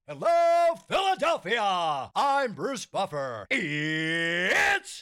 Hello, Philadelphia! I'm Bruce Buffer. It's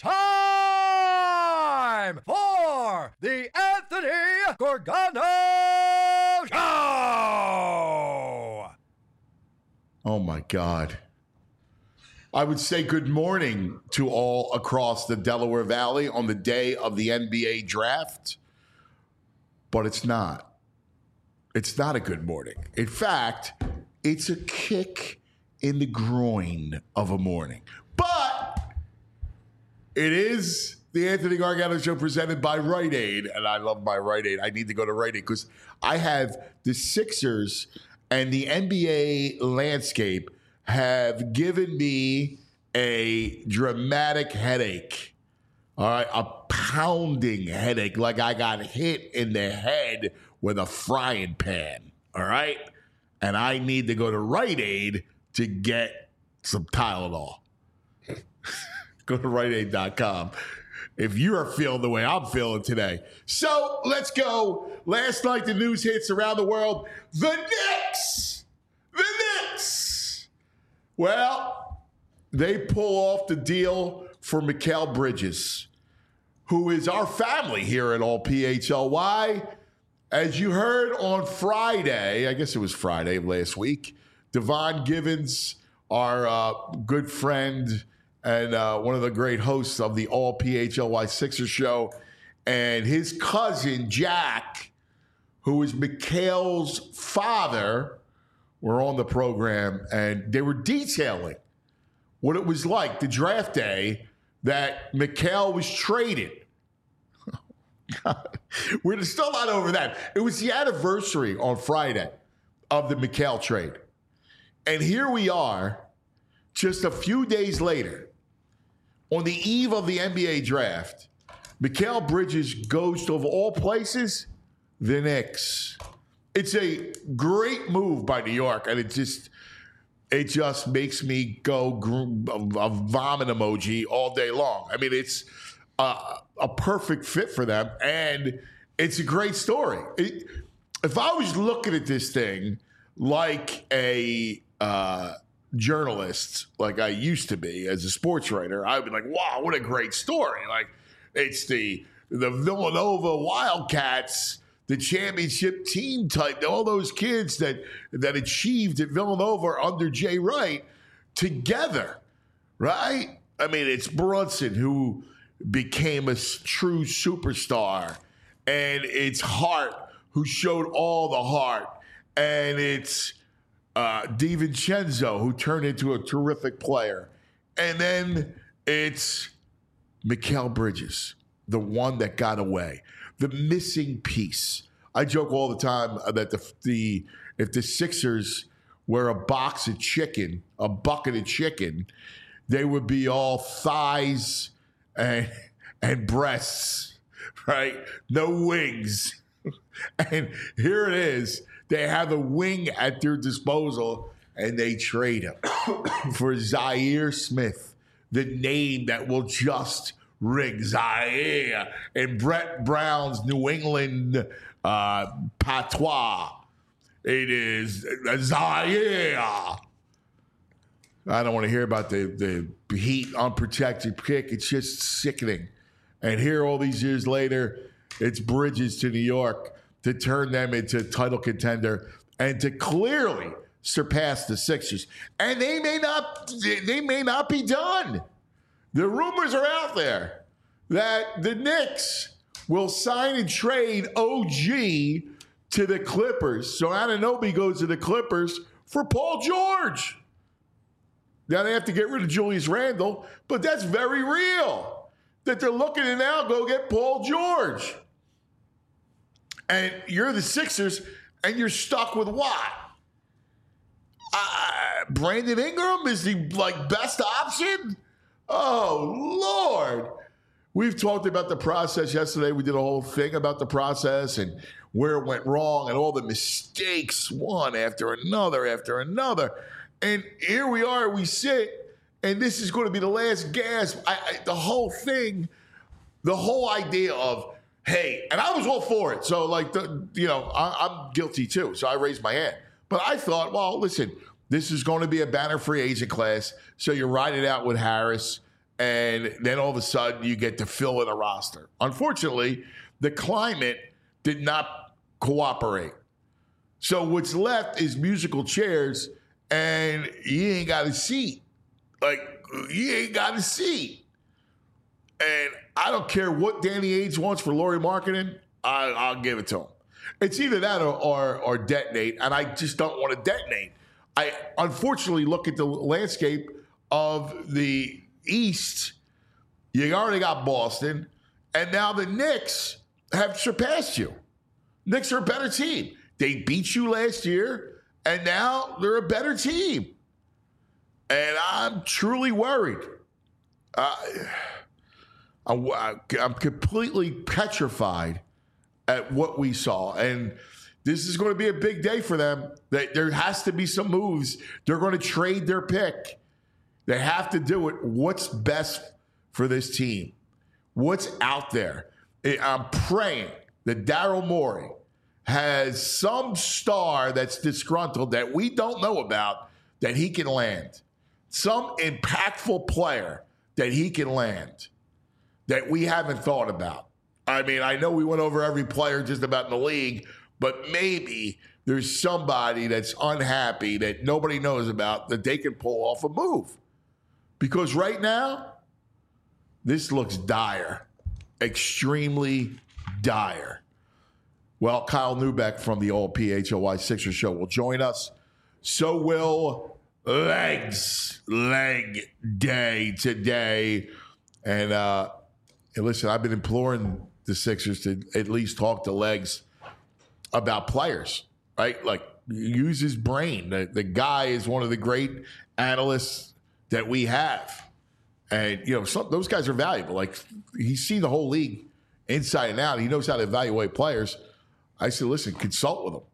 time for the Anthony Gorgano Show! Oh, my God. I would say good morning to all across the Delaware Valley on the day of the NBA draft, but it's not. It's not a good morning. In fact, it's a kick in the groin of a morning. But it is the Anthony Gargano Show presented by Rite Aid. And I love my Rite Aid. I need to go to Rite Aid because I have the Sixers and the NBA landscape have given me a dramatic headache. All right, a pounding headache like I got hit in the head with a frying pan. All right. And I need to go to Rite Aid to get some Tylenol. Go to RiteAid.com if you are feeling the way I'm feeling today. So let's go. Last night, the news hits around the world. The Knicks. Well, they pull off the deal for Mikal Bridges, who is our family here at All PHLY. As you heard on Friday, I guess it was Friday of last week, Devon Givens, our good friend and one of the great hosts of the All PHLY Sixers show, and his cousin, Jack, who is Mikal's father, were on the program, and they were detailing what it was like the draft day that Mikal was traded. God. We're still not over that. It was the anniversary on Friday of the Mikal trade. And here we are, just a few days later, on the eve of the NBA draft, Mikal Bridges goes to, of all places, the Knicks. It's a great move by New York, and it just makes me go a vomit emoji all day long. I mean, it's a perfect fit for them, and it's a great story. If I was looking at this thing like a journalist, like I used to be as a sports writer, I'd be like, wow, what a great story. Like, it's the Villanova Wildcats, the championship team type, all those kids that achieved at Villanova under Jay Wright together, right? I mean, it's Brunson who became a true superstar, and it's Hart who showed all the heart, and it's DiVincenzo who turned into a terrific player, and then it's Mikal Bridges, the one that got away, the missing piece. I joke all the time that if the Sixers were a bucket of chicken, they would be all thighs and breasts, right? No wings. And here it is. They have a wing at their disposal, and they trade him for Zaire Smith, the name that will just ring, Zaire, in Brett Brown's New England patois. It is Zaire. I don't want to hear about the Heat unprotected pick. It's just sickening. And here, all these years later, it's Bridges to New York to turn them into a title contender and to clearly surpass the Sixers. And they may not be done. The rumors are out there that the Knicks will sign and trade OG to the Clippers. So Anunoby goes to the Clippers for Paul George. Now they have to get rid of Julius Randle, but that's very real. That they're looking to now go get Paul George. And you're the Sixers, and you're stuck with what? Brandon Ingram is the best option? Oh, Lord. We've talked about the process yesterday. We did a whole thing about the process and where it went wrong and all the mistakes, one after another. And here we are, we sit, and this is going to be the last gasp. The whole thing, the whole idea of, hey, and I was all for it. So, I'm guilty too. So I raised my hand. But I thought, well, listen, This is going to be a banner free agent class. So you ride it out with Harris, and then all of a sudden you get to fill in a roster. Unfortunately, the climate did not cooperate. So what's left is musical chairs, and you ain't got a seat. Like, you ain't got a seat. And I don't care what Danny Ainge wants for Lauri Markkanen, I'll give it to him. It's either that or detonate, and I just don't want to detonate. I unfortunately look at the landscape of the East. You already got Boston, and now the Knicks have surpassed you. Knicks are a better team. They beat you last year, and now they're a better team. And I'm truly worried. I'm completely petrified at what we saw. And this is going to be a big day for them. There has to be some moves. They're going to trade their pick. They have to do it. What's best for this team? What's out there? I'm praying that Daryl Morey has some star that's disgruntled that we don't know about that he can land. Some impactful player that he can land that we haven't thought about. I mean, I know we went over every player just about in the league, but maybe there's somebody that's unhappy that nobody knows about that they can pull off a move. Because right now, this looks dire, extremely dire. Well, Kyle Neubeck from the All PHLY Sixers show will join us. So will Leg Day today. And listen, I've been imploring the Sixers to at least talk to Legs about players, right? Like, use his brain. The guy is one of the great analysts that we have. And, those guys are valuable. Like, he's seen the whole league inside and out. He knows how to evaluate players. I said, listen, consult with him.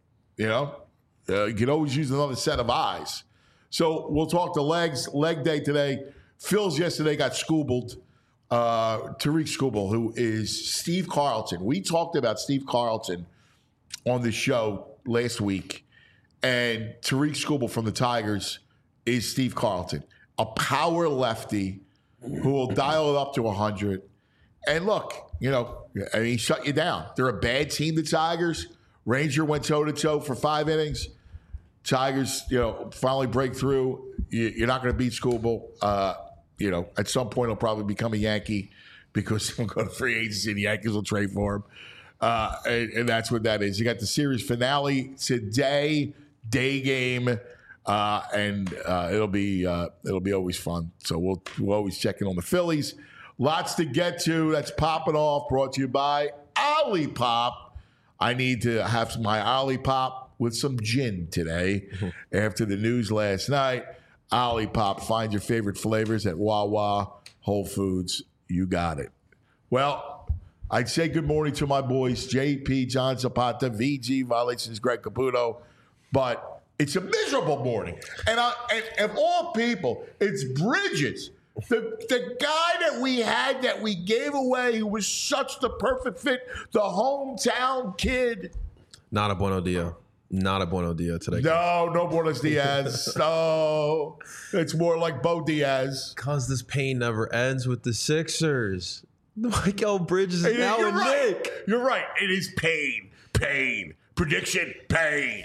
You can always use another set of eyes. So we'll talk to Leg Day today. Phil's yesterday got Scoobbled. Tariq Skubal, who is Steve Carlton. We talked about Steve Carlton on the show last week. And Tariq Skubal from the Tigers is Steve Carlton, a power lefty who will dial it up to 100. And look, he shut you down. They're a bad team, the Tigers. Ranger went toe-to-toe for 5 innings. Tigers, finally break through. You're not going to beat Skubal. At some point he'll probably become a Yankee because he'll go to free agency and the Yankees will trade for him. And that's what that is. You got the series finale today, day game, and it'll be always fun. So we'll always check in on the Phillies. Lots to get to. That's popping off. Brought to you by Olipop. I need to have my Olipop with some gin today after the news last night. Olipop. Find your favorite flavors at Wawa, Whole Foods. You got it. Well, I'd say good morning to my boys, JP, John Zapata, VG, Violations, Greg Caputo, but it's a miserable morning. And of all people, it's Bridges, the guy that we had that we gave away who was such the perfect fit, the hometown kid. Not a bueno dia. Not a bueno dia today. No Buenos Diaz. No, it's more like Bo Diaz. Because this pain never ends with the Sixers. Mikal Bridges is now a Knick. You're right. It is pain. Prediction, pain.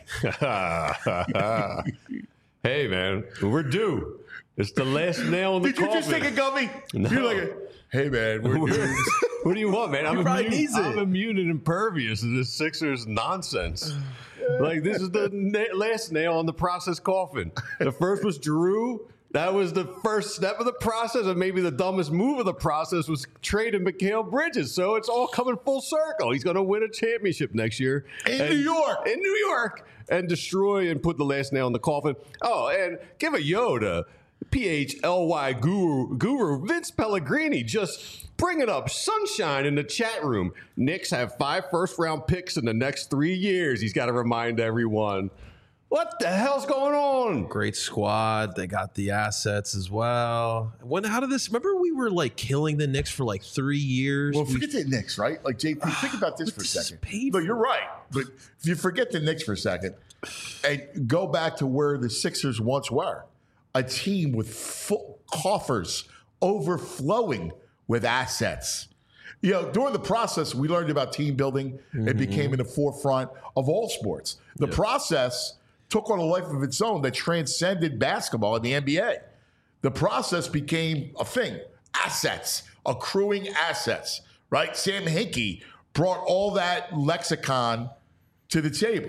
Hey, man, we're due. It's the last nail in the coffin. Did you just take a gummy? No. You're like, hey, man, we're due. What do you want, man? I'm I'm immune and impervious to this Sixers nonsense. Like, this is the last nail on the process coffin. The first was Drew. That was the first step of the process, and maybe the dumbest move of the process was trading Mikal Bridges. So it's all coming full circle. He's going to win a championship next year. In New York. And destroy and put the last nail in the coffin. Oh, and give a yo to PHLY guru Vince Pellegrini, just bringing up sunshine in the chat room. Knicks have 5 first-round picks in the next 3 years. He's got to remind everyone. What the hell's going on? Great squad. They got the assets as well. How did this? Remember, we were like killing the Knicks for like 3 years. Well, forget the Knicks, right? Like, JP, think about this for a second. No, you're right. But if you forget the Knicks for a second, and go back to where the Sixers once were, a team with full coffers overflowing with assets. You know, during the process, we learned about team building. It became in the forefront of all sports. The process took on a life of its own that transcended basketball in the NBA. The process became a thing. Assets, accruing assets, right? Sam Hinkie brought all that lexicon to the table.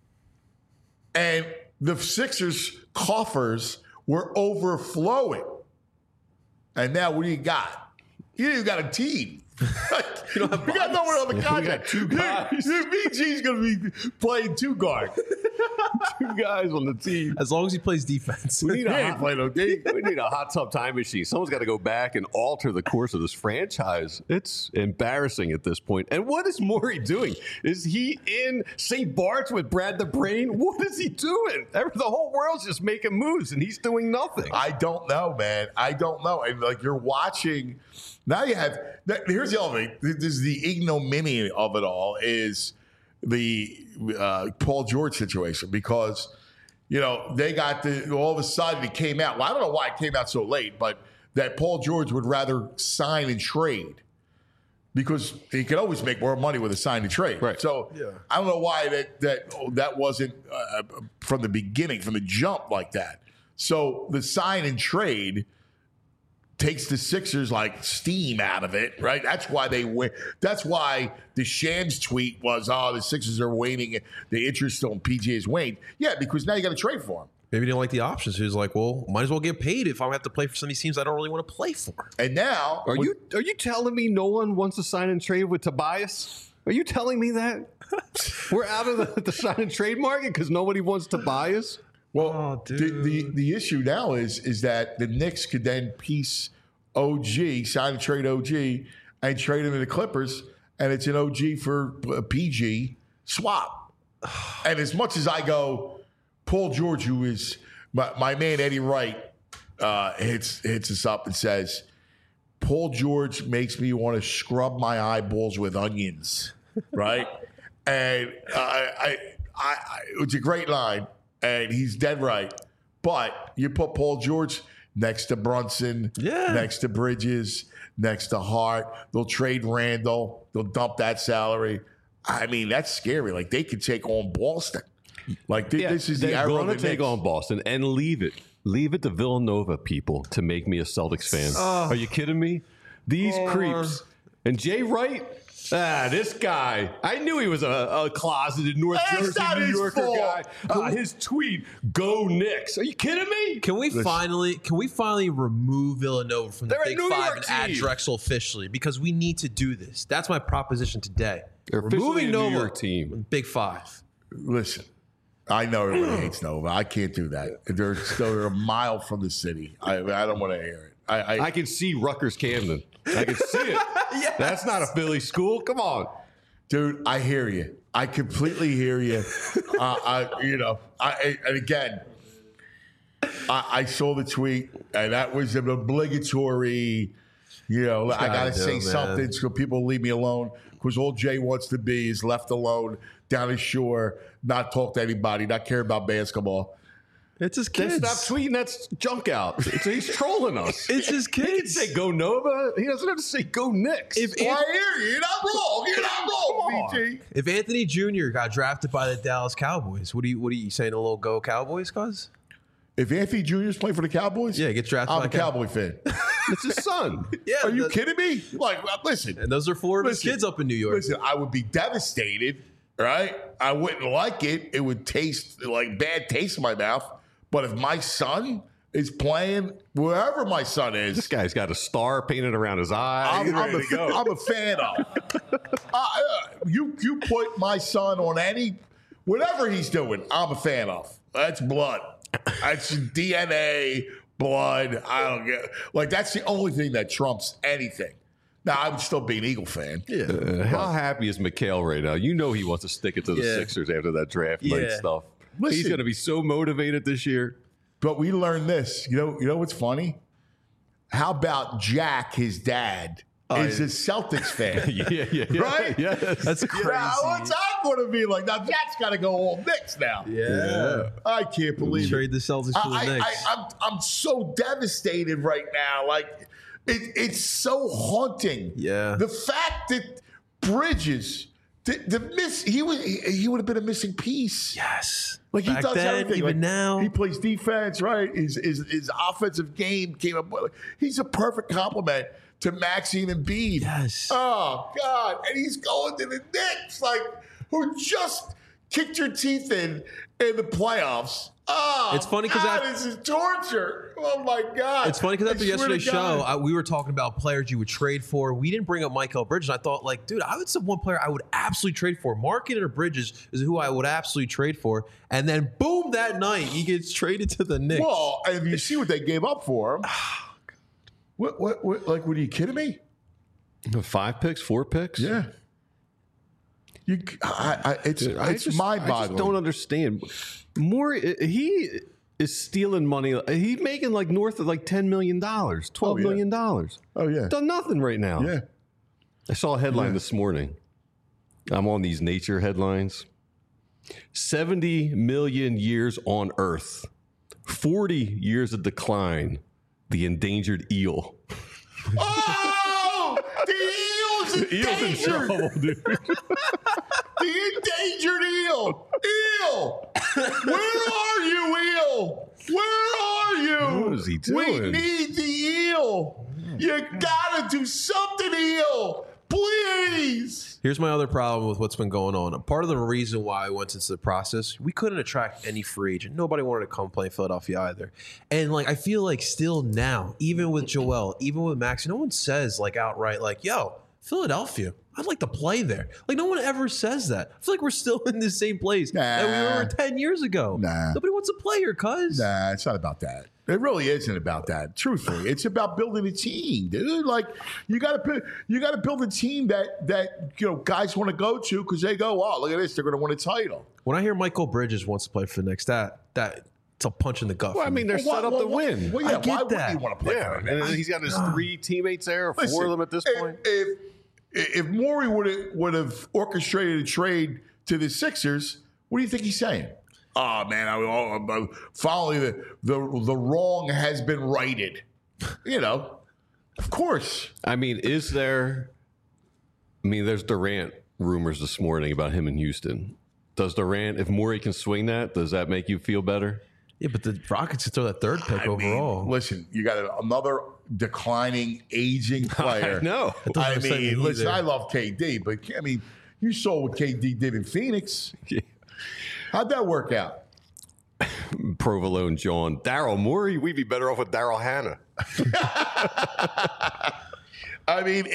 And the Sixers' coffers were overflowing. And now what do you got? You got a team. You got no one on the contract. We got two guys. VG's going to be playing two guard. Two guys on the team. As long as he plays defense. We need, He ain't playing no D. we need a hot tub time machine. Someone's got to go back and alter the course of this franchise. It's embarrassing at this point. And what is Morey doing? Is he in St. Bart's with Brad the Brain? What is he doing? The whole world's just making moves, and he's doing nothing. I don't know, man. I don't know. And like you're watching, now you have. Here's the other thing. This is the ignominy of it all. Is the Paul George situation, because you know they got all of a sudden it came out. Well, I don't know why it came out so late, but that Paul George would rather sign and trade because he could always make more money with a sign and trade. Right. So I don't know why that wasn't from the beginning, from the jump like that. So the sign and trade takes the Sixers like steam out of it, right? That's why they win. That's why the Shams tweet was, "Oh, the Sixers are waning. The interest on PG is waned." Yeah, because now you got to trade for him. Maybe he didn't like the options. He was like, well, might as well get paid if I have to play for some of these teams I don't really want to play for. And now, Are you telling me no one wants to sign and trade with Tobias? Are you telling me that we're out of the sign and trade market because nobody wants Tobias? Well, the issue now is that the Knicks could then piece OG, sign and trade OG, and trade him to the Clippers, and it's an OG for a PG swap. And as much as I go, Paul George, who is my man Eddie Wright, hits us up and says, Paul George makes me want to scrub my eyeballs with onions, right? And it's a great line. And he's dead right. But you put Paul George next to Brunson, next to Bridges, next to Hart. They'll trade Randall. They'll dump that salary. I mean, that's scary. Like, they could take on Boston. Like, this is the era They're of going the to take Knicks. on Boston and leave it. Leave it to Villanova people to make me a Celtics fan. Are you kidding me? These creeps. And Jay Wright, this guy. I knew he was a closeted North That's Jersey, not New his Yorker fault. guy. His tweet, "Go Knicks." Are you kidding me? Can we finally remove Villanova from the They're a Big New Five York and add team. Drexel officially? Because we need to do this. That's my proposition today. They're officially a New Nova York team. Big Five. Listen, I know everybody hates Nova. I can't do that. They're a mile from the city. I don't want to hear it. I can see Rutgers Camden. I can see it. That's not a Philly school. Come on. Dude, I hear you. I completely hear you. And again, I saw the tweet, and that was an obligatory. I got to say something so people leave me alone, because all Jay wants to be is left alone down the shore, not talk to anybody, not care about basketball. It's his Then kids. stop tweeting that junk out. He's trolling us. It's his He can kids. say "Go Nova." He doesn't have to say "Go Knicks." I hear you. You're not wrong. You're not wrong, BG. If Anthony Jr. got drafted by the Dallas Cowboys, what are you saying? A little go Cowboys, cuz? If Anthony Jr. is playing for the Cowboys, Yeah, get drafted I'm by a Cowboy fan. It's his son. Yeah. Are you kidding me? Like, listen. And those are four of his kids up in New York. Listen, I would be devastated, right? I wouldn't like it. It would taste like bad taste in my mouth. But if my son is playing, wherever my son This is, guy's got a star painted around his eye. He's ready to go. I'm a fan of. You put my son on whatever he's doing, I'm a fan of. That's blood. That's DNA, blood. I don't get like that's the only thing that trumps anything. Now I would still be an Eagle fan. How happy is Mikhail right now? You know he wants to stick it to the Yeah. Sixers after that draft night Yeah. stuff. Listen. He's going to be so motivated this year. But we learned this. You know what's funny? How about Jack, his dad, is a Celtics fan? Yeah. Right? Yes. That's crazy. Now, what's up going to be like, now that's got to go all Knicks now. Yeah. I can't believe Trade it. the Celtics for the Knicks. I'm so devastated right now. Like, it's so haunting. Yeah. The fact that Bridges, he would have been a missing piece. Yes. Like he Back does then, everything. even Like, now. he plays defense, right? His offensive game came up. He's a perfect complement to Maxine and Embiid. Yes. Oh God! And he's going to the Knicks, like who just kicked your teeth in the playoffs. Oh, It's funny 'cause this is torture. Oh my God! It's funny because after I swear to yesterday's God. show, we were talking about players you would trade for. We didn't bring up Mikal Bridges. I thought, like, dude, I would say one player I would absolutely trade for. Markkanen or Bridges is who I would absolutely trade for. And then, boom, that night, he gets traded to the Knicks. Well, and you see what they gave up for him. What? Like, were you kidding me? 5 picks, 4 picks. Yeah. It's mind-boggling. I just don't understand. He is stealing money. He's making like north of like $10 million, $12 million. Oh yeah. Done nothing right now. Yeah. I saw a headline this morning. I'm on these nature headlines. 70 million years on Earth. 40 years of decline. The endangered eel. Oh, the eel's Eel's in endangered. trouble, dude. The endangered eel. Eel. Where are you, eel? Where are you? What is he We doing? need the eel. You gotta do something, eel. Please. Here's my other problem with what's been going on. Part of the reason why I went into the process, we couldn't attract any free agent. Nobody wanted to come play in Philadelphia either. And like I feel like still now, even with Joel, even with Max, no one says like outright like, yo, Philadelphia, I'd like to play there. Like no one ever says that. I feel like we're still in the same place that we were 10 years ago. Nah. Nobody wants to play here, cuz. Nah, it's not about that. It really isn't about that. Truthfully, it's about building a team, dude. Like you got to build a team that guys want to go to because they go, oh, look at this, they're going to win a title. When I hear Mikal Bridges wants to play for the Knicks, that it's a punch in the gut. Well, I for me. mean, they're set up to win. Well, yeah, I get why that. wouldn't you want to play Yeah, for them? and he's got his 3 teammates there, 4 Listen, of them at this point. If Morey would have orchestrated a trade to the Sixers, what do you think he's saying? Oh man, finally the wrong has been righted. Of course. I mean, there's Durant rumors this morning about him in Houston. Does Durant, if Morey can swing that, does that make you feel better? Yeah, but the Rockets could throw that third pick overall. Listen, you got another declining, aging player. No. doesn't excite me listen, either. I love KD, but you saw what KD did in Phoenix. How'd that work out? Provolone John. Daryl Morey, we'd be better off with Daryl Hannah. I mean,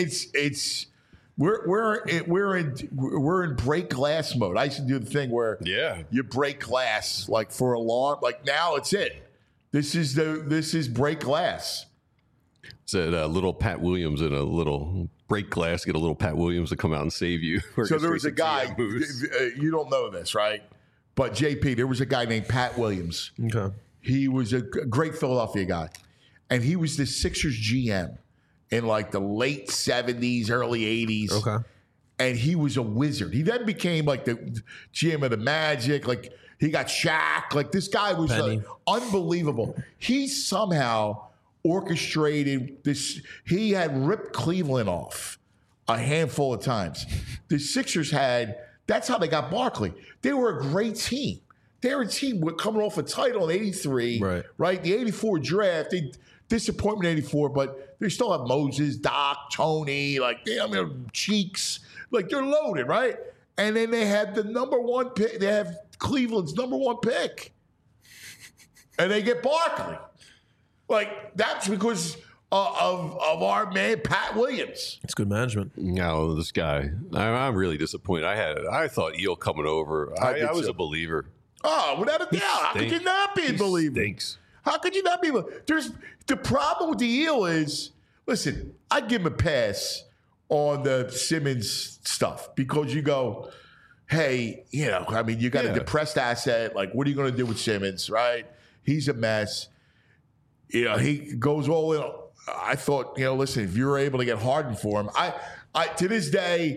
we're in break glass mode. I used to do the thing where you break glass like for a long, like now it's it. This is break glass. Said little Pat Williams in a little break glass, get a little Pat Williams to come out and save you. So there was a guy, you don't know this, right? But JP, there was a guy named Pat Williams. Okay. He was a great Philadelphia guy. And he was the Sixers GM in like the late 70s, early 80s. Okay. And he was a wizard. He then became like the GM of the Magic. Like he got Shaq. Like this guy was unbelievable. He somehow orchestrated this. He had ripped Cleveland off a handful of times. The Sixers that's how they got Barkley. They were a great team. They were a team coming off a title in 83. Right? The 84 draft, disappointment in 84, but they still have Moses, Doc, Tony, Cheeks. Like they're loaded, right? And then they had the number 1 pick. They have Cleveland's number 1 pick. And they get Barkley. Like that's because of our man Pat Williams. It's good management. No, this guy. I'm really disappointed. I thought Eel coming over. I was a believer. Oh, without a doubt. How could you not be a believer? Stinks. How could you not be? There's the problem with the Eel is, listen, I'd give him a pass on the Simmons stuff because you go, hey, you got a depressed asset. Like, what are you going to do with Simmons, right? He's a mess. He goes all in. I thought, listen, if you were able to get Harden for him, I to this day,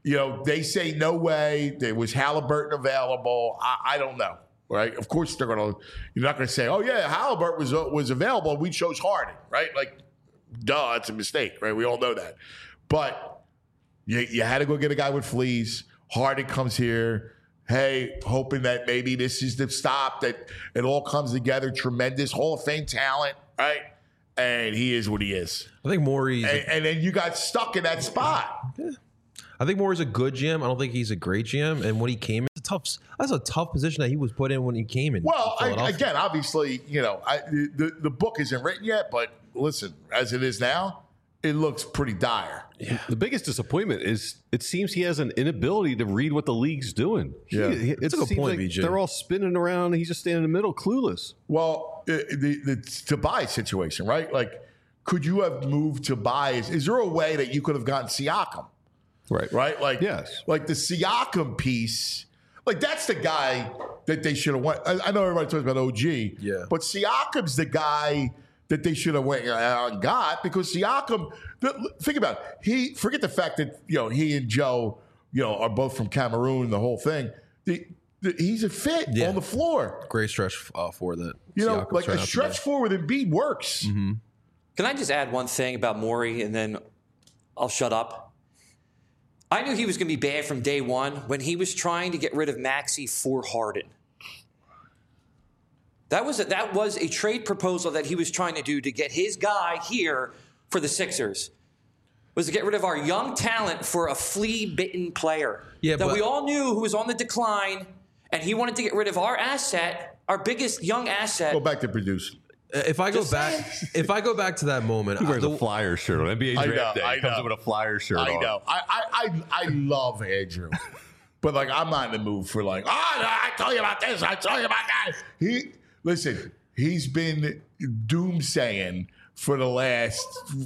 they say no way. There was Halliburton available. I don't know, right? Of course, you're not going to say, oh, yeah, Halliburton was available. We chose Harden, right? Like, duh, it's a mistake, right? We all know that. But you had to go get a guy with fleas. Harden comes here. Hey, hoping that maybe this is the stop, that it all comes together. Tremendous Hall of Fame talent, right? And he is what he is. I think Morey's... And then you got stuck in that spot. Yeah. I think Morey's a good GM. I don't think he's a great GM. And when he came in, that's a tough position that he was put in when he came in. Well, again, obviously, the book isn't written yet, but listen, as it is now, it looks pretty dire. Yeah. The biggest disappointment is it seems he has an inability to read what the league's doing. Yeah. It's a good point, BJ. They're all spinning around, and he's just standing in the middle, clueless. Well, the Tobias situation, right? Like, could you have moved Tobias? Is there a way that you could have gotten Siakam? Right? Like, yes. Like the Siakam piece, like that's the guy that they should have went. I know everybody talks about OG, but Siakam's the guy that they should have went and got, because Siakam, think about it. Forget the fact that he and Joe are both from Cameroon, the whole thing. He's a fit on the floor. Great stretch for that. Like a stretch four with Embiid works. Mm-hmm. Can I just add one thing about Morey, and then I'll shut up? I knew he was going to be bad from day one when he was trying to get rid of Maxey for Harden. That was a trade proposal that he was trying to do to get his guy here for the Sixers. Was to get rid of our young talent for a flea-bitten player that we all knew who was on the decline, and he wanted to get rid of our asset, our biggest young asset. Go back to producing. If I go back to that moment, he wears a Flyer shirt on NBA Draft Day. He comes in with a Flyer shirt on. I know. I love Andrew, but like I'm not in the mood for like, I tell you about this, I tell you about that. He's been doomsaying for the last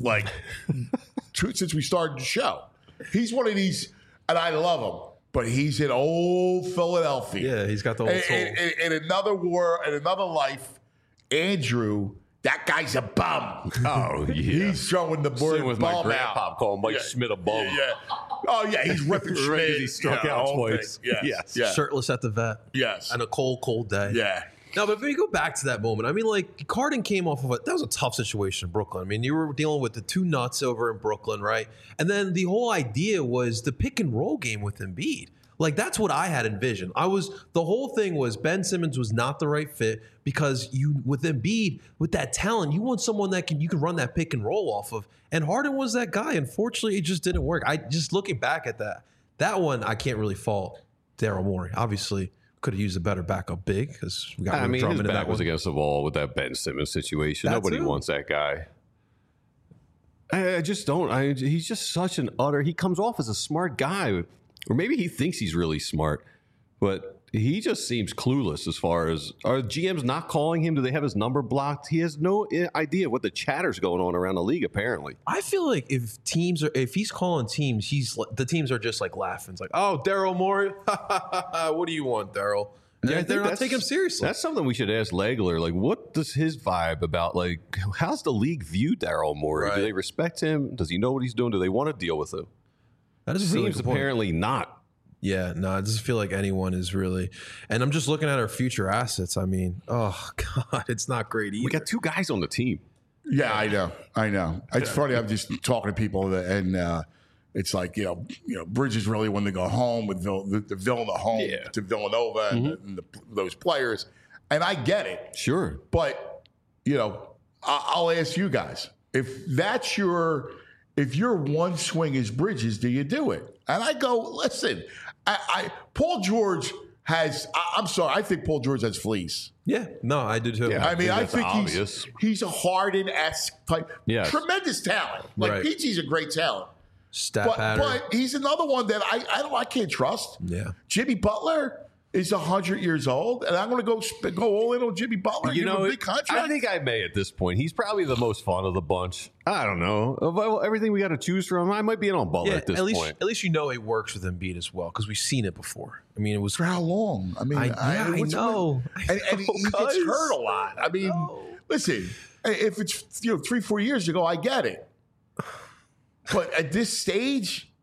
since we started the show. He's one of these, and I love him, but he's in old Philadelphia. Yeah, he's got the old soul. In another world, in another life. Andrew, that guy's a bum. Oh, yeah. He's throwing the word with bum my grandpop out. calling Mike Schmidt a bum. Yeah. Oh, yeah, he's ripping Schmidt. He struck out twice. Yes. Shirtless at the vet. Yes. On a cold day. Yeah. No, but if we go back to that moment, I mean, like, Harden came off of that was a tough situation in Brooklyn. I mean, you were dealing with the two nuts over in Brooklyn, right? And then the whole idea was the pick and roll game with Embiid. Like, that's what I had envisioned. The whole thing was Ben Simmons was not the right fit because with Embiid, with that talent, you want someone that you can run that pick and roll off of. And Harden was that guy. Unfortunately, it just didn't work. Just looking back at that one, I can't really fault Daryl Morey. Obviously, could have used a better backup big because we got his back was against the wall with that Ben Simmons situation. Nobody wants that guy. I just don't. He's just such an he comes off as a smart guy. Or maybe he thinks he's really smart, but he just seems clueless as far as, are GMs not calling him? Do they have his number blocked? He has no idea what the chatter's going on around the league, apparently. I feel like if he's calling teams, the teams are just like laughing. It's like, oh, Daryl Morey, what do you want, Daryl? Yeah, they're not taking him seriously. That's something we should ask Legler. Like, what does his vibe about, like, how's the league view Daryl Morey? Right. Do they respect him? Does he know what he's doing? Do they want to deal with him? That seems really apparently not. Yeah, no, it doesn't feel like anyone is really. And I'm just looking at our future assets. I mean, oh, God, it's not great either. We got two guys on the team. Yeah, I know. It's funny. I'm just talking to people, and it's like, Bridges really wanted to go home with the Villanova home to Villanova and those players. And I get it. Sure. But, I'll ask you guys, if your one swing is Bridges, do you do it? And I go, listen, Paul George has, I'm sorry, I think Paul George has fleas. Yeah, no, I do too. Yeah, I think he's a Harden-esque type. Yes. Tremendous talent. Like, PG's a great talent. But he's another one that I can't trust. Yeah. Jimmy Butler is 100 years old, and I'm going to go all in on Jimmy Butler. Give him a big contract. I think I may at this point. He's probably the most fun of the bunch. I don't know. Of everything we got to choose from, I might be in on Butler at this point. At least it works with Embiid as well, because we've seen it before. I mean, it was for how long? I mean, I know. And he gets hurt a lot. I mean, listen, if it's 3-4 years ago, I get it. But at this stage,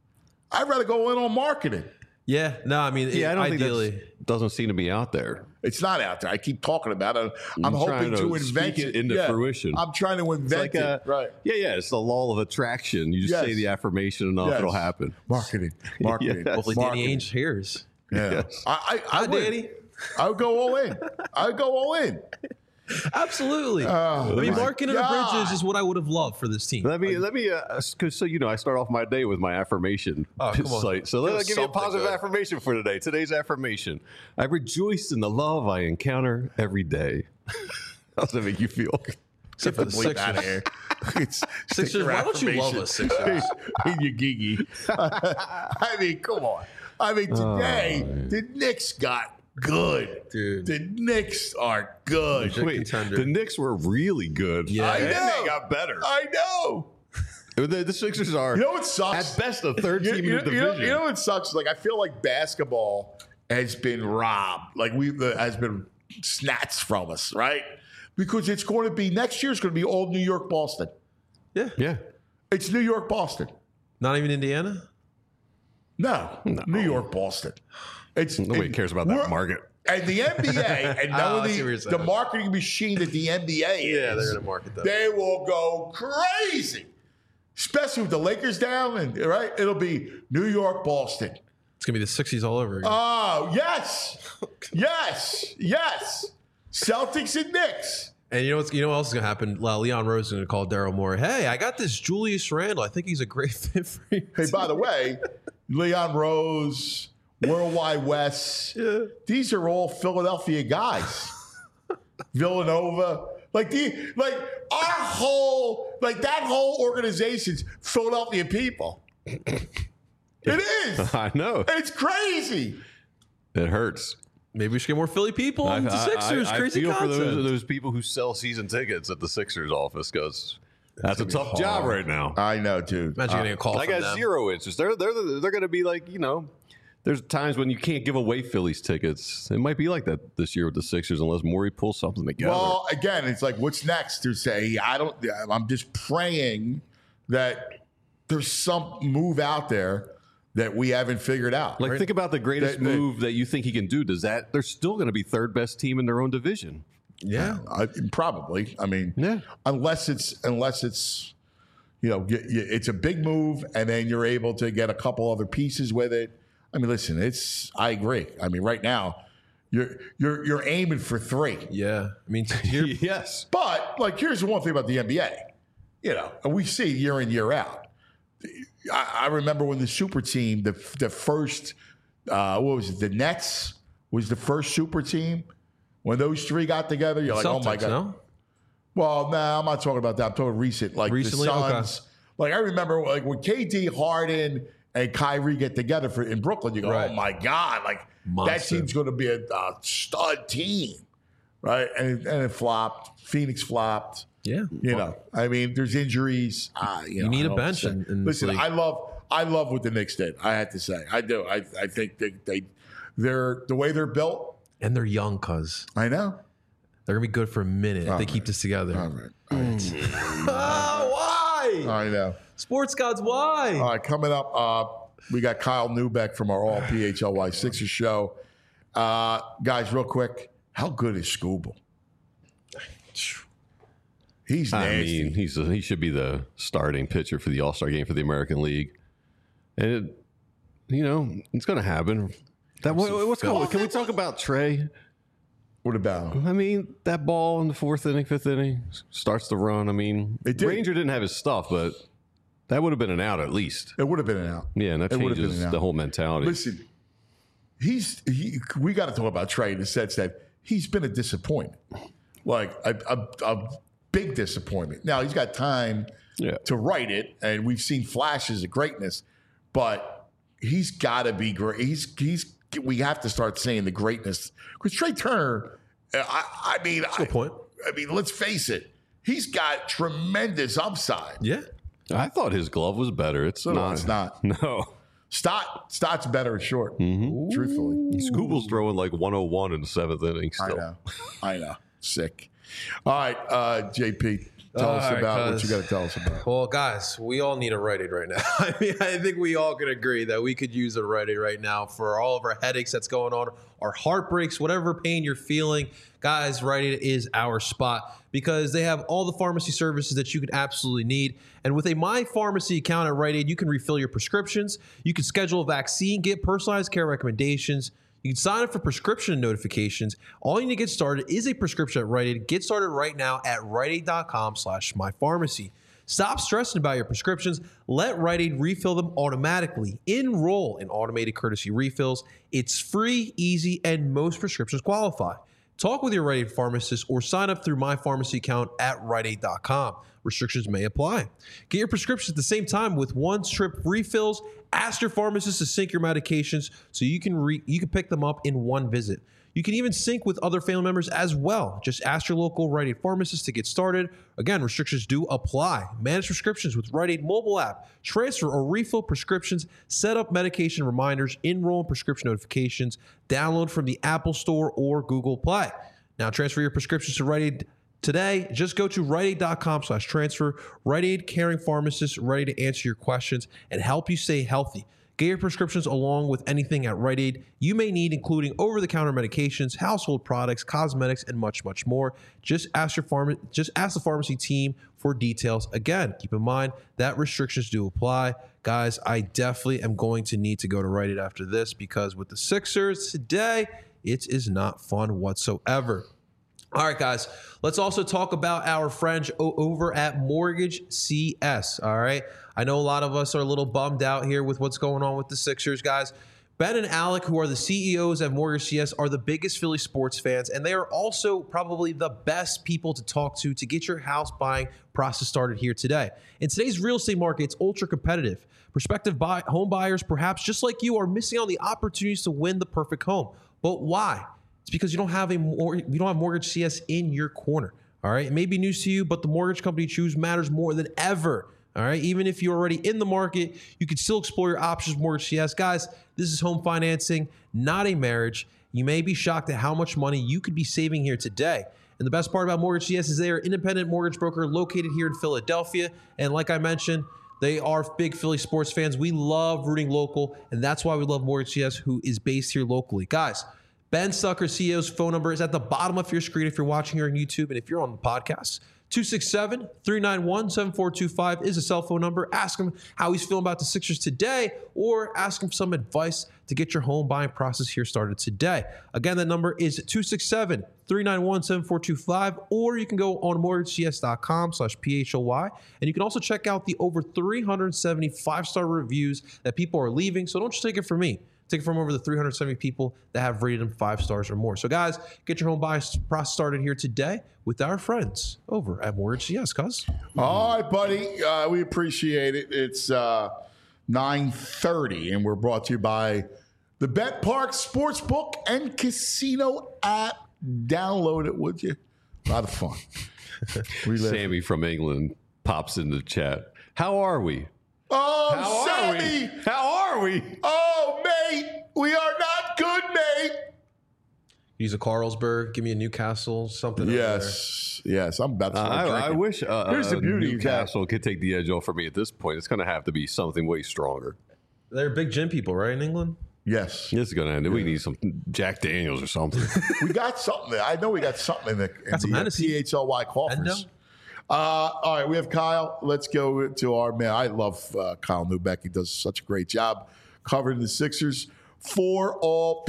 I'd rather go in on marketing. Yeah, no, I mean, I don't ideally, think that doesn't seem to be out there. It's not out there. I keep talking about it. I'm hoping to invent it into fruition. I'm trying to invent it. Right. Yeah. It's the law of attraction. You just say the affirmation enough, it'll happen. Marketing. Yes. hopefully Danny Ainge hears. Yeah. Yes. I would. Danny. I would go all in. I would go all in. Absolutely. I mean, marketing the bridges is what I would have loved for this team. Let me, because so I start off my day with my affirmation site. So let me give you a positive affirmation for today. Today's affirmation: I rejoice in the love I encounter every day. How does that make you feel? Except for the Sixers. Sixers, why don't you love us, Sixers? You geeky. I mean, come on. I mean, today the Knicks got good. Dude. The Knicks are good. Wait, the Knicks were really good. Yeah. I know. And they got better. I know. The Sixers are, You know what sucks? at best, a third team in the division. You know what sucks? Like, I feel like basketball has been robbed. Like, has been snatched from us, right? Because it's going to be, next year's going to be all New York, Boston. Yeah. It's New York, Boston. Not even Indiana? No. New York, Boston. Nobody cares about that market. And the NBA, and knowing the marketing machine that the NBA is, Yeah, they're going to market that. they will go crazy. Especially with the Lakers down, and right? It'll be New York, Boston. It's going to be the 60s all over again. Oh, yes. Yes. Celtics and Knicks. And you know what else is going to happen? Leon Rose is going to call Daryl Morey. Hey, I got this Julius Randle. I think he's a great fit for you. Hey, by the way, Leon Rose, Worldwide West, these are all Philadelphia guys. Villanova. That whole organization's Philadelphia people. It is. I know. It's crazy. It hurts. Maybe we should get more Philly people into Sixers. Crazy I feel concept. for those people who sell season tickets at the Sixers office because that's a tough job right now. I know, dude. Imagine getting a call I from got them. zero interest. They're going to be like, there's times when you can't give away Phillies tickets. It might be like that this year with the Sixers unless Morey pulls something together. Well, again, it's like, what's next to say? I'm just praying that there's some move out there that we haven't figured out. Like, think about the greatest move that you think he can do. They're still going to be third best team in their own division. Yeah. Probably. I mean, unless it's it's a big move and then you're able to get a couple other pieces with it. I mean, listen, I agree. I mean, right now you're aiming for 3. Yeah. I mean, yes. But here's the one thing about the NBA, and we see year in, year out. I remember when the super team, the first, what was it? The Nets was the first super team. When those 3 got together, you're like, Celtics, oh my God. No? Well, I'm not talking about that. I'm talking recent. Recently? The Suns. Okay. I remember when KD, Harden, and Kyrie get together in Brooklyn, you go, oh my God, Monster. That team's going to be a stud team. Right? And it flopped. Phoenix flopped. Yeah. I mean, there's injuries. You need a bench. Listen, I love what the Knicks did. I had to say, I do. I think they're the way they're built, and they're young, cuz I know they're gonna be good for a minute if they keep this together. All right. Why? I know. Sports gods, why? All right, coming up, we got Kyle Neubeck from our All PHLY Sixers show. Guys, real quick, how good is Scooble? He's nasty. I mean, he should be the starting pitcher for the All-Star game for the American League. And, it's going to happen. What's going on? Can we talk about Trey? What about him? I mean, that ball in the 4th inning, 5th inning starts to run. I mean, Ranger didn't have his stuff, but that would have been an out at least. It would have been an out. Yeah, and that changes the whole mentality. Listen, we got to talk about Trey in the sense that he's been a disappointment. Like a big disappointment. Now, he's got time to write it, and we've seen flashes of greatness, but he's got to be great. We have to start saying the greatness. Because Trey Turner, I mean, good point. I mean, let's face it. He's got tremendous upside. Yeah. I thought his glove was better. It's not. It's not. No. Stott's better at short, truthfully. Scooble's throwing like 101 in the 7th inning still. I know. Sick. All right, JP, Tell us about what you got to tell us about. Well, guys, we all need a Rite Aid right now. I mean, I think we all can agree that we could use a Rite Aid right now for all of our headaches that's going on, our heartbreaks, whatever pain you're feeling. Guys, Rite Aid is our spot because they have all the pharmacy services that you could absolutely need. And with a My Pharmacy account at Rite Aid, you can refill your prescriptions, you can schedule a vaccine, get personalized care recommendations, you can sign up for prescription notifications. All you need to get started is a prescription at Rite Aid. Get started right now at riteaid.com/mypharmacy. Stop stressing about your prescriptions. Let Rite Aid refill them automatically. Enroll in automated courtesy refills. It's free, easy, and most prescriptions qualify. Talk with your Rite Aid pharmacist or sign up through My Pharmacy account at riteaid.com. Restrictions may apply. Get your prescriptions at the same time with one-trip refills. Ask your pharmacist to sync your medications so you can pick them up in one visit. You can even sync with other family members as well. Just ask your local Rite Aid pharmacist to get started. Again, restrictions do apply. Manage prescriptions with Rite Aid mobile app. Transfer or refill prescriptions. Set up medication reminders. Enroll in prescription notifications. Download from the Apple Store or Google Play. Now, transfer your prescriptions to Rite Aid today. Just go to riteaid.com/transfer. Rite Aid caring pharmacists ready to answer your questions and help you stay healthy. Get your prescriptions along with anything at Rite Aid you may need, including over-the-counter medications, household products, cosmetics, and much, much more. Just ask the pharmacy team for details. Again, keep in mind that restrictions do apply. Guys, I definitely am going to need to go to Rite Aid after this because with the Sixers today, it is not fun whatsoever. All right, guys, let's also talk about our friends over at Mortgage CS, all right? I know a lot of us are a little bummed out here with what's going on with the Sixers, guys. Ben and Alec, who are the CEOs at Mortgage CS, are the biggest Philly sports fans, and they are also probably the best people to talk to get your house buying process started here today. In today's real estate market, it's ultra competitive. Prospective home buyers, perhaps just like you, are missing on the opportunities to win the perfect home. But why? It's because you don't have Mortgage CS in your corner. All right. It may be news to you, but the mortgage company you choose matters more than ever. All right. Even if you're already in the market, you can still explore your options with Mortgage CS. Guys, this is home financing, not a marriage. You may be shocked at how much money you could be saving here today. And the best part about Mortgage CS is they are an independent mortgage broker located here in Philadelphia. And like I mentioned, they are big Philly sports fans. We love rooting local, and that's why we love Mortgage CS, who is based here locally. Guys, Ben Stucker, CEO's phone number is at the bottom of your screen if you're watching here on YouTube, and if you're on the podcast. 267-391-7425 is a cell phone number. Ask him how he's feeling about the Sixers today, or ask him for some advice to get your home buying process here started today. Again, that number is 267-391-7425, or you can go on mortgagecs.com/PHLY, and you can also check out the over 370 5-star reviews that people are leaving. So don't just take it from me. Take it from over the 370 people that have rated them 5 stars or more. So, guys, get your home buying process started here today with our friends over at Mortgage CS, cuz. All right, buddy. We appreciate it. It's 9:30, and we're brought to you by the Bet Park Sportsbook and Casino app. Download it, would you? A lot of fun. Sammy from England pops in the chat. How are we? Oh, Sammy! How are we? Oh, mate! We are not good, mate! Use a Carlsberg. Give me a Newcastle, something. Yes. I'm about to start I drinking. wish Here's the beauty of that. Newcastle could take the edge off for me at this point. It's going to have to be something way stronger. They're big gin people, right, in England? Yes. This is going to end. We need some Jack Daniels or something. We got something there. I know we got something in the THLY coffers. All right, we have Kyle. Let's go to our man. I love Kyle Neubeck. He does such a great job covering the Sixers for all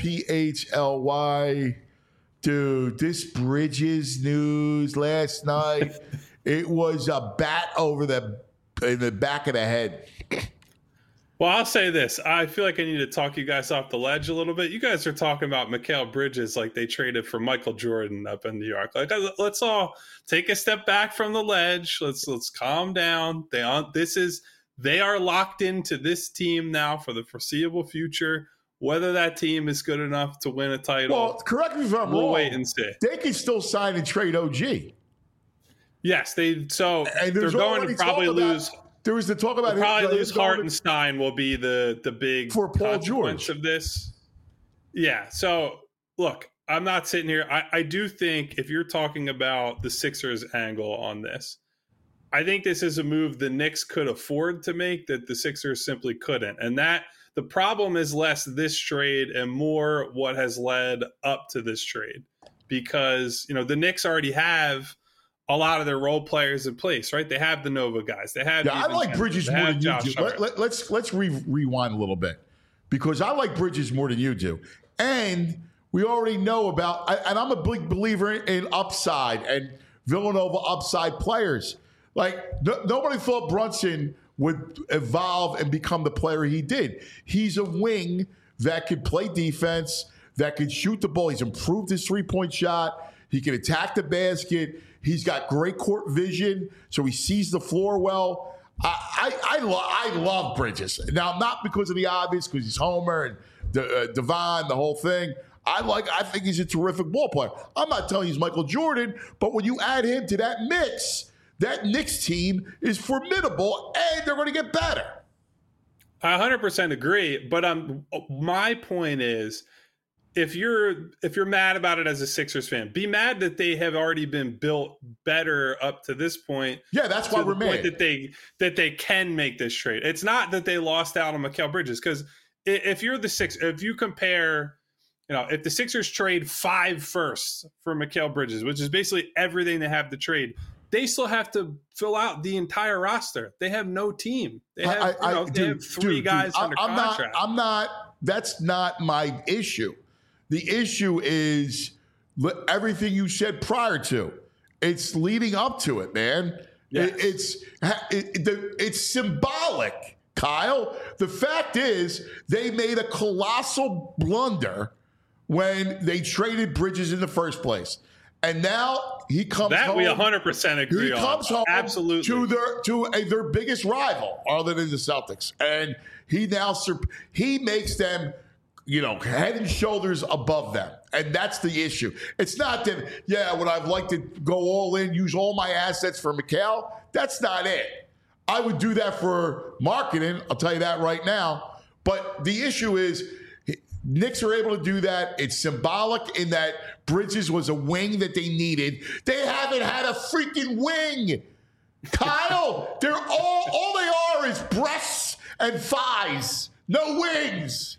PHLY. Dude, this Bridges news last night, it was a bat in the back of the head. Well, I'll say this. I feel like I need to talk you guys off the ledge a little bit. You guys are talking about Mikal Bridges like they traded for Michael Jordan up in New York. Like, let's all take a step back from the ledge. Let's calm down. They are locked into this team now for the foreseeable future. Whether that team is good enough to win a title, well, correct me if I'm wrong. We'll wait and see. They can still sign and trade OG. Yes, they're going to probably lose. There was the talk about probably lose Hartenstein will be the big for Paul consequence George of this. Yeah. So look, I'm not sitting here. I do think if you're talking about the Sixers angle on this, I think this is a move the Knicks could afford to make that the Sixers simply couldn't. And that the problem is less this trade and more what has led up to this trade. Because, the Knicks already have a lot of their role players in place, right? They have the Nova guys. They have. I like Bridges more than you do. Let's rewind a little bit, because I like Bridges more than you do, and we already know about. And I'm a big believer in upside and Villanova upside players. Like nobody thought Brunson would evolve and become the player he did. He's a wing that could play defense, that could shoot the ball. He's improved his 3-point shot. He can attack the basket. He's got great court vision, so he sees the floor well. I love Bridges. Now, not because of the obvious, because he's Homer and Devon, the whole thing. I think he's a terrific ball player. I'm not telling you he's Michael Jordan, but when you add him to that mix, that Knicks team is formidable, and they're going to get better. I 100% agree, but my point is, if you're mad about it as a Sixers fan, be mad that they have already been built better up to this point. Yeah, that's why we're mad that they can make this trade. It's not that they lost out on Mikal Bridges, because if you're the Sixers, if you compare, if the Sixers trade 5 firsts for Mikal Bridges, which is basically everything they have to trade, they still have to fill out the entire roster. They have no team. They have, they have 3 guys under contract. That's not my issue. The issue is everything you said prior to. It's leading up to it, man. Yes. It's symbolic, Kyle. The fact is they made a colossal blunder when they traded Bridges in the first place. And now he comes home. That we 100% agree on. He comes home absolutely to their biggest rival, other than the Celtics. And he makes them, head and shoulders above them. And that's the issue. It's not that, would I like to go all in, use all my assets for Mikal? That's not it. I would do that for marketing, I'll tell you that right now. But the issue is, Knicks are able to do that. It's symbolic in that Bridges was a wing that they needed. They haven't had a freaking wing. Kyle, they're all they are is breasts and thighs. No wings.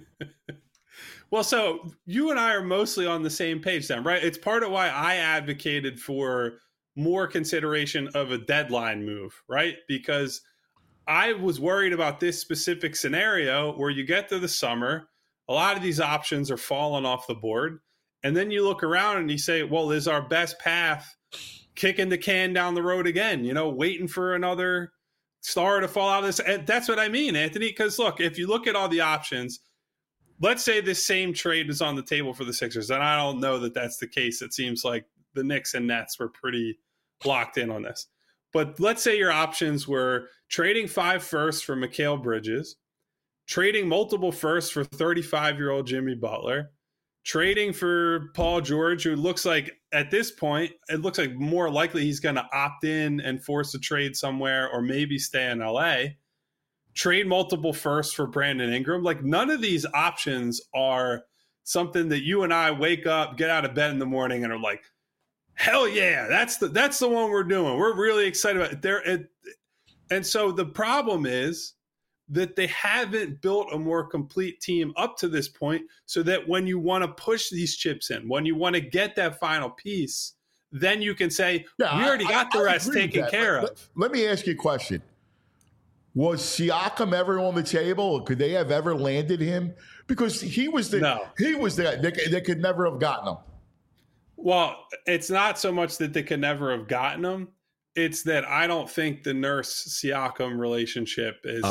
Well, so you and I are mostly on the same page then, right? It's part of why I advocated for more consideration of a deadline move, right? Because I was worried about this specific scenario where you get to the summer, a lot of these options are falling off the board. And then you look around and you say, well, is our best path kicking the can down the road again, waiting for another star to fall out of this? And that's what I mean, Anthony, because look, if you look at all the options, let's say this same trade is on the table for the Sixers, and I don't know that that's the case. It seems like the Knicks and Nets were pretty locked in on this. But let's say your options were trading 5 firsts for Mikal Bridges, trading multiple firsts for 35-year-old Jimmy Butler, trading for Paul George, who looks like at this point, it looks like more likely he's going to opt in and force a trade somewhere or maybe stay in LA, trade multiple firsts for Brandon Ingram. Like, none of these options are something that you and I wake up, get out of bed in the morning and are like, hell yeah, that's the one we're doing. We're really excited about it. And so the problem is that they haven't built a more complete team up to this point, so that when you want to push these chips in, when you want to get that final piece, then you can say, we already got the rest taken care of. Let me ask you a question. Was Siakam ever on the table, or could they have ever landed him? Because he was the they could never have gotten him. Well, it's not so much that they could never have gotten him. It's that I don't think the Nurse-Siakam relationship is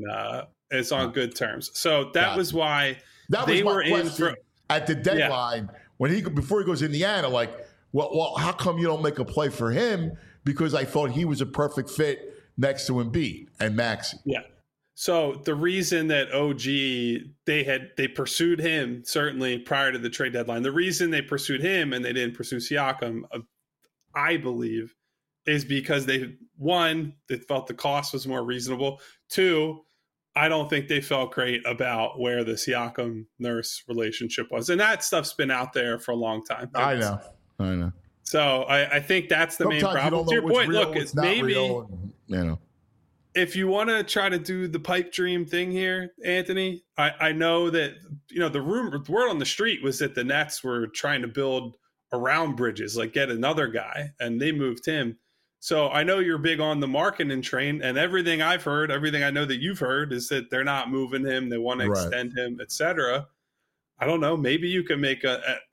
on good terms. So that was why they were in at the deadline before he goes to Indiana. Like, well, how come you don't make a play for him? Because I thought he was a perfect fit next to Embiid and Maxey. Yeah. So the reason that OG they pursued him certainly prior to the trade deadline. The reason they pursued him and they didn't pursue Siakam, I believe, is because they felt the cost was more reasonable. 2, I don't think they felt great about where the Siakam Nurse relationship was. And that stuff's been out there for a long time. I know. So I think that's the main problem. To your point, look, it's maybe if you want to try to do the pipe dream thing here, Anthony, I know that the word on the street was that the Nets were trying to build around Bridges, like get another guy, and they moved him. So I know you're big on the marketing train, and everything I've heard, everything I know that you've heard is that they're not moving him, they want to extend him, etc. I don't know. Maybe you can make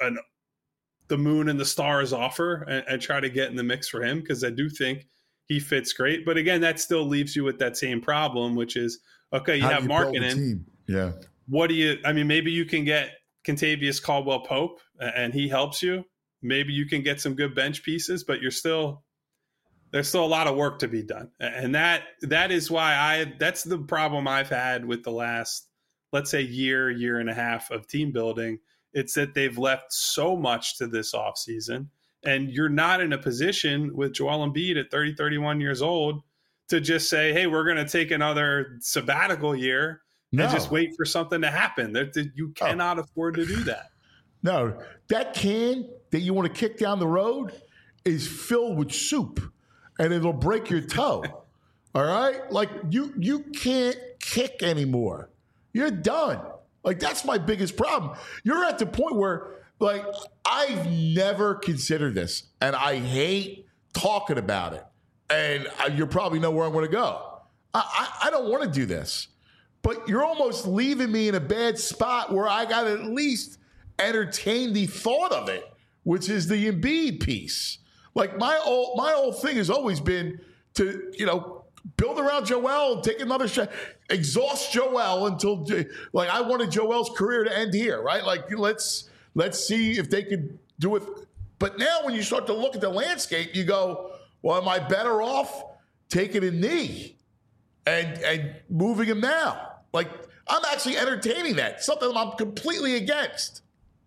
the moon and the stars offer and try to get in the mix for him, because I do think he fits great. But again, that still leaves you with that same problem, which is, okay, you have marketing. Yeah. What do you, maybe you can get Kentavious Caldwell-Pope and he helps you. Maybe you can get some good bench pieces, but there's still a lot of work to be done. And that is why that's the problem I've had with the last, let's say, year and a half of team building. It's that they've left so much to this offseason, and you're not in a position with Joel Embiid at 30, 31 years old to just say, hey, we're going to take another sabbatical year and just wait for something to happen. You cannot afford to do that. No, that can that you want to kick down the road is filled with soup, and it'll break your toe. All right? Like, you can't kick anymore. You're done. Like, that's my biggest problem. You're at the point where, like, I've never considered this, and I hate talking about it. And you probably know where I'm going to go. I don't want to do this. But you're almost leaving me in a bad spot where I got to at least entertain the thought of it, which is the Embiid piece. Like, my whole thing has always been to, build around Joel and take another shot, exhaust Joel until, like, I wanted Joel's career to end here, right? Like, let's see if they could do it. But now when you start to look at the landscape, you go, well, am I better off taking a knee and moving him now? Like, I'm actually entertaining that, something I'm completely against.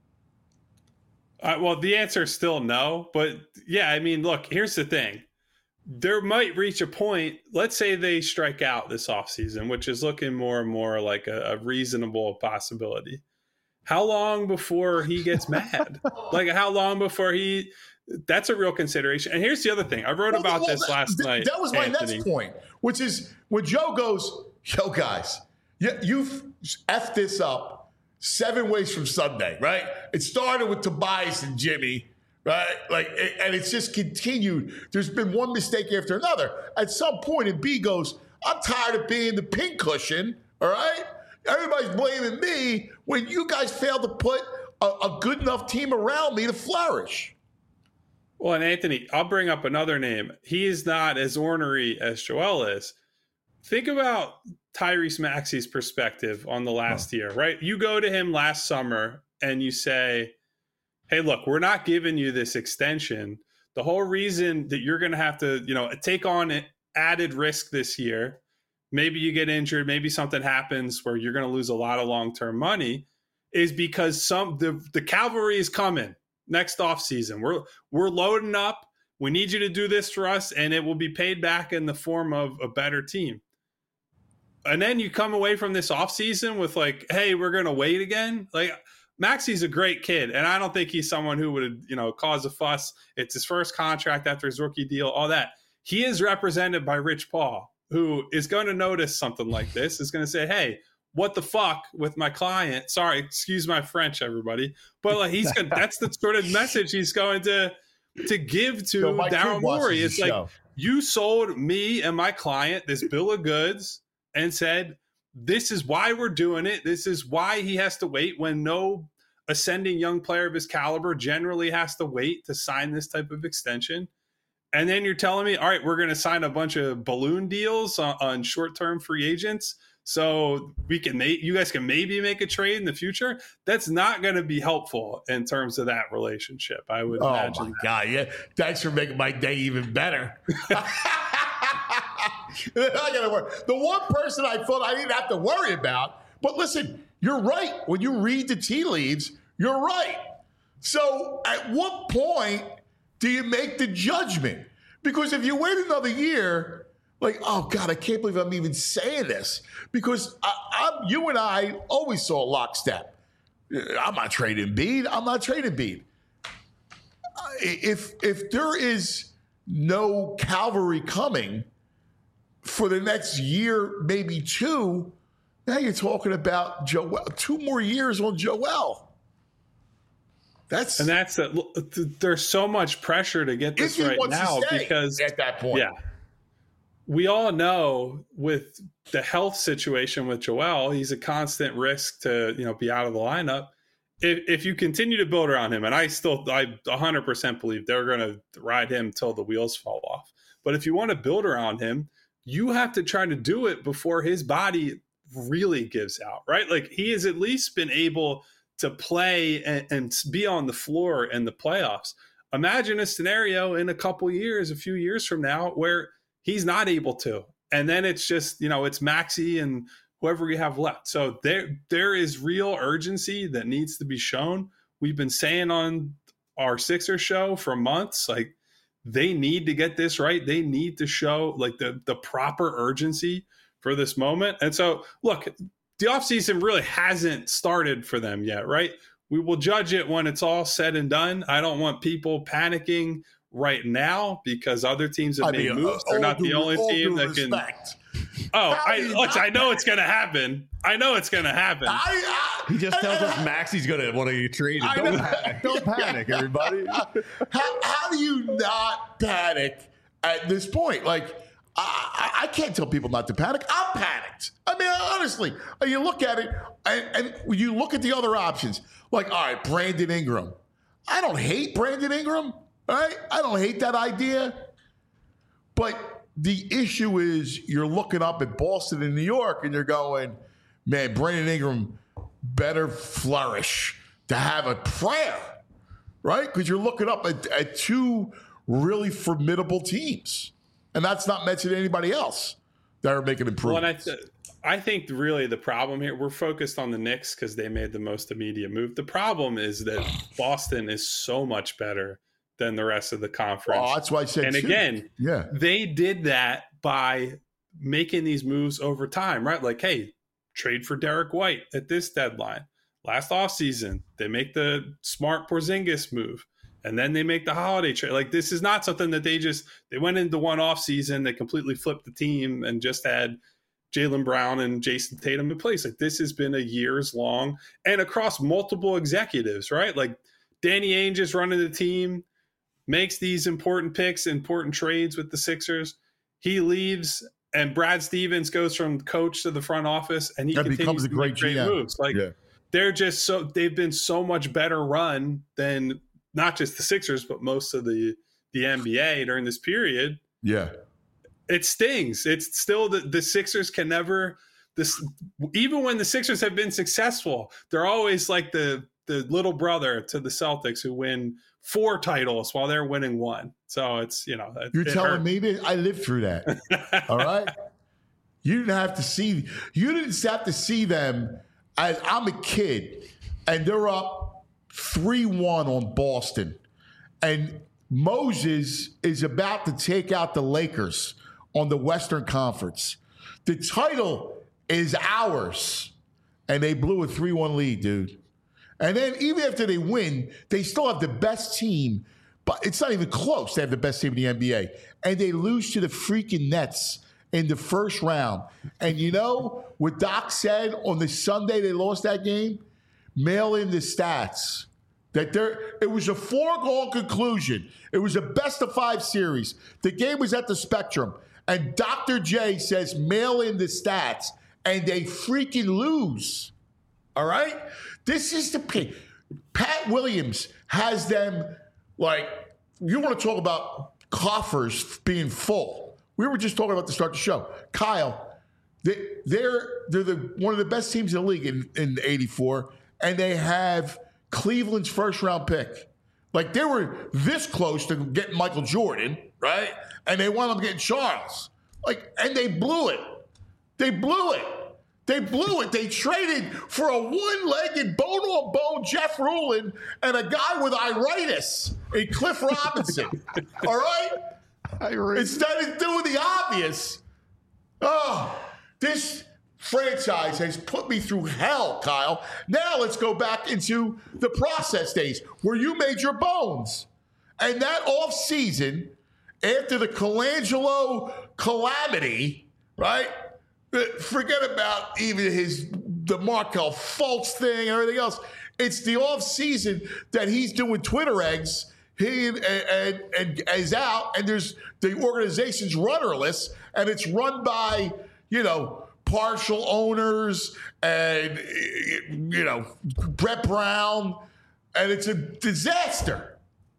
Well, the answer is still no. But, yeah, look, here's the thing. There might reach a point, let's say they strike out this offseason, which is looking more and more like a reasonable possibility. How long before he gets mad? Like, how long before that's a real consideration. And here's the other thing. I wrote about this last night. That was my next point, which is when Joe goes, yo, guys, you've effed this up 7 ways from Sunday, right? It started with Tobias and Jimmy. Right? And it's just continued. There's been one mistake after another. At some point, Embiid goes, I'm tired of being the pincushion, all right? Everybody's blaming me when you guys failed to put a good enough team around me to flourish. Well, and Anthony, I'll bring up another name. He is not as ornery as Joel is. Think about Tyrese Maxey's perspective on the last year, right? You go to him last summer and you say, hey, look, we're not giving you this extension. The whole reason that you're going to have to, take on added risk this year, maybe you get injured, maybe something happens where you're going to lose a lot of long-term money, is because the cavalry is coming next offseason. We're loading up. We need you to do this for us, and it will be paid back in the form of a better team. And then you come away from this offseason with like, hey, we're going to wait again. Like, Maxey's a great kid, and I don't think he's someone who would, cause a fuss. It's his first contract after his rookie deal, all that. He is represented by Rich Paul, who is going to notice something like this, is going to say, hey, what the fuck with my client? Sorry, excuse my French, everybody. But like, that's the sort of message he's going to give to Daryl Morey. It's like, you sold me and my client this bill of goods and said, this is why we're doing it. This is why he has to wait, when no ascending young player of his caliber generally has to wait to sign this type of extension. And then you're telling me, all right, we're going to sign a bunch of balloon deals on short-term free agents so you guys can maybe make a trade in the future. That's not going to be helpful in terms of that relationship, I would imagine. Oh, my God. Yeah. Thanks for making my day even better. I gotta worry. The one person I thought I didn't have to worry about, but listen, you're right. When you read the tea leaves, you're right. So at what point do you make the judgment? Because if you wait another year, like, oh God, I can't believe I'm even saying this, because you and I always saw lockstep. I'm not trading Embiid. if there is no cavalry coming for the next year, maybe two, now you're talking about Joel. 2 more years on Joel. There's so much pressure to get this right now because at that point, yeah, we all know with the health situation with Joel, he's a constant risk to be out of the lineup. If you continue to build around him, and I 100% believe they're going to ride him till the wheels fall off. But if you want to build around him, you have to try to do it before his body really gives out, right? Like he has at least been able to play and be on the floor in the playoffs. Imagine a scenario in a few years from now, where he's not able to. And then it's just, it's Maxey and whoever we have left. So there is real urgency that needs to be shown. We've been saying on our Sixers show for months, like they need to get this right. They need to show like the proper urgency for this moment. And so look, the offseason really hasn't started for them yet, right? We will judge it when it's all said and done. I don't want people panicking right now because other teams have made moves. They're not the only team that can. I know it's going to happen. He just tells us Maxey's going to want to get traded. Don't panic, everybody. How do you not panic at this point? Like, I can't tell people not to panic. I'm panicked. I mean, honestly, you look at it and you look at the other options. Like, all right, Brandon Ingram. I don't hate Brandon Ingram. All right? I don't hate that idea. But the issue is you're looking up at Boston and New York and you're going, man, Brandon Ingram better flourish to have a prayer, right? Because you're looking up at 2 really formidable teams. And that's not mentioning anybody else that are making improvements. Well, I think really the problem here, we're focused on the Knicks because they made the most immediate move. The problem is that Boston is so much better than the rest of the conference. Oh, that's why I said again, they did that by making these moves over time, right? Like, hey, trade for Derek White at this deadline. Last offseason, they make the smart Porzingis move. And then they make the holiday trade. Like, this is not something that they went into one off season, they completely flipped the team and just had Jaylen Brown and Jason Tatum in place. Like, this has been a years long and across multiple executives, right? Like, Danny Ainge is running the team, makes these important picks, important trades with the Sixers. He leaves and Brad Stevens goes from coach to the front office and he continues to make great moves. Like, they've been so much better run than not just the Sixers, but most of the NBA during this period. Yeah. It stings. It's still the Sixers can never even when the Sixers have been successful, they're always like the little brother to the Celtics who win 4 titles while they're winning 1. So it's, you're telling me that I lived through that. All right. You didn't have to see them as I'm a kid and they're up 3-1 on Boston. And Moses is about to take out the Lakers on the Western Conference. The title is ours. And they blew a 3-1 lead, dude. And then even after they win, they still have the best team. But it's not even close. They have the best team in the NBA. And they lose to the freaking Nets in the first round. And you know what Doc said on the Sunday they lost that game? Mail in the stats. It was a foregone conclusion. It was a best-of-5 series. The game was at the Spectrum. And Dr. J says mail in the stats. And they freaking lose. All right? This is the pain. Pat Williams has them, like, you want to talk about coffers being full. We were just talking about to start the show. Kyle, they're one of the best teams in the league in 84. And they have Cleveland's first-round pick. Like, they were this close to getting Michael Jordan, right? And they wound up getting Charles. Like, and they blew it. They blew it. They traded for a one-legged, bone-on-bone Jeff Rulin and a guy with iritis in Cliff Robinson. All right? Instead of doing the obvious. Oh, this franchise has put me through hell, Kyle. Now let's go back into the process days where you made your bones. And that offseason, after the Colangelo calamity, right? Forget about even the Markelle Fultz thing and everything else. It's the offseason that he's doing Twitter eggs. He and is out, and there's the organization's rudderless, and it's run by, partial owners and, Brett Brown, and it's a disaster.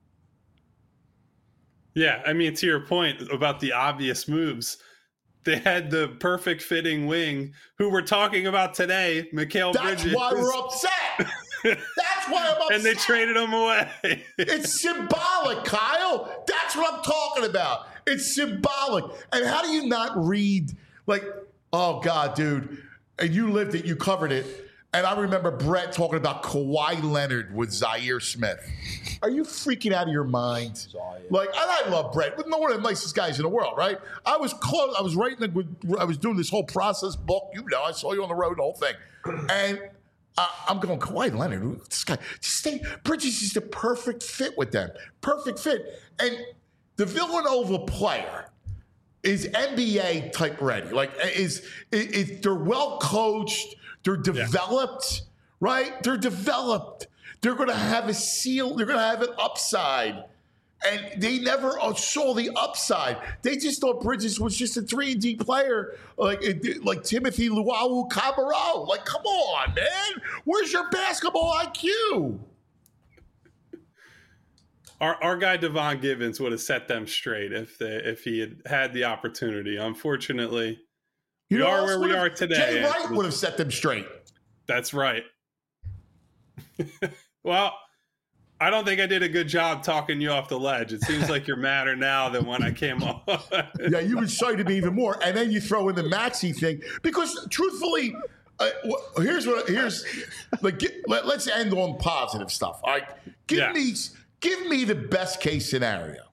Yeah, I mean, to your point about the obvious moves, they had the perfect fitting wing who we're talking about today, Mikal Bridges. That's why we're upset. That's why I'm upset. And they traded him away. It's symbolic, Kyle. That's what I'm talking about. It's symbolic. And how do you not read, oh, God, dude. And you lived it. You covered it. And I remember Brett talking about Kawhi Leonard with Zaire Smith. Are you freaking out of your mind? And I love Brett. One of the nicest guys in the world, right? I was close. I was I was doing this whole process book. I saw you on the road, the whole thing. And I'm going, Kawhi Leonard, this guy, Bridges is the perfect fit with them. Perfect fit. And the Villanova player is NBA type ready. They're well coached. They're developed, right? They're developed. They're going to have a seal. They're going to have an upside. And they never saw the upside. They just thought Bridges was just a 3-and-D player, like Timothy Luwawu-Cabarrot. Come on, man. Where's your basketball IQ? Our guy Devon Givens would have set them straight if he had the opportunity. Unfortunately, we are where we are today. Jay Wright would have set them straight. That's right. Well, I don't think I did a good job talking you off the ledge. It seems like you're madder now than when I came on. Yeah, you incited me even more. And then you throw in the Maxey thing. Because truthfully, let's end on positive stuff. All right. Give me the best case scenario.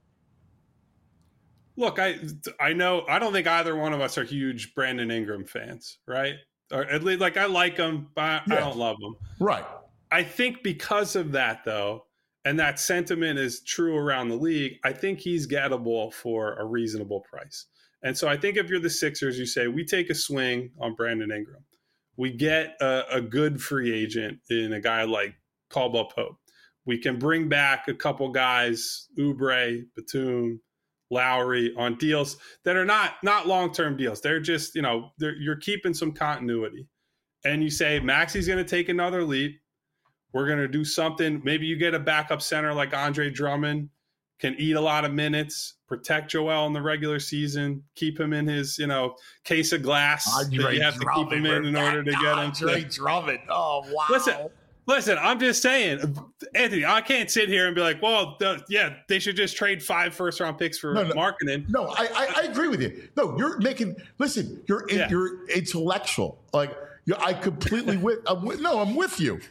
Look, I know I don't think either one of us are huge Brandon Ingram fans, right? Or at least I like him, but I don't love him. Right. I think because of that, though, and that sentiment is true around the league, I think he's gettable for a reasonable price. And so I think if you're the Sixers, you say, we take a swing on Brandon Ingram. We get a good free agent in a guy like Caldwell Pope. We can bring back a couple guys, Oubre, Batum, Lowry, on deals that are not long-term deals. They're just, you're keeping some continuity. And you say, Maxey's going to take another leap. We're going to do something. Maybe you get a backup center like Andre Drummond, can eat a lot of minutes, protect Joel in the regular season, keep him in his, case of glass Andre that you have Drummond, to keep him in order to get him. Andre Drummond. Oh, wow. Listen, I'm just saying, Anthony, I can't sit here and be like, well, they should just trade 5 first-round picks for marketing. No, I agree with you. No, you're you're intellectual. I completely I'm with you.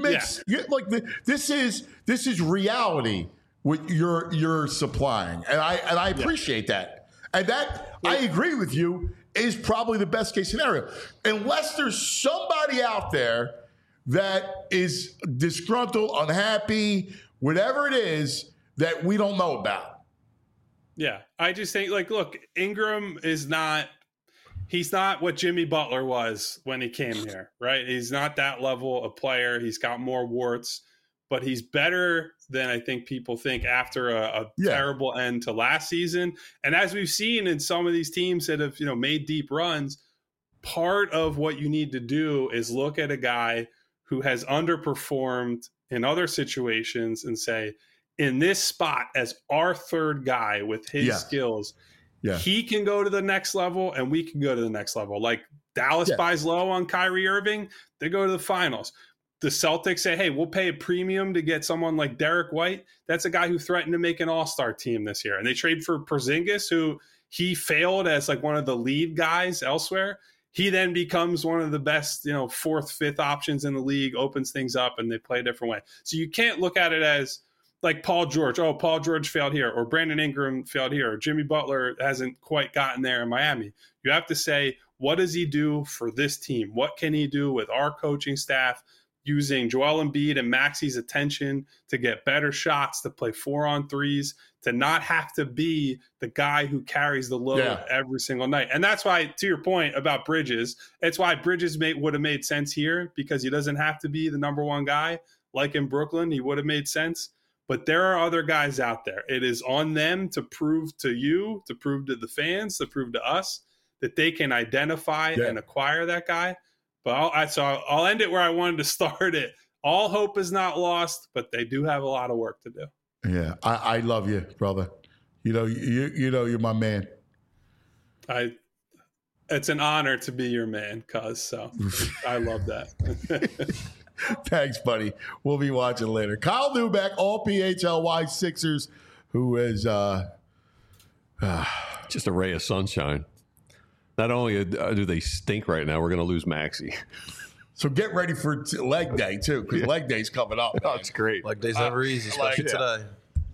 This is reality what you're supplying, and I appreciate that. And that I agree with you is probably the best case scenario, unless there's somebody out there that is disgruntled, unhappy, whatever it is that we don't know about. Yeah, I just think look, Ingram is not. He's not what Jimmy Butler was when he came here, right? He's not that level of player. He's got more warts, but he's better than I think people think after a terrible end to last season. And as we've seen in some of these teams that have, made deep runs, part of what you need to do is look at a guy who has underperformed in other situations and say, in this spot as our third guy with his skills, he can go to the next level and we can go to the next level. Like Dallas buys low on Kyrie Irving, they go to the finals. The Celtics say, hey, we'll pay a premium to get someone like Derek White. That's a guy who threatened to make an all-star team this year. And they trade for Porzingis, who he failed as one of the lead guys elsewhere. He then becomes one of the best, 4th, 5th options in the league, opens things up, and they play a different way. So you can't look at it as like Paul George. Oh, Paul George failed here, or Brandon Ingram failed here, or Jimmy Butler hasn't quite gotten there in Miami. You have to say, what does he do for this team? What can he do with our coaching staff using Joel Embiid and Maxi's attention to get better shots, to play 4-on-3s, to not have to be the guy who carries the load every single night. And that's why, to your point about Bridges, it's why Bridges would have made sense here, because he doesn't have to be the number one guy. Like in Brooklyn, he would have made sense. But there are other guys out there. It is on them to prove to you, to prove to the fans, to prove to us that they can identify and acquire that guy. But I'll end it where I wanted to start it. All hope is not lost, but they do have a lot of work to do. Yeah, I love you, brother. You know you're my man. It's an honor to be your man, cuz. So I love that. Thanks, buddy. We'll be watching later. Kyle Neubeck, all PHLY Sixers, who is just a ray of sunshine. Not only do they stink right now, we're going to lose Maxey. So get ready for leg day, too, because leg day's coming up. Oh, it's great. Leg day's never easy, especially today.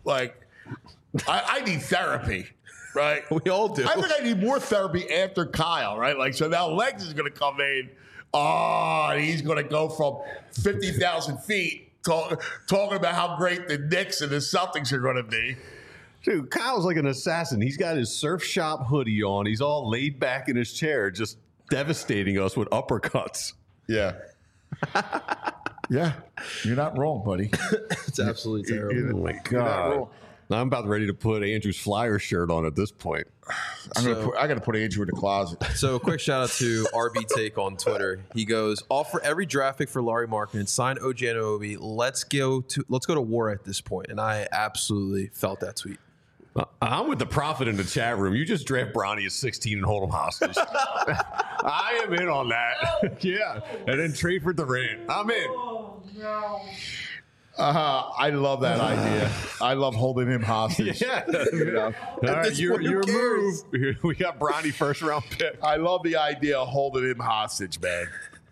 I need therapy, right? We all do. I think I need more therapy after Kyle, right? Like, so now Legs is going to come in. Oh, and he's going to go from 50,000 feet talking about how great the Knicks and the Celtics are going to be. Dude, Kyle's like an assassin. He's got his surf shop hoodie on. He's all laid back in his chair, just devastating us with uppercuts. Yeah. Yeah. You're not wrong, buddy. It's absolutely terrible. Oh, my God. Now I'm about ready to put Andrew's Flyer shirt on at this point. I got to put Andrew in the closet. So a quick shout out to RB Take on Twitter. He goes, offer every draft pick for Lauri Markkanen, sign OG Anunoby. Let's go to war at this point. And I absolutely felt that tweet. I'm with the prophet in the chat room. You just draft Bronny at 16 and hold him hostage. I am in on that. Yeah. And then trade for Durant. I'm in. Oh, no. I love that idea. I love holding him hostage. Yeah. All right, your move. We got Bronny first round pick. I love the idea of holding him hostage, man.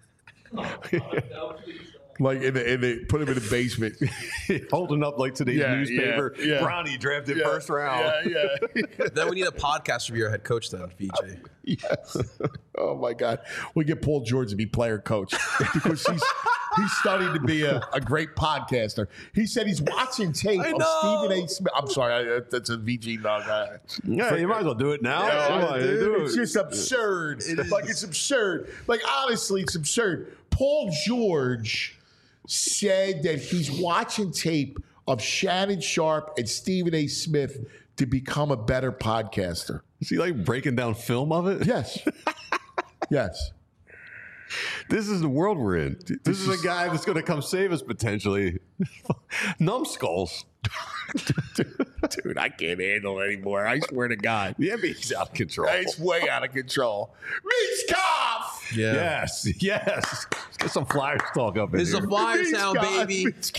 Like put him in the basement, holding up like today's newspaper. Yeah. Bronny drafted first round. Yeah. Then we need a podcast review head coach then, VJ. Yes. Oh my God, we get Paul George to be player coach because he's starting to be a great podcaster. He said he's watching tape of Stephen A. Smith. I'm sorry, that's a VG dog. Yeah, you might as well do it now. It's just absurd. It's absurd. Like honestly, it's absurd. Paul George said that he's watching tape of Shannon Sharpe and Stephen A. Smith to become a better podcaster. Is he like breaking down film of it? Yes. Yes. This is the world we're in. This is a guy that's going to come save us potentially. Numbskulls. Dude, I can't handle it anymore. I swear to God. The NBA's out of control. It's way out of control. Mitch Yeah. Yes. Let's get some Flyers talk up in This here. is a Flyer sound, baby. Mitch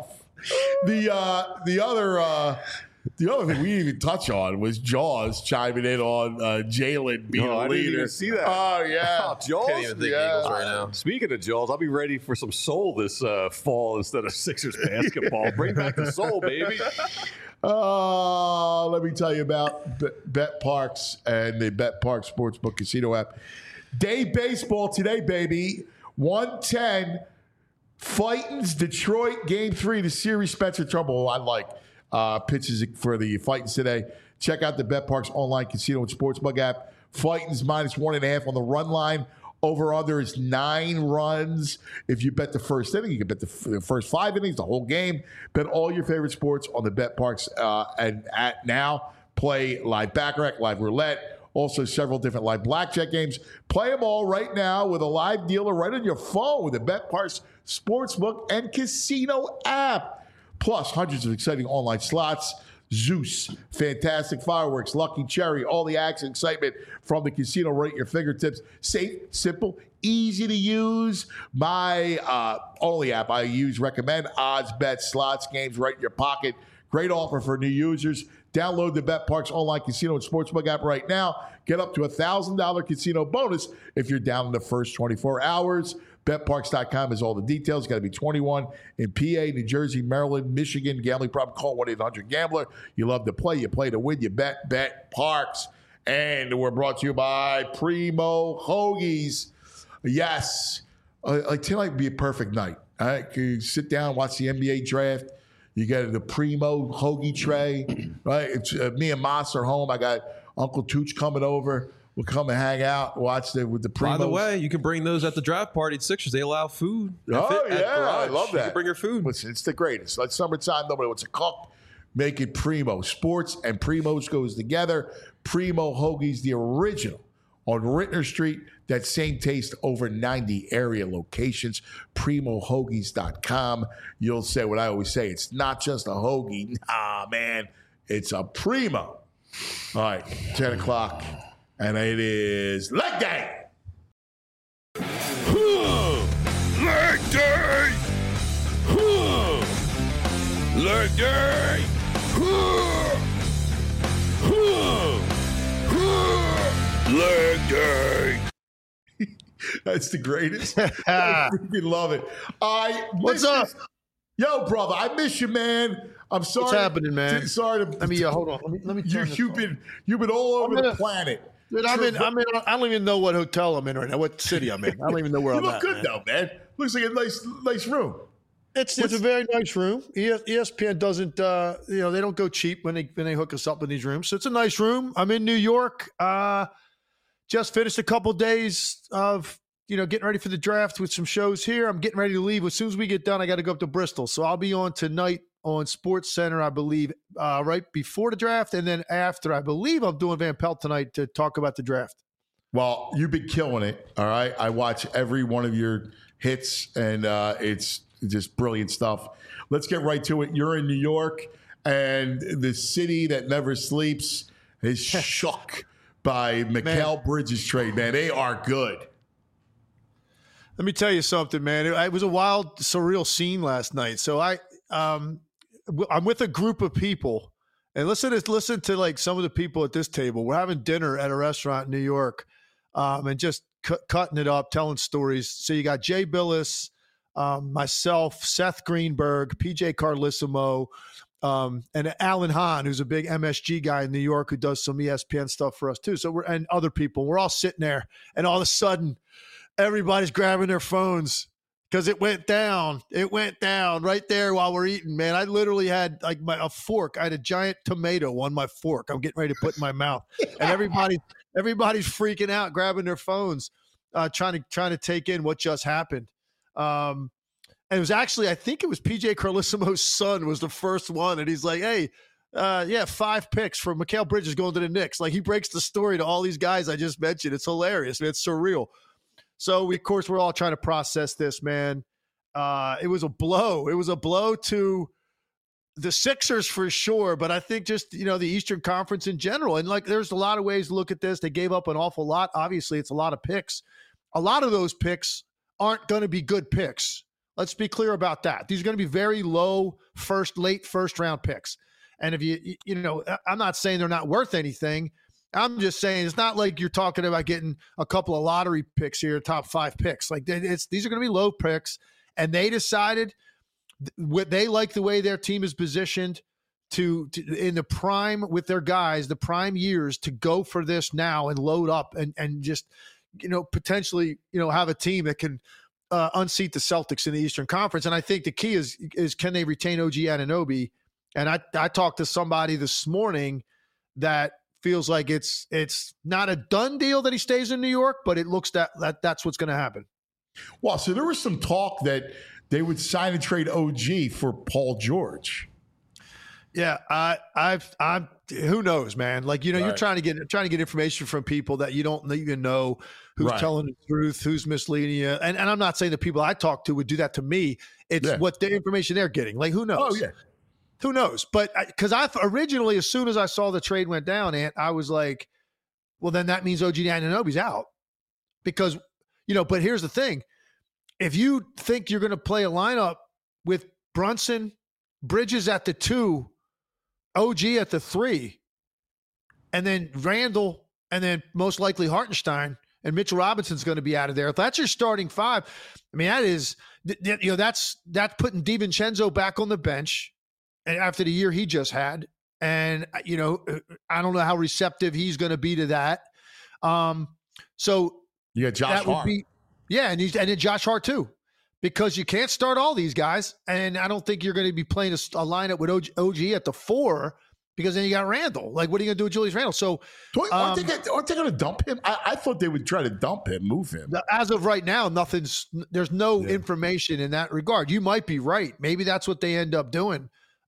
The other thing we didn't even touch on was Jaws chiming in on Jalen being a leader. I didn't even see that. Oh, yeah. Oh, Jaws? Can't even think Eagles right now. Speaking of Jaws, I'll be ready for some soul this fall instead of Sixers basketball. Bring back the soul, baby. Let me tell you about Bet Parks and the Bet Parks Sportsbook Casino app. Day baseball today, baby. 1:10. Fightins Detroit Game 3. The series Spencer Trouble. I like pitches for the Fightins today. Check out the Bet Parks online casino and sportsbook app. Fightins -1.5 on the run line. Over under is 9 runs. If you bet the first inning, you can bet the first 5 innings, the whole game. Bet all your favorite sports on the Bet Parks and at now. Play live baccarat, live roulette. Also, several different live blackjack games. Play them all right now with a live dealer right on your phone with the Bet Parks Sportsbook and Casino app. Plus, hundreds of exciting online slots. Zeus, fantastic fireworks, Lucky Cherry, all the action excitement from the casino right at your fingertips. Safe, simple, easy to use. My only app I use, recommend odds, bets, slots, games right in your pocket. Great offer for new users. Download the Bet Parks online casino and sportsbook app right now. Get up to $1,000 casino bonus if you're down in the first 24 hours. BetParks.com has all the details. Got to be 21 in PA, New Jersey, Maryland, Michigan. Gambling problem? Call 1-800-GAMBLER. You love to play. You play to win. You bet. Bet Parks. And we're brought to you by Primo Hoagies. Yes. Tonight would be a perfect night. All right, you sit down, watch the NBA draft. You got the Primo hoagie tray, right? It's, me and Moss are home. I got Uncle Tooch coming over. We'll come and hang out, watch with the Primos. By the way, you can bring those at the draft party at Sixers. They allow food. Oh, yeah, I love that. You can bring your food. Listen, it's the greatest. Like summertime, nobody wants to cook. Make it Primo. Sports and Primos goes together. Primo Hoagies, the original on Rittner Street. That same taste, over 90 area locations. PrimoHoagies.com. You'll say what I always say. It's not just a hoagie. Nah, man. It's a Primo. All right, 10 o'clock. And it is leg day. Leg day. Leg day. Leg day. That's the greatest. I freaking love it. What's up? Yo, brother, I miss you, man. I'm sorry. What's happening, man? Sorry to. Let me hold on. Let me turn this you've been all over the planet. Dude, I'm in. I don't even know what hotel I'm in right now. What city I'm in? I don't even know where I'm at. You look good though, man. Looks like a nice room. It's a very nice room. ESPN doesn't. They don't go cheap when they hook us up in these rooms. So it's a nice room. I'm in New York. Just finished a couple days of getting ready for the draft with some shows here. I'm getting ready to leave. As soon as we get done, I got to go up to Bristol. So I'll be on tonight on Sports Center, I believe, right before the draft, and then after. I believe I'm doing Van Pelt tonight to talk about the draft. Well, you've been killing it. All right, I watch every one of your hits, and it's just brilliant stuff. Let's get right to it. You're in New York, and the city that never sleeps is shook by Mikal Bridges trade. Man, they are good. Let me tell you something, man. It was a wild, surreal scene last night. So I'm with a group of people, and listen to like some of the people at this table. We're having dinner at a restaurant in New York, and just cutting it up, telling stories. So you got Jay Billis, myself, Seth Greenberg, PJ Carlissimo, and Alan Hahn, who's a big MSG guy in New York who does some ESPN stuff for us too. So and other people. We're all sitting there, and all of a sudden, everybody's grabbing their phones because it went down. It went down right there while we're eating, man. I literally had like a fork. I had a giant tomato on my fork. I'm getting ready to put in my mouth, and everybody's freaking out, grabbing their phones, trying to take in what just happened. And it was actually, I think it was PJ Carlissimo's son was the first one, and he's like, "Hey, 5 picks for Mikal Bridges going to the Knicks." Like he breaks the story to all these guys I just mentioned. It's hilarious, man. It's surreal. So, of course, we're all trying to process this, man. It was a blow. It was a blow to the Sixers for sure, but I think just, the Eastern Conference in general. And, there's a lot of ways to look at this. They gave up an awful lot. Obviously, it's a lot of picks. A lot of those picks aren't going to be good picks. Let's be clear about that. These are going to be very low late first-round picks. And if I'm not saying they're not worth anything. I'm just saying it's not like you're talking about getting a couple of lottery picks here, top 5 picks. Like these are going to be low picks, and they decided they like the way their team is positioned to in the prime with their guys, the prime years to go for this now and load up and just potentially have a team that can unseat the Celtics in the Eastern Conference. And I think the key is can they retain OG Anunoby? And I talked to somebody this morning that feels like it's not a done deal that he stays in New York, but it looks that's what's going to happen. Well, so there was some talk that they would sign and trade OG for Paul George. Yeah, I'm. Who knows, man? Right. You're trying to get information from people that you don't even know who's telling the truth, who's misleading you. And I'm not saying the people I talk to would do that to me. It's what the information they're getting. Like, who knows? Oh yeah. Who knows? But because I originally, as soon as I saw the trade went down, Ant, I was like, well, then that means OG Anunoby's out. Because, but here's the thing. If you think you're going to play a lineup with Brunson, Bridges at the 2, OG at the 3, and then Randall, and then most likely Hartenstein, and Mitchell Robinson's going to be out of there. If that's your starting 5, I mean, that's putting DiVincenzo back on the bench after the year he just had. And, I don't know how receptive he's going to be to that. So you got Josh Hart. And then Josh Hart too. because you can't start all these guys. And I don't think you're going to be playing a lineup with OG at the 4 because then you got Randle. Like, what are you going to do with Julius Randle? So aren't they going to dump him? I thought they would try to dump him, move him. As of right now, there's no information in that regard. You might be right. Maybe that's what they end up doing.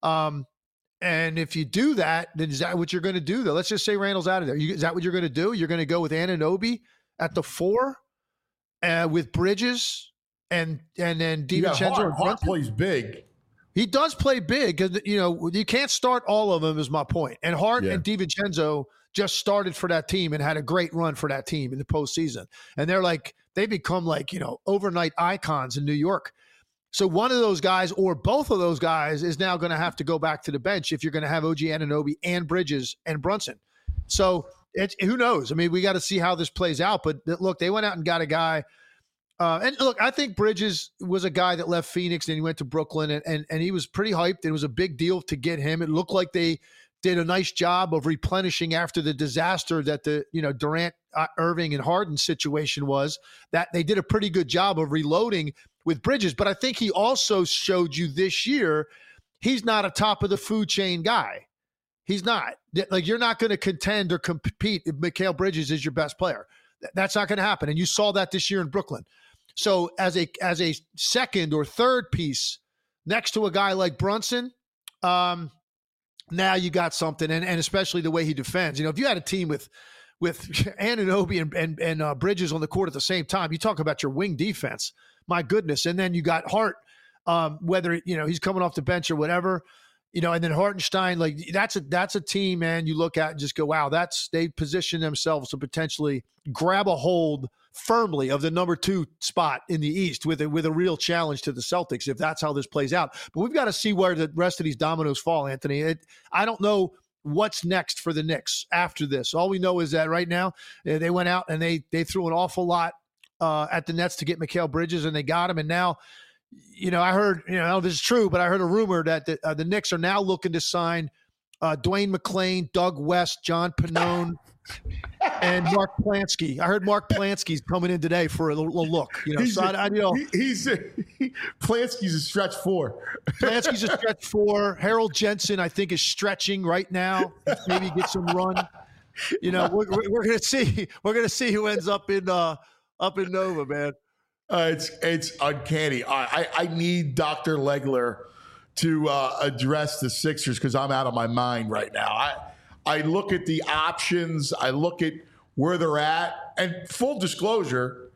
And if you do that, then is that what you're going to do, though? Let's just say Randall's out of there. Is that what you're going to do? You're going to go with Anunoby at the 4 with Bridges and then DiVincenzo. Hart plays big. He does play big because, you can't start all of them is my point. And Hart and DiVincenzo just started for that team and had a great run for that team in the postseason. And they become overnight icons in New York. So one of those guys or both of those guys is now going to have to go back to the bench if you're going to have OG Anunoby and Bridges and Brunson. So who knows? I mean, we got to see how this plays out. But look, they went out and got a guy. And look, I think Bridges was a guy that left Phoenix and he went to Brooklyn and he was pretty hyped. It was a big deal to get him. It looked like they did a nice job of replenishing after the disaster that the Durant, Irving, and Harden situation was. That they did a pretty good job of reloading with Bridges. But I think he also showed you this year he's not a top of the food chain guy. He's not. Like, you're not going to contend or compete if Mikal Bridges is your best player. That's not going to happen. And you saw that this year in Brooklyn. So as a second or third piece next to a guy like Brunson, now you got something, and especially the way he defends. If you had a team with Anunoby and Bridges on the court at the same time, you talk about your wing defense. My goodness. And then you got Hart, whether he's coming off the bench or whatever, and then Hartenstein, like that's a team, man, you look at and just go, wow, they position themselves to potentially grab a hold firmly of the number 2 spot in the East with a real challenge to the Celtics if that's how this plays out. But we've got to see where the rest of these dominoes fall, Anthony. I don't know what's next for the Knicks after this. All we know is that right now they went out and they threw an awful lot at the Nets to get Mikal Bridges, and they got him. And now, I heard, this is true, but I heard a rumor that the Knicks are now looking to sign Dwayne McClain, Doug West, John Pannone, and Mark Plansky. I heard Mark Plansky's coming in today for a little look. Plansky's a stretch 4. Plansky's a stretch 4. Harold Jensen, I think, is stretching right now. Maybe get some run. We're gonna see. We're gonna see who ends up in Nova, man. It's uncanny. I need Dr. Legler to address the Sixers because I'm out of my mind right now. I look at the options. I look at where they're at. And full disclosure,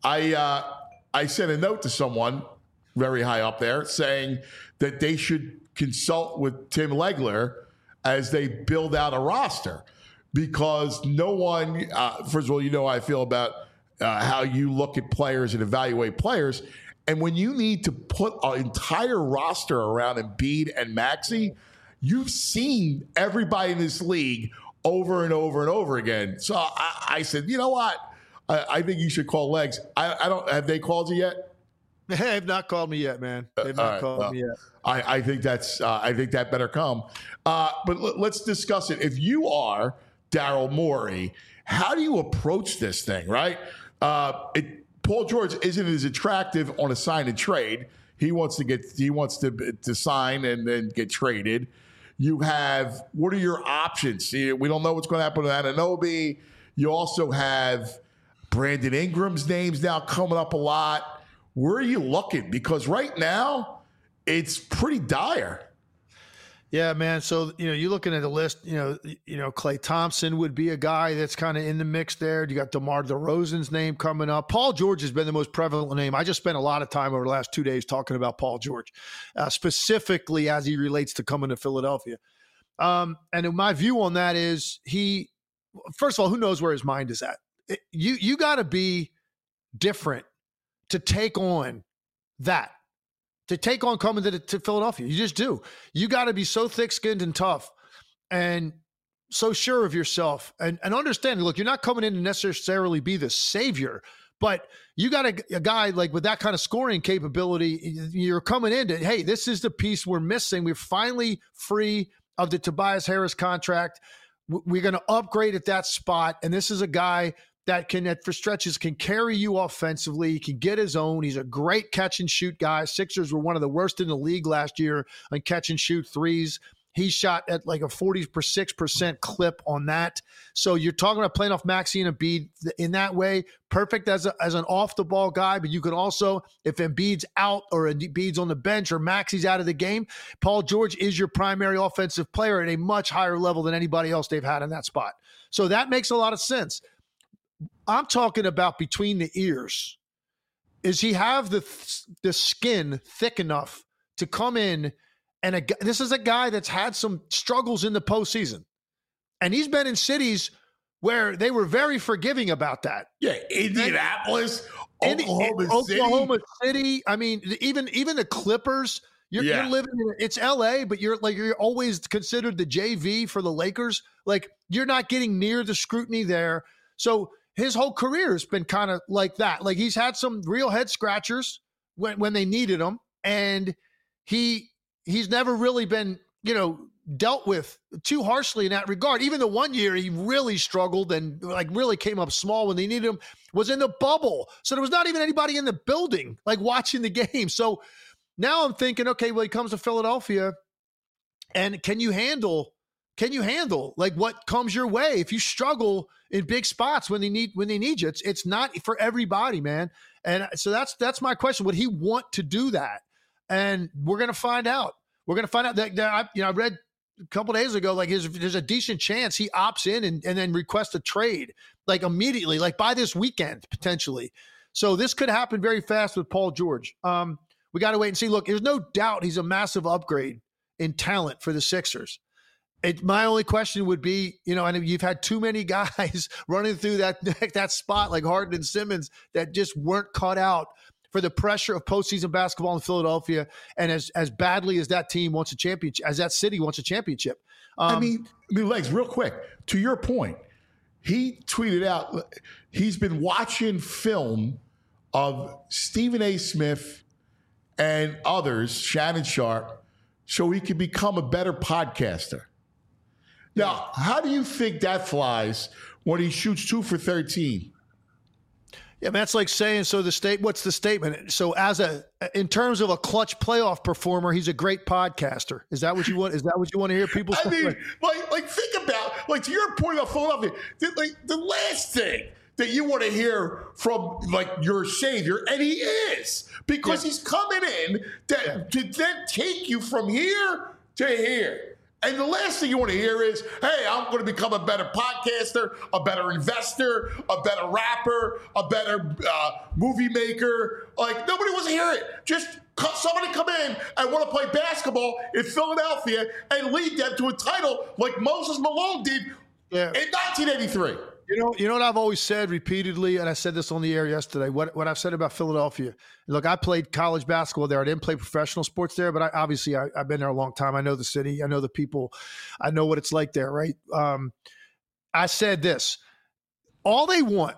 I sent a note to someone very high up there saying that they should consult with Tim Legler as they build out a roster because no one, first of all, how I feel about how you look at players and evaluate players. And when you need to put an entire roster around Embiid and Maxey, you've seen everybody in this league over and over and over again. So I said, you know what? I think you should call Legs. Have they called you yet? They have not called me yet, man. They've not called me yet. I think that better come. But let's discuss it. If you are Daryl Morey, how do you approach this thing, right? Paul George isn't as attractive on a sign and trade. He wants to sign and then get traded. You have, what are your options? We don't know what's going to happen with Anunoby. You also have Brandon Ingram's name's now coming up a lot. Where are you looking? Because right now, it's pretty dire. Yeah, man. So, you're looking at the list, Klay Thompson would be a guy that's kind of in the mix there. You got DeMar DeRozan's name coming up. Paul George has been the most prevalent name. I just spent a lot of time over the last 2 days talking about Paul George, specifically as he relates to coming to Philadelphia. And my view on that is first of all, who knows where his mind is at? You got to be different to take on that. To take on coming to Philadelphia. You just do. You got to be so thick-skinned and tough and so sure of yourself and understanding. Look, you're not coming in to necessarily be the savior, but you got a guy like with that kind of scoring capability. You're coming in to, hey, this is the piece we're missing. We're finally free of the Tobias Harris contract. We're going to upgrade at that spot. And this is a guy that for stretches can carry you offensively. He can get his own. He's a great catch and shoot guy. Sixers were one of the worst in the league last year on catch and shoot threes. He shot at like a 46% clip on that. So you're talking about playing off Maxey and Embiid in that way. Perfect as an off-the-ball guy, but you could also, if Embiid's out or Embiid's on the bench or Maxey's out of the game, Paul George is your primary offensive player at a much higher level than anybody else they've had in that spot. So that makes a lot of sense. I'm talking about between the ears. Is he have the skin thick enough to come in? And this is a guy that's had some struggles in the postseason. And he's been in cities where they were very forgiving about that. Yeah, Indianapolis, Oklahoma City. I mean, even the Clippers. You're living in it's LA, but you're always considered the JV for the Lakers. Like, you're not getting near the scrutiny there. So his whole career has been kind of like that. Like, he's had some real head scratchers when they needed him, and he's never really been, dealt with too harshly in that regard. Even the one year he really struggled and really came up small when they needed him was in the bubble. So there was not even anybody in the building watching the game. So now I'm thinking, okay, well, he comes to Philadelphia, and can you handle what comes your way? If you struggle in big spots when they need you, it's not for everybody, man. And so that's my question. Would he want to do that? And we're going to find out. We're going to find out that I read a couple of days ago, there's a decent chance he opts in and then requests a trade immediately, by this weekend, potentially. So this could happen very fast with Paul George. We got to wait and see. Look, there's no doubt he's a massive upgrade in talent for the Sixers. My only question would be, and you've had too many guys running through that spot like Harden and Simmons that just weren't caught out for the pressure of postseason basketball in Philadelphia, and as badly as that team wants a championship, as that city wants a championship. Legs, real quick, to your point, he tweeted out he's been watching film of Stephen A. Smith and others, Shannon Sharp, so he can become a better podcaster. Now, how do you think that flies when he shoots 2 for 13? Yeah, man, that's like saying, what's the statement? So in terms of a clutch playoff performer, he's a great podcaster. Is that what you want? Is that what you want to hear people say? I mean, think about, to your point about Philadelphia, the last thing that you want to hear from your savior, and he is, because he's coming in to then take you from here to here. And the last thing you want to hear is, hey, I'm going to become a better podcaster, a better investor, a better rapper, a better movie maker. Nobody wants to hear it. Just somebody come in and want to play basketball in Philadelphia and lead them to a title like Moses Malone did in 1983. You know what I've always said repeatedly, and I said this on the air yesterday, what I've said about Philadelphia. Look, I played college basketball there. I didn't play professional sports there, but I've been there a long time. I know the city. I know the people. I know what it's like there, right? I said this. All they want,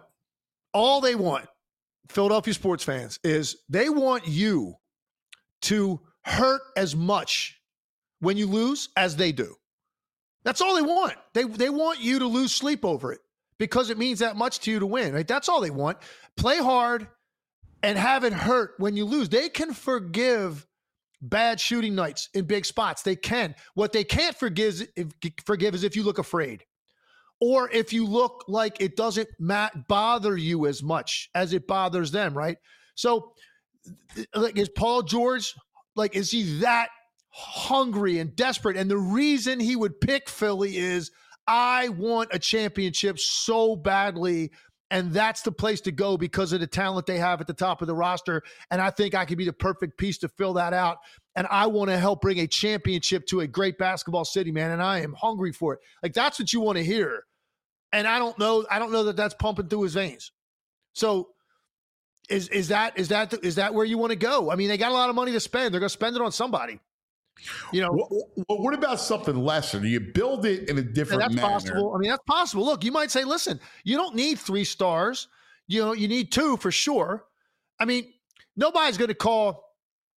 Philadelphia sports fans, is they want you to hurt as much when you lose as they do. That's all they want. They want you to lose sleep over it, because it means that much to you to win, right? That's all they want. Play hard and have it hurt when you lose. They can forgive bad shooting nights in big spots. They can. What they can't forgive is if you look afraid, or if you look like it doesn't bother you as much as it bothers them, right? So is Paul George, is he that hungry and desperate? And the reason he would pick Philly is, I want a championship so badly, and that's the place to go because of the talent they have at the top of the roster. And I think I could be the perfect piece to fill that out. And I want to help bring a championship to a great basketball city, man. And I am hungry for it. That's what you want to hear. And I don't know that that's pumping through his veins. So is that where you want to go? I mean, they got a lot of money to spend. They're going to spend it on somebody. Well, what about something lesser? Do you build it in a different manner? Possible. I mean, that's possible. Look, you might say, listen, you don't need 3 stars. You need 2 for sure. I mean, nobody's going to call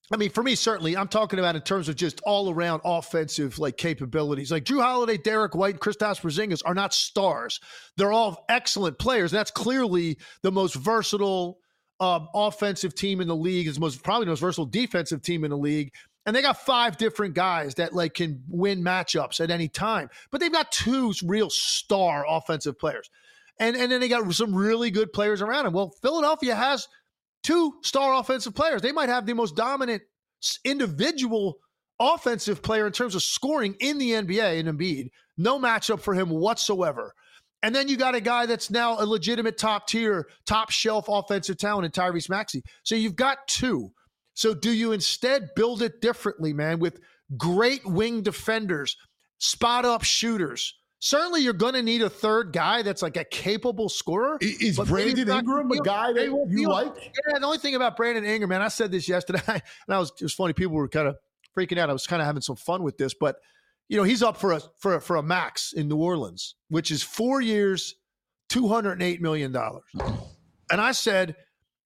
I mean, for me, certainly, I'm talking about in terms of just all-around offensive like capabilities. Like Drew Holiday, Derek White, Kristaps Porzingis are not stars. They're all excellent players. That's clearly the most versatile offensive team in the league. It's probably the most versatile defensive team in the league. And they got 5 different guys that like can win matchups at any time. But they've got 2 real star offensive players. And then they got some really good players around them. Well, Philadelphia has 2 star offensive players. They might have the most dominant individual offensive player in terms of scoring in the NBA in Embiid. No matchup for him whatsoever. And then you got a guy that's now a legitimate top-tier, top-shelf offensive talent in Tyrese Maxey. So you've got 2. So do you instead build it differently, man, with great wing defenders, spot-up shooters? Certainly you're going to need a third guy that's like a capable scorer. Is Brandon Ingram a guy that you like? Yeah, the only thing about Brandon Ingram, man, I said this yesterday, and it was funny. People were kind of freaking out. I was kind of having some fun with this, but he's up for a max in New Orleans, which is 4 years, $208 million. And I said,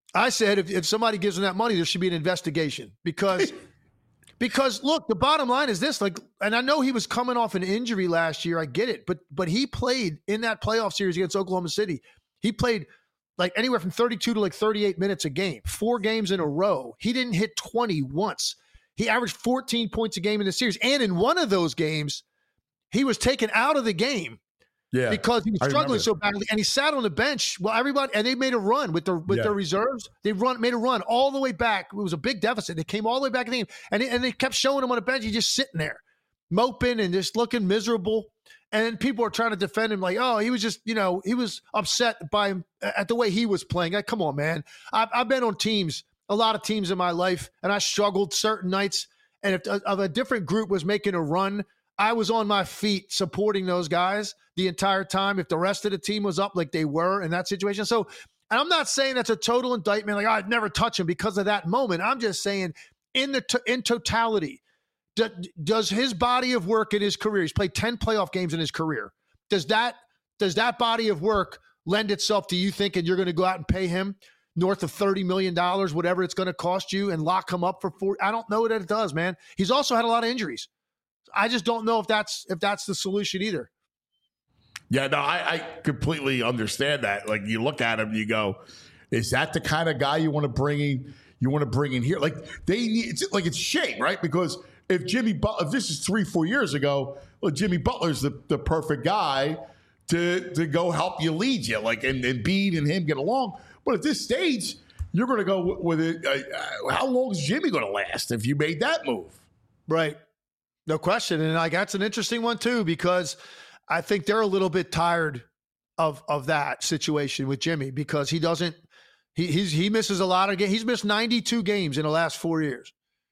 if somebody gives him that money, there should be an investigation because look, the bottom line is this, like, and I know he was coming off an injury last year. I get it, but he played in that playoff series against Oklahoma City. He played like anywhere from 32 to like 38 minutes a game, 4 games in a row. He didn't hit 20 once. He averaged 14 points a game in the series. And in one of those games, he was taken out of the game because he was struggling so badly. And he sat on the bench. Well, everybody, and they made a run with their reserves. They made a run all the way back. It was a big deficit. They came all the way back in the game. And they kept showing him on the bench. He's just sitting there, moping and just looking miserable. And people are trying to defend him like, oh, he was just, he was upset at the way he was playing. Like, come on, man. I've been on teams, a lot of teams in my life, and I struggled certain nights. And if a different group was making a run, I was on my feet supporting those guys the entire time if the rest of the team was up like they were in that situation. So, and I'm not saying that's a total indictment, like, I'd never touch him because of that moment. I'm just saying in totality, does his body of work in his career, he's played 10 playoff games in his career, does that body of work lend itself to you thinking you're going to go out and pay him north of $30 million, whatever it's going to cost you, and lock him up for 4? I don't know that it does, man. He's also had a lot of injuries. I just don't know if that's the solution either. Yeah, no, I completely understand that. Like, you look at him, you go, is that the kind of guy you want to bring in? You want to bring in here? Like, it's a shame, right? Because if this is 3-4 years ago, well, Jimmy Butler's the perfect guy to go help you lead you, like, and Embiid and him get along. But at this stage, you're going to go with it. How long is Jimmy going to last if you made that move? Right. No question. And like, that's an interesting one too, because I think they're a little bit tired of that situation with Jimmy, because he misses a lot of games. He's missed 92 games in the last 4 years,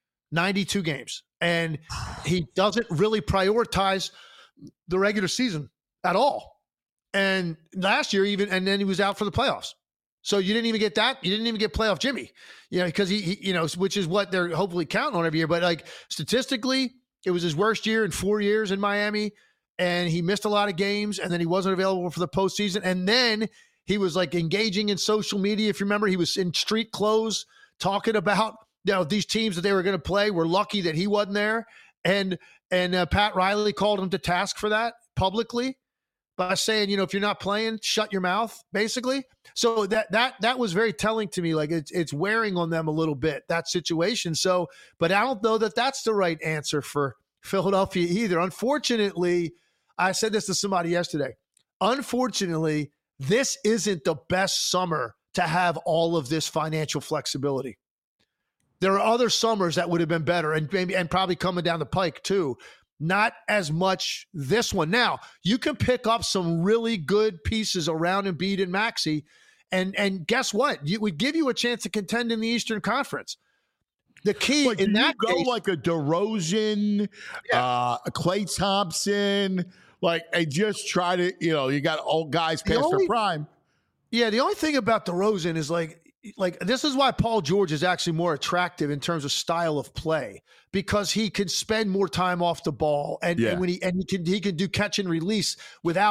92 games. And he doesn't really prioritize the regular season at all. And last year and then he was out for the playoffs. So you didn't even get that. You didn't even get playoff Jimmy, because he which is what they're hopefully counting on every year. But like, statistically, it was his worst year in 4 years in Miami, and he missed a lot of games, and then he wasn't available for the postseason. And then he was like engaging in social media. If you remember, he was in street clothes talking about these teams that they were going to play were lucky that he wasn't there. And Pat Riley called him to task for that publicly by saying, if you're not playing, shut your mouth, basically. So that was very telling to me. Like, it's wearing on them a little bit, that situation. So, but I don't know that that's the right answer for Philadelphia either. Unfortunately, I said this to somebody yesterday. Unfortunately, this isn't the best summer to have all of this financial flexibility. There are other summers that would have been better, and probably coming down the pike too. Not as much this one. Now, you can pick up some really good pieces around Embiid and Maxey, and guess what? We give you a chance to contend in the Eastern Conference. The key in that case, like a DeRozan, a Klay Thompson, like, and just try to, you got old guys past their prime. Yeah, the only thing about DeRozan is like this is why Paul George is actually more attractive in terms of style of play, because he can spend more time off the ball, and when he can do catch and release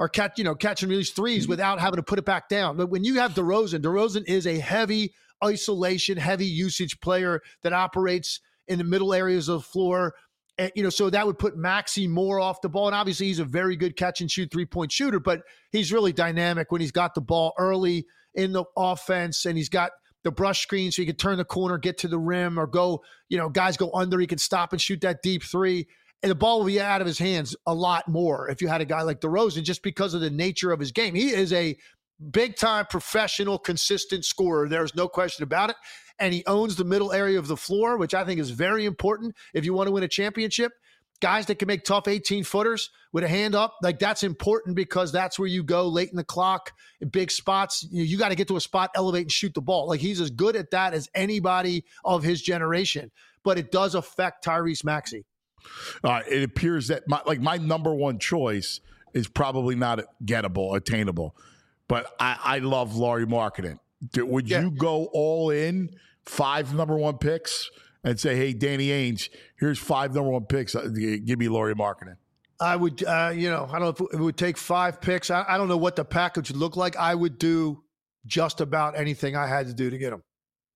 or catch and release threes without having to put it back down. But when you have DeRozan is a heavy isolation, heavy usage player that operates in the middle areas of the floor. And, so that would put Maxey more off the ball. And obviously he's a very good catch and shoot 3-point shooter, but he's really dynamic when he's got the ball early in the offense and he's got the brush screen so he can turn the corner, get to the rim, or go, guys go under, he can stop and shoot that deep three. And the ball will be out of his hands a lot more if you had a guy like DeRozan, just because of the nature of his game. He is a big-time professional, consistent scorer. There's no question about it. And he owns the middle area of the floor, which I think is very important if you want to win a championship. Guys that can make tough 18-footers with a hand up, like that's important because that's where you go late in the clock in big spots. You got to get to a spot, elevate, and shoot the ball. Like he's as good at that as anybody of his generation. But it does affect Tyrese Maxey. It appears that my number one choice is probably not gettable, attainable. But I love Lauri Markkanen. Would you go all in 5 number 1 picks and say, hey, Danny Ainge, here's 5 number 1 picks. Give me Lauri Markkanen. I would, I don't know if it would take 5 picks. I don't know what the package would look like. I would do just about anything I had to do to get him.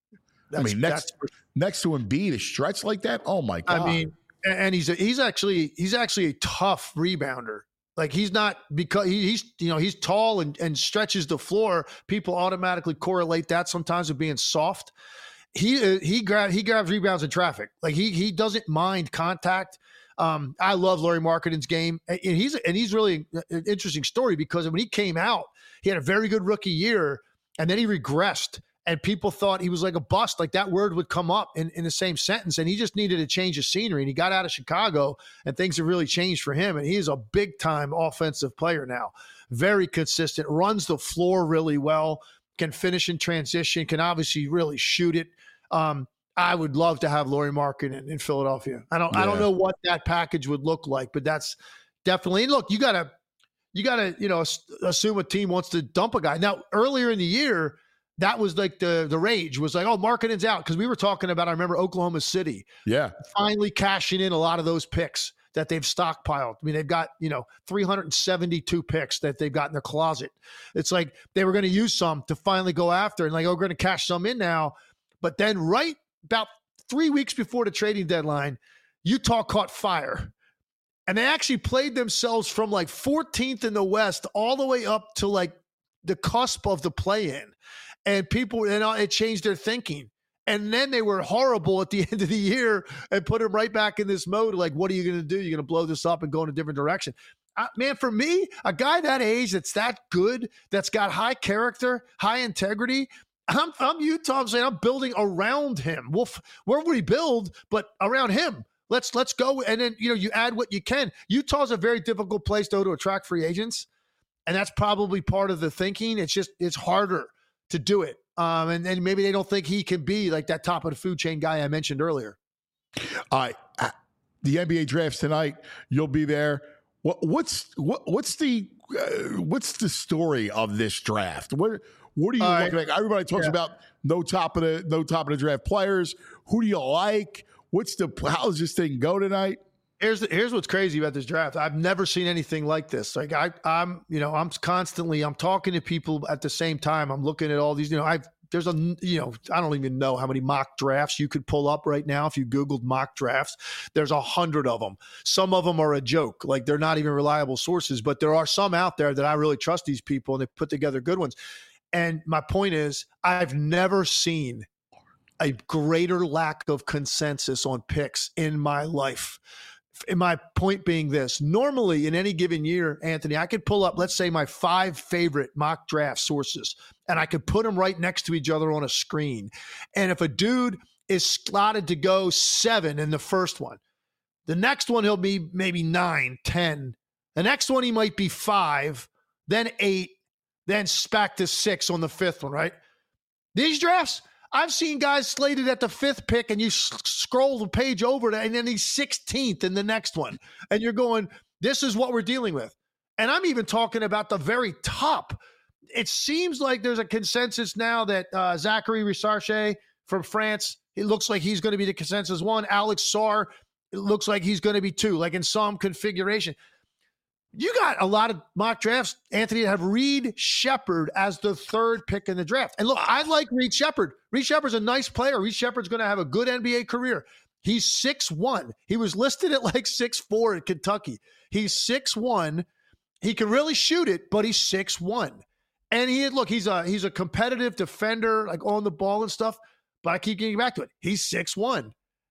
Next to Embiid, a stretch like that? Oh, my God. I mean, and he's actually a tough rebounder. Like he's not, because he's tall and stretches the floor. People automatically correlate that sometimes with being soft. He grabs rebounds in traffic. Like he doesn't mind contact. I love Lauri Markkanen's game, and he's really an interesting story because when he came out, he had a very good rookie year, and then he regressed. And people thought he was like a bust, like that word would come up in the same sentence. And he just needed a change of scenery. And he got out of Chicago and things have really changed for him. And he is a big time offensive player now. Very consistent, runs the floor really well, can finish in transition, can obviously really shoot it. I would love to have Lauri Markkanen in Philadelphia. I don't know what that package would look like, but that's definitely, look, you gotta, assume a team wants to dump a guy. Now, earlier in the year, that was like the rage was like, oh, Markkanen's out. Because we were talking about, I remember Oklahoma City. Yeah. Finally cashing in a lot of those picks that they've stockpiled. I mean, they've got, 372 picks that they've got in their closet. It's like they were going to use some to finally go after and like, we're going to cash some in now. But then right about 3 weeks before the trading deadline, Utah caught fire. And they actually played themselves from like 14th in the West all the way up to like the cusp of the play-in. And people, it changed their thinking. And then they were horrible at the end of the year and put them right back in this mode. Like, what are you going to do? You're going to blow this up and go in a different direction. Man, for me, a guy that age, that's that good, that's got high character, high integrity, I'm Utah. I'm saying I'm building around him. Where would he build? But around him. Let's go. And then, you add what you can. Utah's a very difficult place, though, to attract free agents. And that's probably part of the thinking. It's harder to do it. And then maybe they don't think he can be like that top of the food chain guy I mentioned earlier. The NBA drafts tonight. You'll be there. What's the story of this draft? What are you looking at? Everybody talks about no top of the draft players. Who do you like? How does this thing go tonight? Here's what's crazy about this draft. I've never seen anything like this. Like I'm talking to people at the same time. I'm looking at all these, I don't even know how many mock drafts you could pull up right now. If you Googled mock drafts, there's 100 of them. Some of them are a joke. Like they're not even reliable sources, but there are some out there that I really trust these people and they put together good ones. And my point is, I've never seen a greater lack of consensus on picks in my life. And my point being this, normally in any given year, Anthony, I could pull up, let's say, my 5 favorite mock draft sources, and I could put them right next to each other on a screen. And if a dude is slotted to go 7 in the first one, the next one he'll be maybe 9, 10. The next one he might be 5, then 8, then back to 6 on the 5th one, right? These drafts, I've seen guys slated at the 5th pick and you scroll the page over to, and then he's 16th in the next one. And you're going, this is what we're dealing with. And I'm even talking about the very top. It seems like there's a consensus now that Zachary Richarche from France, it looks like he's going to be the consensus 1. Alex Sarr, it looks like he's going to be 2, like in some configuration. You got a lot of mock drafts, Anthony, that have Reed Sheppard as the 3rd pick in the draft. And look, I like Reed Sheppard. Reed Sheppard's a nice player. Reed Sheppard's going to have a good NBA career. He's 6'1". He was listed at like 6'4" at Kentucky. He's 6'1". He can really shoot it, but he's 6'1". And he's a competitive defender, like on the ball and stuff. But I keep getting back to it. He's 6'1".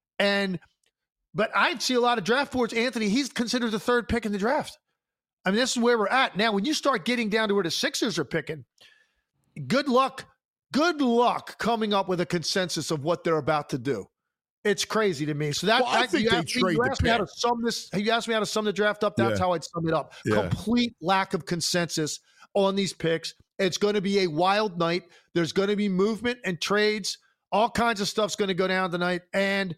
But I see a lot of draft boards, Anthony, he's considered the 3rd pick in the draft. I mean, this is where we're at. Now, when you start getting down to where the Sixers are picking, good luck coming up with a consensus of what they're about to do. It's crazy to me. So I think they trade the pick. You asked me how to sum the draft up. That's how I'd sum it up. Yeah. Complete lack of consensus on these picks. It's going to be a wild night. There's going to be movement and trades. All kinds of stuff's going to go down tonight. And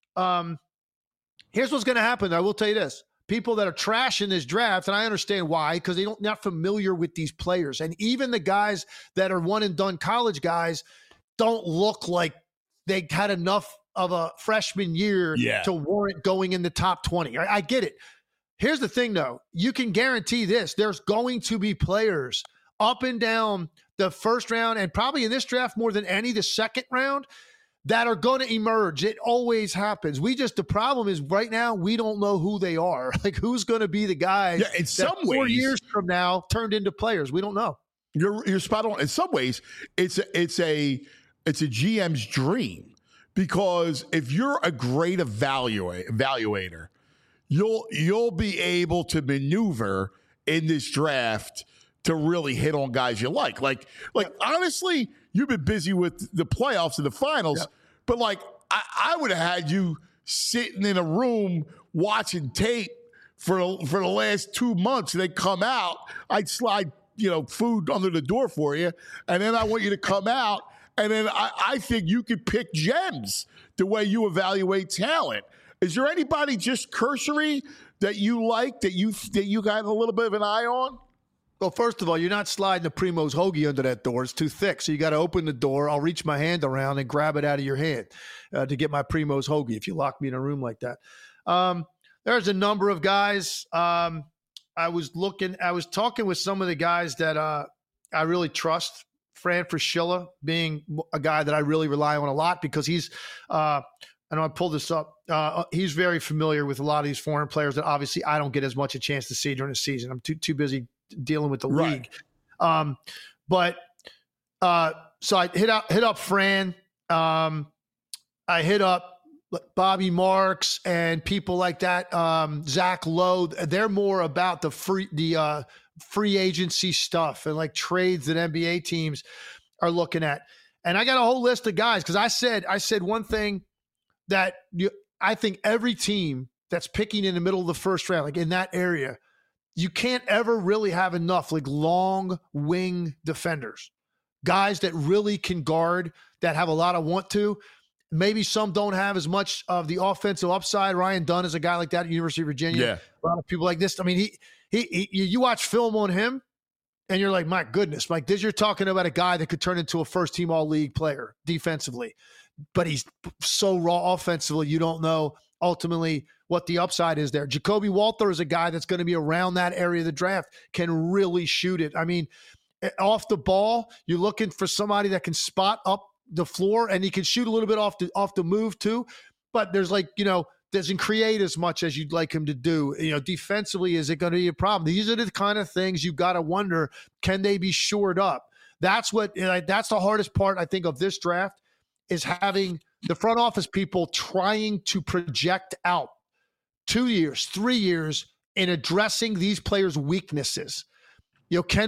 here's what's going to happen. I will tell you this. People that are trashing this draft, and I understand why, because they're not familiar with these players. And even the guys that are one-and-done college guys don't look like they had enough of a freshman year to warrant going in the top 20. I get it. Here's the thing, though. You can guarantee this. There's going to be players up and down the first round, and probably in this draft more than any, the second round, that are going to emerge. It always happens. The problem is right now we don't know who they are. Like, who's going to be the guys in some that 4 ways, years from now turned into players? We don't know. You're spot on. In some ways, it's a GM's dream, because if you're a great evaluator, you'll be able to maneuver in this draft to really hit on guys you like. Like honestly, you've been busy with the playoffs and the finals, but like I would have had you sitting in a room watching tape for the last 2 months, and they come out. I'd slide food under the door for you, and then I want you to come out, and then I think you could pick gems the way you evaluate talent. Is there anybody just cursory that you like, that you got a little bit of an eye on? Well, first of all, you're not sliding a Primo's hoagie under that door. It's too thick. So you got to open the door. I'll reach my hand around and grab it out of your hand to get my Primo's hoagie if you lock me in a room like that. There's a number of guys. I was talking with some of the guys that I really trust. Fran Fraschilla being a guy that I really rely on a lot, because he's I know I pulled this up. He's very familiar with a lot of these foreign players that obviously I don't get as much a chance to see during the season. I'm too busy dealing with the league. So I hit up Fran. I hit up Bobby Marks and people like that. Zach Lowe. They're more about the free agency stuff and like trades that NBA teams are looking at. And I got a whole list of guys, because I said one thing that I think every team that's picking in the middle of the first round, like in that area, you can't ever really have enough like long wing defenders, guys that really can guard, that have a lot of want to. Maybe some don't have as much of the offensive upside. Ryan Dunn is a guy like that at University of Virginia. Yeah. A lot of people like this. I mean, you watch film on him and you're like, my goodness, Mike, you're talking about a guy that could turn into a first-team all-league player defensively. But he's so raw offensively, you don't know ultimately what the upside is there. Jacoby Walter is a guy that's going to be around that area of the draft, can really shoot it. I mean, off the ball, you're looking for somebody that can spot up the floor, and he can shoot a little bit off the move too. But there's doesn't create as much as you'd like him to do. Defensively, is it going to be a problem? These are the kind of things you've got to wonder, can they be shored up? That's the hardest part, I think, of this draft, is having the front office people trying to project out 2 years, 3 years in addressing these players' weaknesses. Can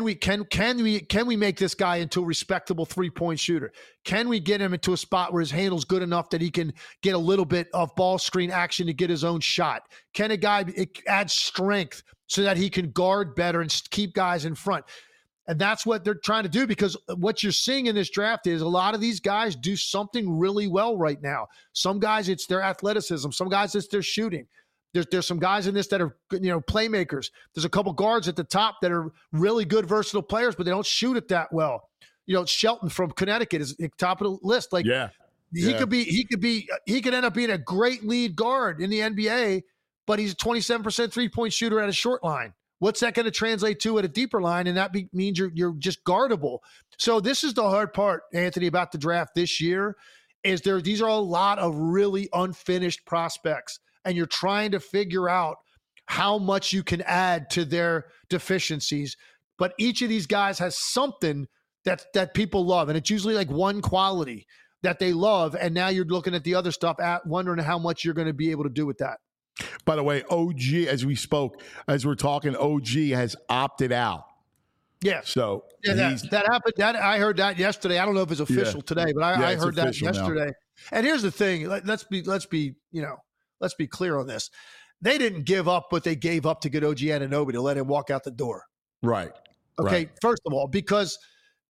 we make this guy into a respectable 3-point shooter? Can we get him into a spot where his handle's good enough that he can get a little bit of ball screen action to get his own shot? Can a guy add strength so that he can guard better and keep guys in front? And that's what they're trying to do, because what you're seeing in this draft is a lot of these guys do something really well right now. Some guys, it's their athleticism. Some guys, it's their shooting. There's some guys in this that are, playmakers. There's a couple guards at the top that are really good, versatile players, but they don't shoot it that well. Shelton from Connecticut is at the top of the list. He could end up being a great lead guard in the NBA, but he's a 27% 3-point shooter at a short line. What's that going to translate to at a deeper line? And that means you're just guardable. So this is the hard part, Anthony, about the draft this year, is these are a lot of really unfinished prospects, and you're trying to figure out how much you can add to their deficiencies. But each of these guys has something that people love, and it's usually like one quality that they love, and now you're looking at the other stuff, wondering how much you're going to be able to do with that. By the way, OG, as we're talking, OG has opted out. Yeah. So that happened. I heard that yesterday. I don't know if it's official today, but I heard that yesterday. Now. And here's the thing. Let's be clear on this. They didn't give up what they gave up to get OG Anunoby to let him walk out the door. Right. Okay. Right. First of all, because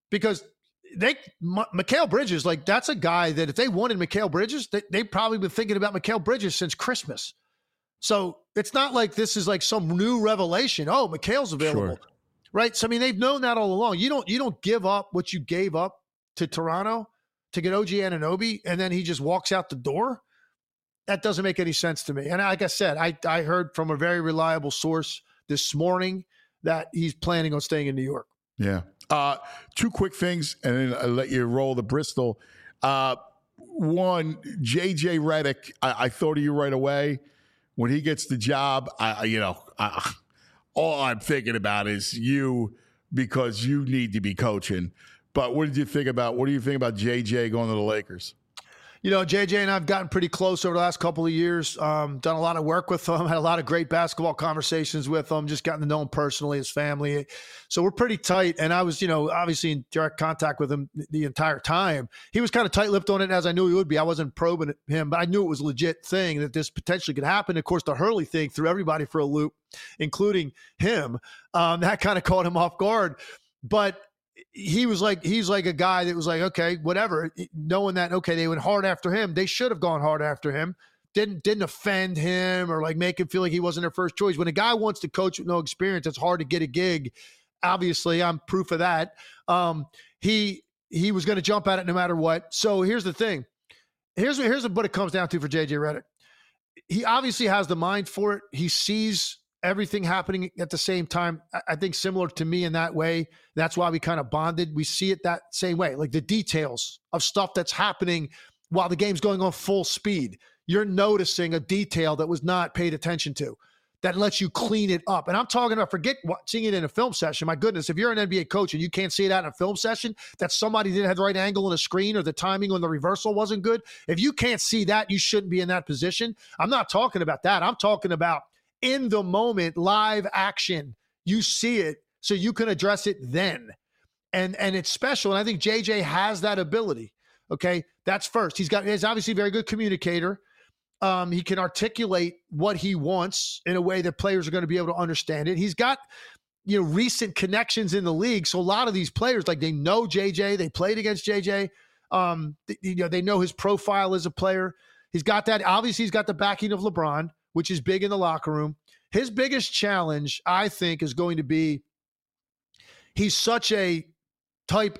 Mikal Bridges, like, that's a guy that if they wanted Mikal Bridges, they probably been thinking about Mikal Bridges since Christmas. So it's not like this is like some new revelation. Oh, Mikal's available. Sure. Right. So, I mean, they've known that all along. You don't give up what you gave up to Toronto to get OG Anunoby, and then he just walks out the door. That doesn't make any sense to me. And like I said, I heard from a very reliable source this morning that he's planning on staying in New York. Yeah. Two quick things, and then I'll let you roll the Bristol. One, JJ Redick, I thought of you right away. When he gets the job, all I'm thinking about is you, because you need to be coaching. But what do you think about JJ going to the Lakers? JJ and I have gotten pretty close over the last couple of years. Done a lot of work with him, had a lot of great basketball conversations with him, just gotten to know him personally, his family. So we're pretty tight. And I was, obviously in direct contact with him the entire time. He was kind of tight-lipped on it, as I knew he would be. I wasn't probing him, but I knew it was a legit thing that this potentially could happen. Of course, the Hurley thing threw everybody for a loop, including him. That kind of caught him off guard. But he's like a guy that was like, okay, whatever, knowing that, okay, they went hard after him. They should have gone hard after him. Didn't offend him or like make him feel like he wasn't their first choice. When a guy wants to coach with no experience, it's hard to get a gig. Obviously, I'm proof of that. He was going to jump at it no matter what. So here's the thing. Here's what it comes down to for JJ Redick. He obviously has the mind for it. He sees everything happening at the same time. I think similar to me in that way. That's why we kind of bonded. We see it that same way, like the details of stuff that's happening while the game's going on full speed. You're noticing a detail that was not paid attention to that lets you clean it up. And I'm talking about, forget seeing it in a film session. My goodness, if you're an NBA coach and you can't see it out in a film session, that somebody didn't have the right angle on the screen or the timing on the reversal wasn't good. If you can't see that, you shouldn't be in that position. I'm not talking about that. I'm talking about in the moment, live action. You see it, so you can address it then. And it's special. And I think JJ has that ability. Okay. That's first. He's obviously a very good communicator. He can articulate what he wants in a way that players are going to be able to understand it. He's got, recent connections in the league. So a lot of these players, like, they know JJ, they played against JJ. They know his profile as a player. He's got that. Obviously he's got the backing of LeBron, which is big in the locker room. His biggest challenge, I think, is going to be he's such a type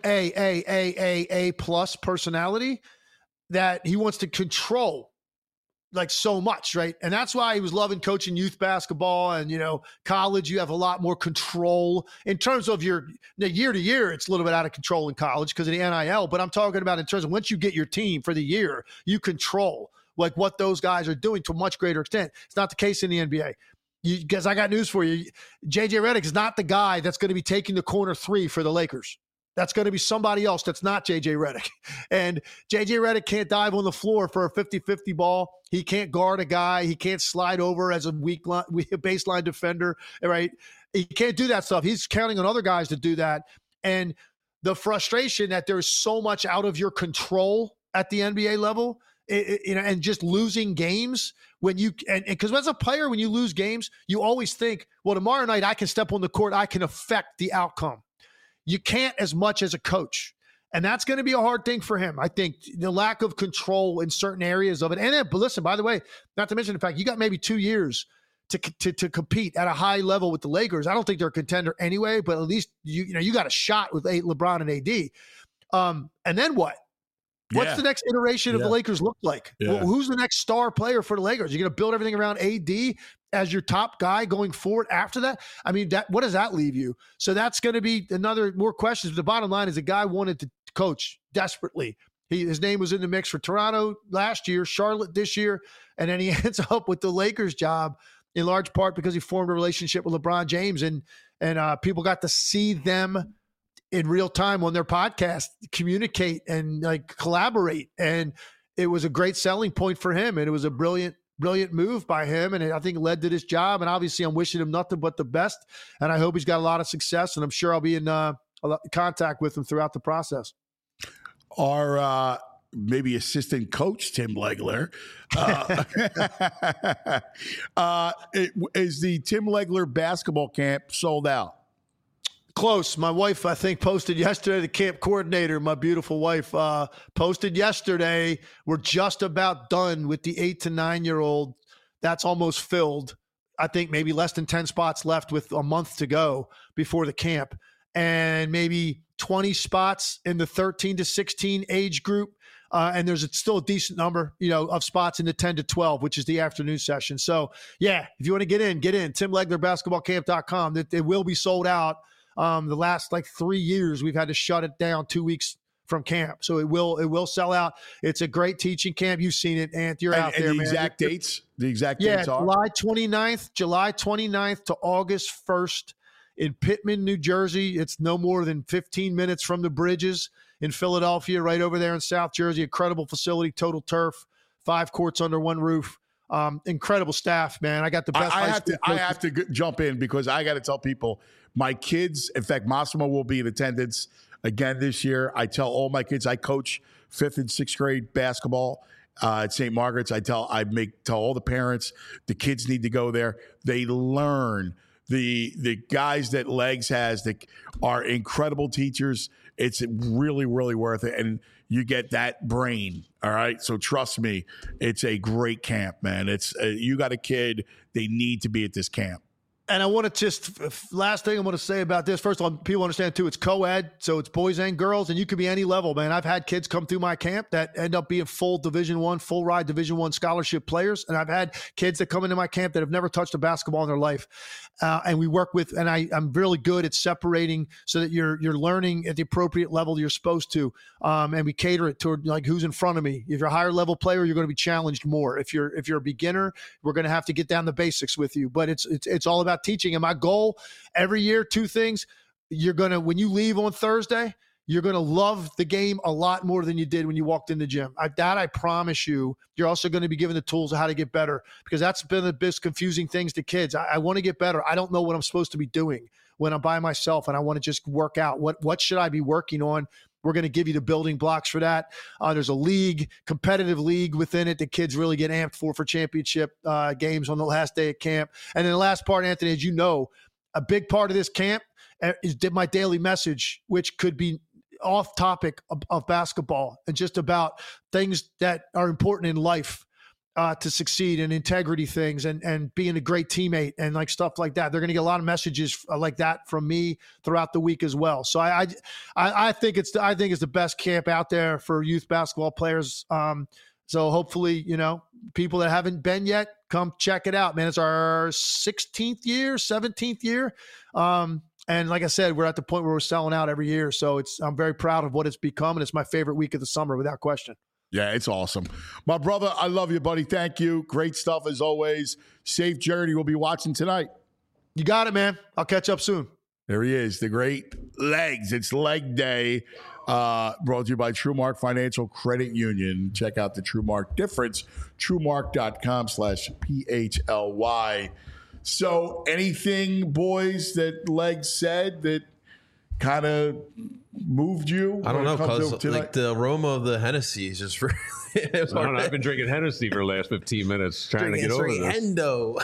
A plus personality that he wants to control like so much, right? And that's why he was loving coaching youth basketball and, college. You have a lot more control in terms of your year to year. It's a little bit out of control in college because of the NIL, but I'm talking about in terms of once you get your team for the year, you control like what those guys are doing to a much greater extent. It's not the case in the NBA. Because I got news for you. JJ Redick is not the guy that's going to be taking the corner three for the Lakers. That's going to be somebody else that's not JJ Redick. And JJ Redick can't dive on the floor for a 50-50 ball. He can't guard a guy. He can't slide over as a baseline defender, right? He can't do that stuff. He's counting on other guys to do that. And the frustration that there's so much out of your control at the NBA level, and just losing games because as a player, when you lose games, you always think, well, tomorrow night I can step on the court, I can affect the outcome. You can't as much as a coach. And that's going to be a hard thing for him. I think the lack of control in certain areas of it. And then, but listen, by the way, not to mention the fact you got maybe 2 years to compete at a high level with the Lakers. I don't think they're a contender anyway, but at least you got a shot with LeBron and AD. And then what? What's the next iteration of the Lakers look like? Yeah. Well, who's the next star player for the Lakers? You're going to build everything around AD as your top guy going forward after that? I mean, what does that leave you? So that's going to be more questions. But the bottom line is the guy wanted to coach desperately. His name was in the mix for Toronto last year, Charlotte this year, and then he ends up with the Lakers job in large part because he formed a relationship with LeBron James, and people got to see them in real time on their podcast communicate and like collaborate, and it was a great selling point for him, and it was a brilliant move by him, and I think it led to this job. And obviously, I'm wishing him nothing but the best, and I hope he's got a lot of success, and I'm sure I'll be in contact with him throughout the process. Our maybe assistant coach Tim Legler is the Tim Legler basketball camp sold out? Close. My wife, I think, posted yesterday, the camp coordinator, my beautiful wife, posted yesterday, we're just about done with the 8 to 9-year-old. That's almost filled. I think maybe less than 10 spots left with a month to go before the camp. And maybe 20 spots in the 13 to 16 age group. And there's still a decent number, of spots in the 10 to 12, which is the afternoon session. So, yeah, if you want to get in, TimLeglerBasketballCamp.com. It will be sold out. The last 3 years, we've had to shut it down 2 weeks from camp. So it will sell out. It's a great teaching camp. You've seen it, Ant. You're out there, the man. Exact dates? The exact dates are? July 29th to August 1st in Pittman, New Jersey. It's no more than 15 minutes from the Bridges in Philadelphia, right over there in South Jersey. Incredible facility, total turf, 5 courts under one roof. Incredible staff, man. I got the best. I have to jump in because I got to tell people, my kids, in fact, Massimo will be in attendance again this year. I tell all my kids, I coach 5th and 6th grade basketball at St. Margaret's. I tell all the parents, the kids need to go there. They learn. The guys that Legs has that are incredible teachers. It's really, really worth it. And you get that brain. All right. So trust me, it's a great camp, man. It's you got a kid, they need to be at this camp. And I want to last thing I want to say about this. First of all, people understand too, it's co-ed, so it's boys and girls, and you could be any level, man. I've had kids come through my camp that end up being full Division I, full ride Division I scholarship players. And I've had kids that come into my camp that have never touched a basketball in their life. And we work with, and I'm really good at separating so that you're learning at the appropriate level you're supposed to. And we cater it toward who's in front of me. If you're a higher level player, you're going to be challenged more. If you're a beginner, we're going to have to get down the basics with you. But it's all about teaching. And my goal every year, 2 things. When you leave on Thursday, you're going to love the game a lot more than you did when you walked in the gym. I promise you. You're also going to be given the tools of how to get better, because that's been the biggest confusing things to kids. I want to get better. I don't know what I'm supposed to be doing when I'm by myself, and I want to just work out. What should I be working on? We're going to give you the building blocks for that. There's a competitive league within it that kids really get amped for championship games on the last day of camp. And then the last part, Anthony, as you know, a big part of this camp is my daily message, which could be off topic of basketball and just about things that are important in life to succeed, and integrity things, and being a great teammate and stuff like that. They're going to get a lot of messages like that from me throughout the week as well. So I think it's the best camp out there for youth basketball players. So hopefully, people that haven't been yet, come check it out, man. It's our 16th year, 17th year. And like I said, we're at the point where we're selling out every year. So I'm very proud of what it's become, and it's my favorite week of the summer without question. Yeah, it's awesome. My brother, I love you, buddy. Thank you. Great stuff as always. Safe journey. We'll be watching tonight. You got it, man. I'll catch up soon. There he is, the great Legs. It's leg day. Brought to you by TrueMark Financial Credit Union. Check out the TrueMark difference. TrueMark.com/PHLY. So anything, boys, that Legs said that kind of moved you? I don't know, because the aroma of the Hennessy is just really... I've been drinking Hennessy for the last 15 minutes trying to get over this. Endo.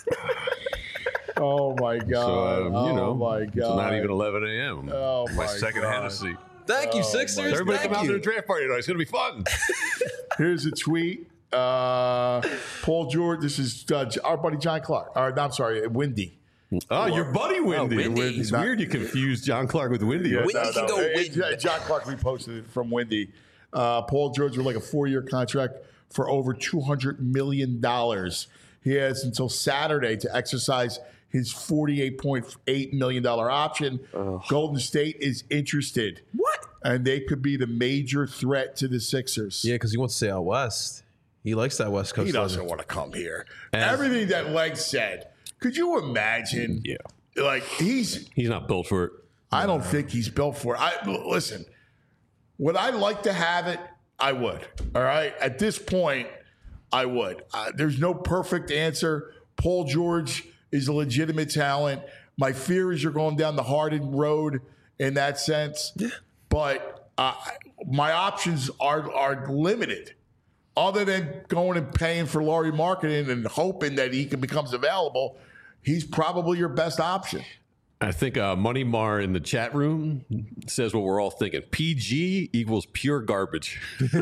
Oh, my God. So, my God. It's not even 11 a.m. Oh, my second God. Hennessy. Thank you, Sixers. Everybody Thank come out you. to the draft party tonight. It's going to be fun. Here's a tweet. Paul George. This is our buddy John Clark. I'm sorry, Windy. Oh, your buddy Windy. Windy. It's weird you confused John Clark with Windy. Windy can go win. John Clark reposted it from Windy. Paul George with like a 4-year contract for over $200 million. He has until Saturday to exercise his $48.8 million option. Golden State is interested. What? And they could be the major threat to the Sixers. Yeah, because he wants to stay out west. He likes that West Coast. He doesn't want to come here. Everything that Leg said. Could you imagine? Yeah. Like, he's not built for it. I don't think he's built for it. Listen, would I like to have it? I would. All right? At this point, I would. There's no perfect answer. Paul George is a legitimate talent. My fear is you're going down the Harden road in that sense. Yeah. But my options are limited. Other than going and paying for Lauri Markkanen and hoping that he becomes available, he's probably your best option. I think Money Mar in the chat room says what we're all thinking. PG equals pure garbage.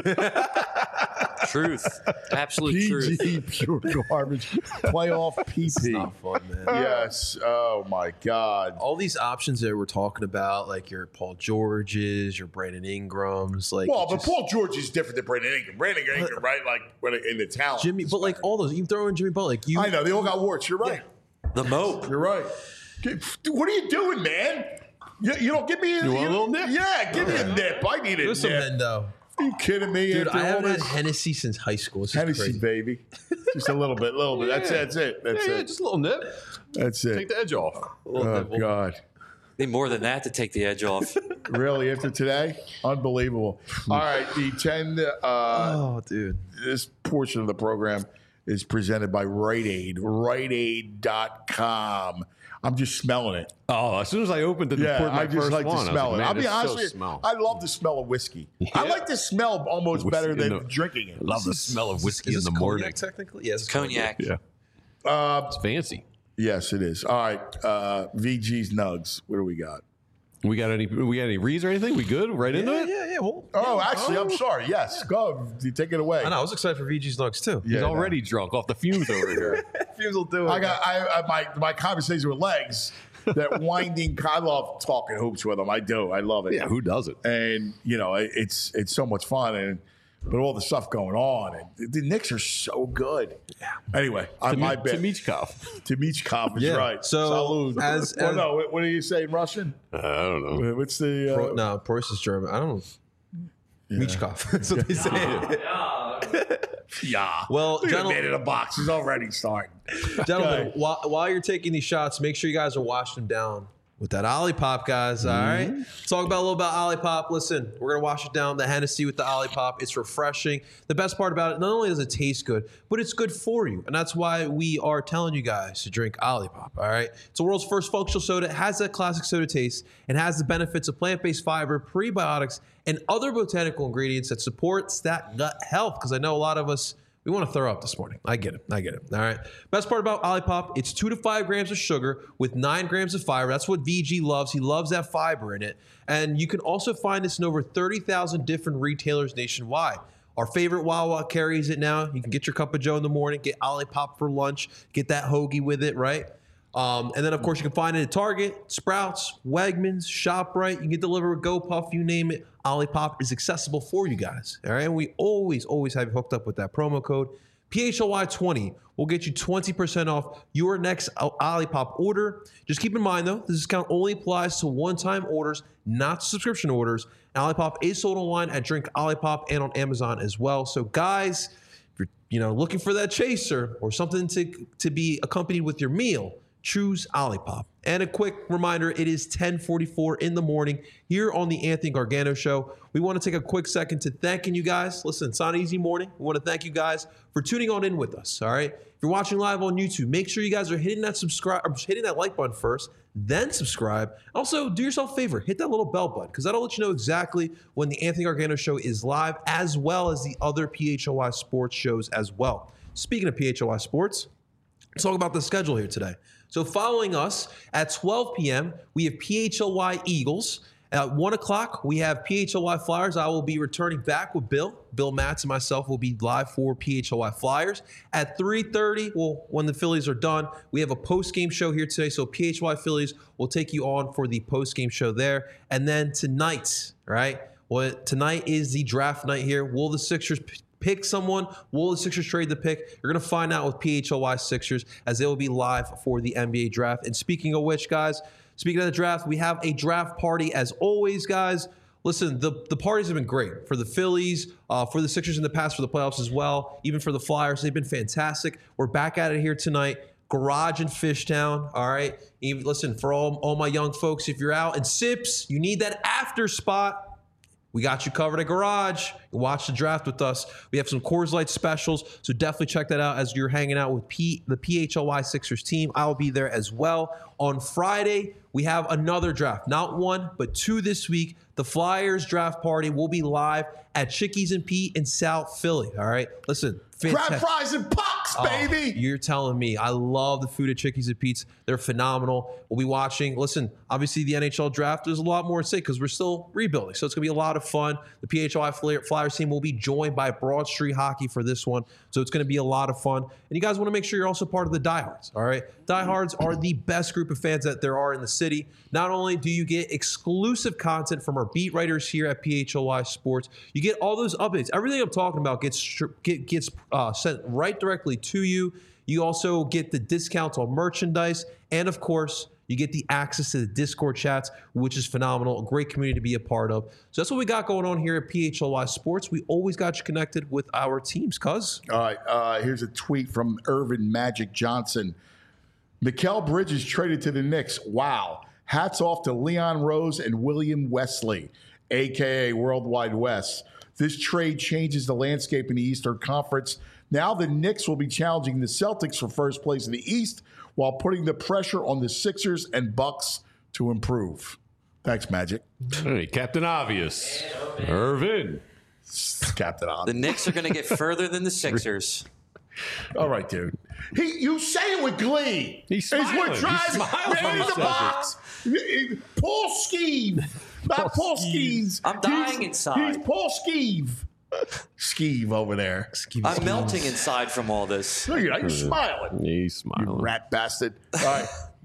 Truth. Absolute truth. PG, pure garbage. Playoff PP. It's not fun, man. Yes. Oh, my God. All these options that we're talking about, like your Paul Georges, your Brandon Ingrams. Like, well, but Paul George is different than Brandon Ingram. Brandon Ingram, right? Like, in the talent. Jimmy, but like all those, you throw in Jimmy Butler. Like I know. They all got warts. You're right. The moat. You're right. What are you doing, man? You don't give me a little nip? Yeah, give me a nip. I need a There's some nip. Hendo. Are you kidding me? Dude, After I haven't all had this? Hennessy since high school. It's just Hennessy, crazy. baby. Just a little bit. Yeah. That's it. That's Yeah, it. just a little nip. That's it. Take the edge off. Oh, God. Need more than that to take the edge off. Really? After today? Unbelievable. All right. The 10. Oh, dude. This portion of the program is presented by Rite Aid. RiteAid.com. I'm just smelling it. Oh, as soon as I opened it, I just like to smell it. I'll be honest with with you. I love the smell of whiskey. I like the smell almost Whiskey better in than the- drinking it. Love the smell of whiskey Is in this the morning. cognac technically? Yes, it's Cognac. Yeah. It's fancy. Yes, it is. All right. VG's Nugs. What do we got? We got any reads or anything? We good? Right into it? Yeah. Well, Actually, I'm sorry. Yes. Go. You take it away. I know. I was excited for VG's Nugs too. Yeah, He's already drunk off the fumes over here. Fumes will do it. My conversation with Legs, that winding, I love talking hoops with him. I do. I love it. Yeah, who doesn't? And, it's so much fun. But all the stuff going on. And the Knicks are so good. Yeah. Anyway, my bet. Timichkov is right. So, Salud. What do you say in Russian? I don't know. What's the... no, Preuss is German. I don't know. Michkov. That's what they say. Yeah. Well, Look at the man in a box. He's already starting. Gentlemen, Okay. while you're taking these shots, make sure you guys are washing them down with that Olipop, guys. All right. Let's talk about a little about Olipop. Listen, we're gonna wash it down. The Hennessy with the Olipop. It's refreshing. The best part about it, not only does it taste good, but it's good for you, and that's why we are telling you guys to drink Olipop. All right. It's the world's first functional soda. It has that classic soda taste and has the benefits of plant-based fiber, prebiotics, and other botanical ingredients that supports that gut health. Because I know a lot of us, we want to throw up this morning. I get it. All right. Best part about Olipop, it's 2 to 5 grams of sugar with 9 grams of fiber. That's what VG loves. He loves that fiber in it. And you can also find this in over 30,000 different retailers nationwide. Our favorite Wawa carries it now. You can get your cup of Joe in the morning, get Olipop for lunch, get that hoagie with it, right? And then, of course, you can find it at Target, Sprouts, Wegmans, ShopRite. You can get delivered with GoPuff, you name it. Olipop is accessible for you guys. All right. And we always have you hooked up with that promo code. PHLY20 will get you 20% off your next Olipop order. Just keep in mind, though, this discount only applies to one-time orders, not subscription orders. And Olipop is sold online at Drink Olipop and on Amazon as well. So, guys, if you're looking for that chaser or something to be accompanied with your meal, choose Olipop. And a quick reminder, it is 10:44 in the morning here on the Anthony Gargano Show. We want to take a quick second to thanking you guys. Listen, it's not an easy morning. We want to thank you guys for tuning on in with us, all right? If you're watching live on YouTube, make sure you guys are hitting that like button first, then subscribe. Also, do yourself a favor, hit that little bell button, because that'll let you know exactly when the Anthony Gargano Show is live, as well as the other PHLY sports shows as well. Speaking of PHLY sports, let's talk about the schedule here today. So following us at 12 p.m., we have PHLY Eagles. At 1 o'clock, we have PHLY Flyers. I will be returning back with Bill. Bill Matz and myself will be live for PHLY Flyers. At 3:30, when the Phillies are done, we have a post-game show here today. So PHLY Phillies will take you on for the post-game show there. And then tonight, right, Well, tonight is the draft night here. Will the Sixers pick someone? Will the Sixers trade the pick? You're going to find out with PHLY Sixers as they will be live for the NBA draft. And speaking of which, guys, speaking of the draft, we have a draft party as always, guys. Listen, the parties have been great for the Phillies, for the Sixers in the past, for the playoffs as well, even for the Flyers. They've been fantastic. We're back at it here tonight. Garage in Fishtown, all right? Even, listen, for all my young folks, if you're out in Sips, you need that after spot, we got you covered at Garage. Watch the draft with us. We have some Coors Light specials, so definitely check that out as you're hanging out with the PHLY Sixers team. I'll be there as well. On Friday, we have another draft. Not one, but two this week. The Flyers draft party will be live at Chickies and Pete in South Philly, all right? Listen. Crab fries and pucks, baby. You're telling me. I love the food at Chickies and Pete's. They're phenomenal. We'll be watching. Listen, obviously the NHL draft, there's a lot more at stake because we're still rebuilding. So it's going to be a lot of fun. The PHLY Flyers team will be joined by Broad Street Hockey for this one. So it's going to be a lot of fun. And you guys want to make sure you're also part of the Diehards, all right? Diehards are the best group of fans that there are in the city. Not only do you get exclusive content from our beat writers here at PHLY Sports, you get all those updates. Everything I'm talking about gets sent right directly to you. You also get the discounts on merchandise. And of course, you get the access to the Discord chats, which is phenomenal. A great community to be a part of. So that's what we got going on here at PHLY Sports. We always got you connected with our teams, cuz. All right. Here's a tweet from Irvin Magic Johnson. Mikal Bridges traded to the Knicks. Wow. Hats off to Leon Rose and William Wesley, a.k.a. Worldwide West. This trade changes the landscape in the Eastern Conference. Now the Knicks will be challenging the Celtics for first place in the East while putting the pressure on the Sixers and Bucks to improve. Thanks, Magic. Hey, Captain Obvious. Irvin. Captain Obvious. The Knicks are going to get further than the Sixers. All right, dude. You say it with glee. He's smiling. What drives He smiles when he the says box. Paul Skeeve. Not Paul Skeeves. I'm dying inside. He's Paul Skeeve. Skeeve over there. I'm melting inside from all this. Look at you smiling. He's smiling. You rat bastard. All right.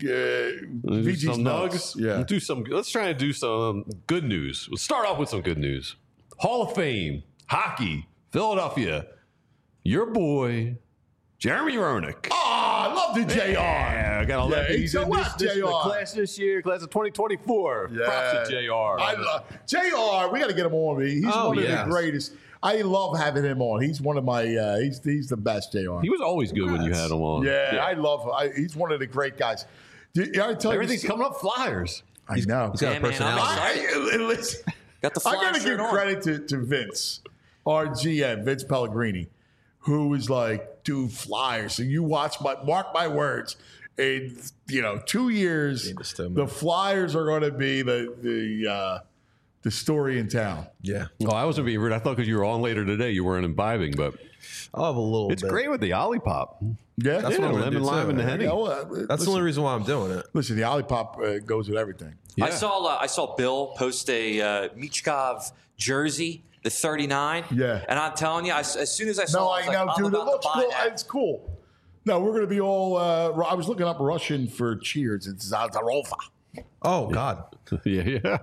VG's nugs. Yeah. Let's try and do some good news. We'll start off with some good news. Hall of Fame, hockey, Philadelphia. Your boy, Jeremy Roenick. Oh, I love the JR. Yeah, I got 11. He's in this JR. class this year, class of 2024. Yeah. Props to JR. I love JR. We got to get him on. He's one of the greatest. I love having him on. He's one of my. He's the best. JR. He was always good when you had him on. Yeah. I love him. He's one of the great guys. I tell Everything's coming up Flyers. I know. He's got a personality. Listen, Got the I got to give credit to Vince, our GM, Vince Pellegrini, who was like, dude, Flyers. So you mark my words. In 2 years, the Flyers are going to be the story in town. Yeah. Oh, I wasn't being rude. I thought because you were on later today, you weren't imbibing, but I'll have a little it's bit. great with the Olipop. Yeah, That's what I'm gonna lemon, do, lime, too. and the Henny. That's the only reason why I'm doing it. Listen, the Olipop goes with everything. I saw Bill post a Michkov jersey, the 39. Yeah. And I'm telling you, as soon as I saw it, I was like, I'm dude, it about to looks buy cool. that. It's cool. No, we're going to be all. I was looking up Russian for cheers. It's Zazarova. Oh, God. Yeah.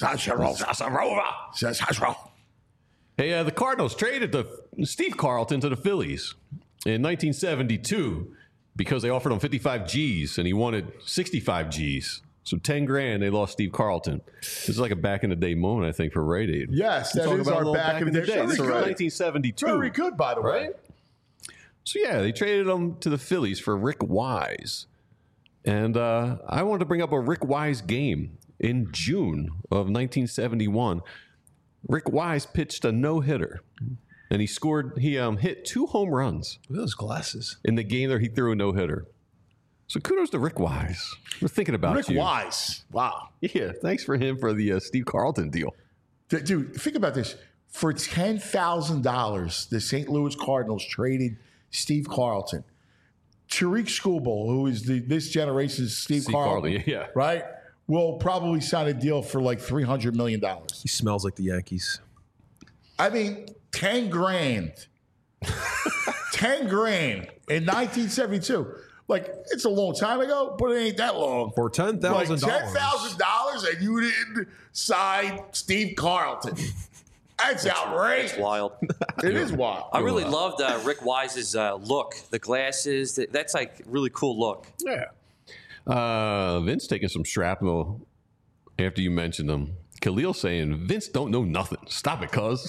Zazarova. Hey, the Cardinals traded Steve Carlton to the Phillies in 1972 because they offered him 55 G's and he wanted 65 G's. So 10 grand, they lost Steve Carlton. This is like a back in the day moment, I think, for Rite Aid. Yes, that is our back in the day. This is 1972. Very good, by the way. So yeah, they traded him to the Phillies for Rick Wise. And I wanted to bring up a Rick Wise game in June of 1971. Rick Wise pitched a no-hitter. And he hit 2 home runs. Look at those glasses. In the game there, he threw a no-hitter. So kudos to Rick Wise. We're thinking about Rick Wise. Wow. Yeah, thanks for him for the Steve Carlton deal. Dude, think about this. For $10,000, the St. Louis Cardinals traded Steve Carlton. Tariq Skubal, who is this generation's Steve Carlton, yeah. Right, will probably sign a deal for like $300 million. He smells like the Yankees. I mean, 10 grand. 10 grand in 1972. Like, it's a long time ago, but it ain't that long. For $10,000. Like $10,000 and you didn't sign Steve Carlton. That's outrageous. It's wild. It is wild. I really loved Rick Wise's look, the glasses. That's like really cool look. Yeah. Vince taking some shrapnel after you mentioned them. Khalil saying, Vince don't know nothing. Stop it, cuz.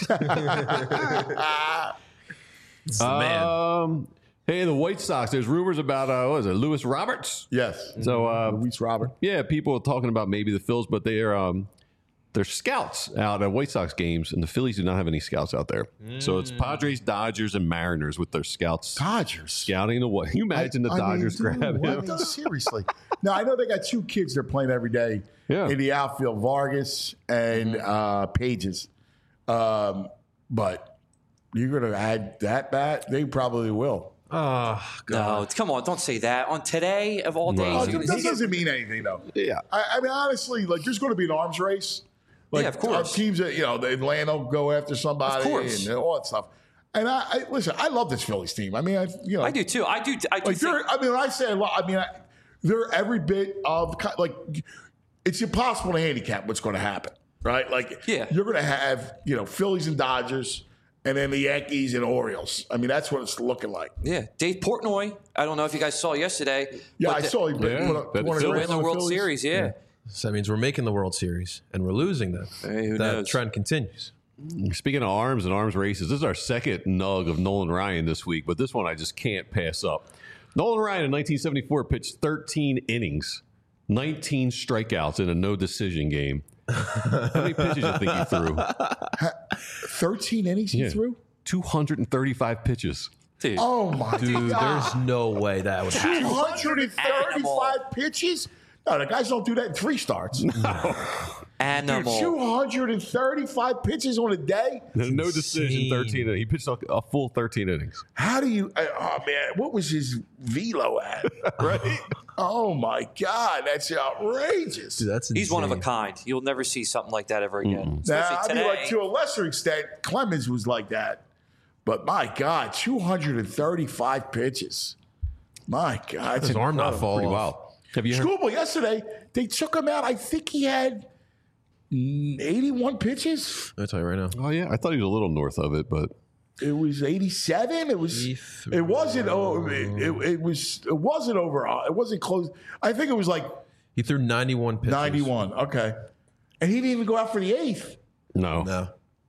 It's the man. Hey, the White Sox. There's rumors about what is it, Lewis Roberts? Yes. So Luis Robert. Yeah, people are talking about maybe the Phils, but they're scouts out at White Sox games, and the Phillies do not have any scouts out there. So it's Padres, Dodgers, and Mariners with their scouts. Dodgers Scouting the what? Can you imagine the Dodgers grab him? Seriously. Now, I know they got 2 kids they're playing every day in the outfield, Vargas and Pages. But you're going to add that bat? They probably will. Oh, God. No, come on, don't say that. On today of all days. That doesn't mean anything, though. Yeah. I mean, honestly, like, there's going to be an arms race. Like, yeah, of course. Teams that, the Atlanta will go after somebody and all that stuff. And I listen, I love this Phillies team. I mean, I do too. I do. Like, when I say a lot, they're every bit of, like, it's impossible to handicap what's going to happen, right? Like, you're going to have, Phillies and Dodgers, and then the Yankees and Orioles. I mean, that's what it's looking like. Yeah. Dave Portnoy, I don't know if you guys saw yesterday. Yeah, I saw him. We're in the World Series, yeah. So that means we're making the World Series, and we're losing them. Hey, who that knows? trend continues. Speaking of arms and arms races, this is our second nug of Nolan Ryan this week, but this one I just can't pass up. Nolan Ryan in 1974 pitched 13 innings, 19 strikeouts in a no-decision game. How many pitches do you think he threw? 13 innings he threw? 235 pitches. Dude. Oh, my God. Dude, there's no way that would happen. 235 pitches? No, the guys don't do that in 3 starts. No. Animal. Dude, 235 pitches on a day? No decision, 13. He pitched a full 13 innings. How do you... Oh, man. What was his velo at? Right? Oh, my God. That's outrageous. Dude, that's He's insane. one of a kind. You'll never see something like that ever again. Now, Especially today. like, to a lesser extent, Clemens was like that. But, my God, 235 pitches. My God. His arm not fall Pretty off. wild. Have you heard? Schoolboy yesterday, they took him out. I think he had 81 pitches. I'll tell you right now. Oh, yeah. I thought he was a little north of it, but... It was 87. It was. It wasn't. It wasn't over. It wasn't close. I think it was like He threw 91 pitches. 91. Okay, and he didn't even go out for the 8th. No.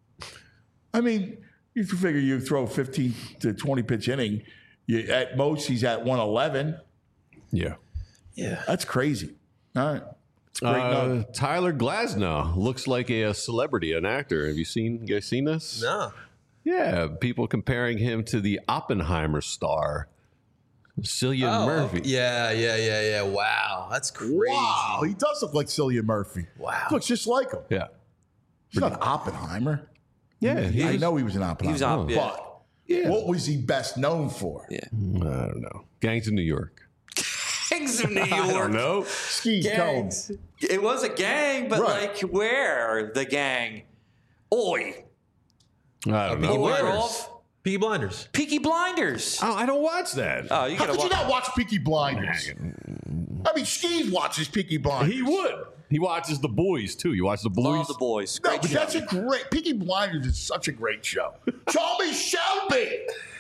I mean, you can figure you throw 15 to 20 pitch inning. At most, he's at 111. Yeah. Yeah. That's crazy. All right. It's a great note. Tyler Glasnow looks like a celebrity, an actor. Have you guys seen this? No. Yeah, people comparing him to the Oppenheimer star, Cillian Murphy. Yeah. Wow. That's crazy. Wow, he does look like Cillian Murphy. Wow. Looks just like him. Yeah. He's not Oppenheimer. Yeah, I know he was an Oppenheimer. But what was he best known for? Yeah. I don't know. Gangs of New York. Gangs of New York. I don't know. Steve Gangs. Combs. It was a gang, but Right. like where? The gang. Oi. I don't know. Beware of Peaky Blinders. Peaky Blinders. Oh, I don't watch that. Oh, you How gotta could you watch. not watch Peaky Blinders? I mean, Steve watches Peaky Blinders. He would. He watches The Boys, too. You watch The Boys? Love the boys. No, Great but show. that's a great. Peaky Blinders is such a great show. Tommy Shelby.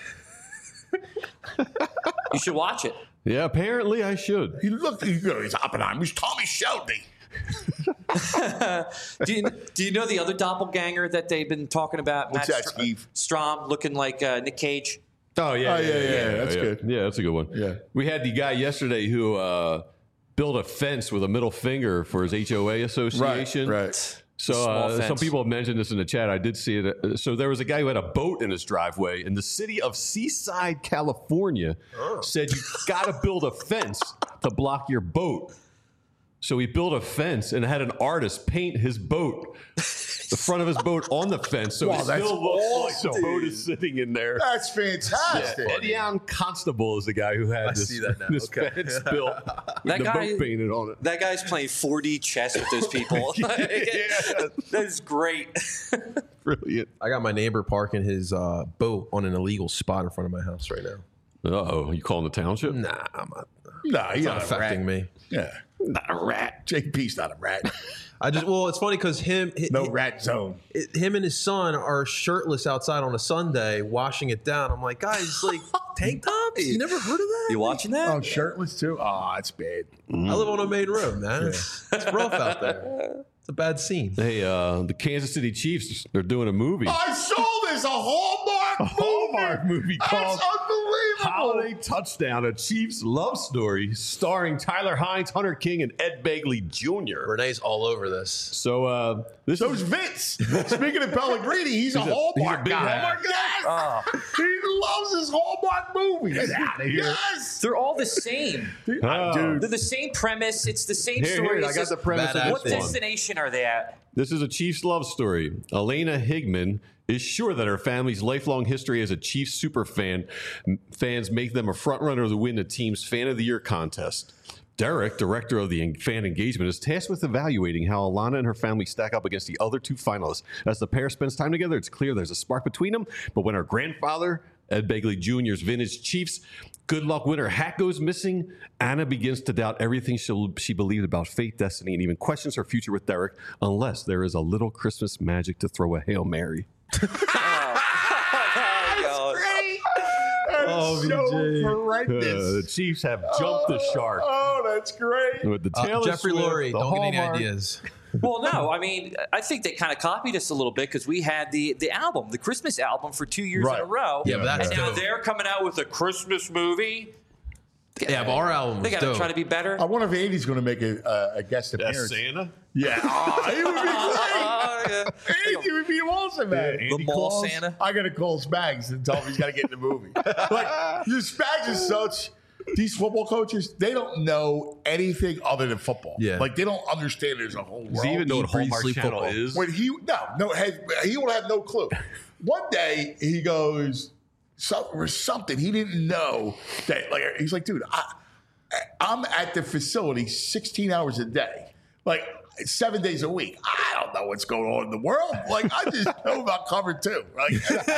You should watch it. Yeah, apparently I should. He's Oppenheimer. He's Tommy Shelby. Do you know the other doppelganger that they've been talking about? What's that, Steve? Strom looking like Nick Cage. Oh, yeah. That's good. Yeah, that's a good one. Yeah. We had the guy yesterday who built a fence with a middle finger for his HOA association. Right. So some people have mentioned this in the chat. I did see it. So there was a guy who had a boat in his driveway, and the city of Seaside, California, said you got to build a fence to block your boat. So he built a fence and had an artist paint his boat, the front of his boat on the fence, so Wow, it that's still looks like awesome. the boat is sitting in there. That's fantastic. Edion Constable is the guy who had this, see that now. this Okay. fence built with the boat painted on it. That guy's playing 4D chess with those people. That is great. Brilliant. I got my neighbor parking his boat on an illegal spot in front of my house right now. Uh-oh, you calling the township? Nah, I'm not. Nah, he's Not not affecting a rat. me. Yeah, Not a rat. JP's not a rat. It's funny because No rat zone. him and his son are shirtless outside on a Sunday washing it down. I'm like, guys, like tank tops? You never heard of that? You watching that? Oh, shirtless too? Oh, it's bad. I live on a main road, man. It's rough out there. It's a bad scene. Hey, the Kansas City Chiefs, they're doing a movie. I saw this, a Hallmark movie. called That's unbelievable. Holiday Touchdown, a Chiefs love story starring Tyler Hines, Hunter King, and Ed Begley Jr. Renee's all over this. So this So's Vince. Speaking of Pellegrini, he's a Hallmark big guy. Hallmark guy? Yes. He loves his Hallmark movies. Get out of here. Yes. They're all the same. Dude. They're the same premise. It's the same story. I got the premise of What this one. destination are they at? This is a Chiefs love story. Elena Higman is sure that her family's lifelong history as a Chiefs super fans make them a front runner to win the team's Fan of the Year contest. Derek, director of the fan engagement, is tasked with evaluating how Alana and her family stack up against the other two finalists. As the pair spends time together, it's clear there's a spark between them. But when her grandfather, Ed Begley Jr.'s vintage Chiefs good luck winner hat goes missing, Anna begins to doubt everything she believed about fate, destiny, and even questions her future with Derek, unless there is a little Christmas magic to throw a Hail Mary. Oh, so horrendous. The Chiefs have jumped the shark. Oh, that's great. With the Taylor Jeffrey Swift, Lurie, the don't get any Hallmark. ideas. Well, no. I mean, I think they kind of copied us a little bit because we had the album, the Christmas album, for 2 years in a row. Yeah, but that's and now dope. they're coming out with a Christmas movie. Yeah, but our album They was got to dope. try to be better. I wonder if Andy's going to make a guest That's appearance. Santa? Yeah. Oh, he would be great. Yeah. Andy would be awesome, man. The mall Santa. I got to call Spags and tell him he's got to get in the movie. Like, your Spags is such. These football coaches, they don't know anything other than football. Yeah. Like, they don't understand there's a whole world. Does he even know what Eat, breathe, Hallmark sleep Channel football. is? When he will have no clue. One day he goes something he didn't know that like he's like, dude, I'm at the facility 16 hours a day, like 7 days a week. I don't know what's going on in the world. Like I just know about cover two. Right?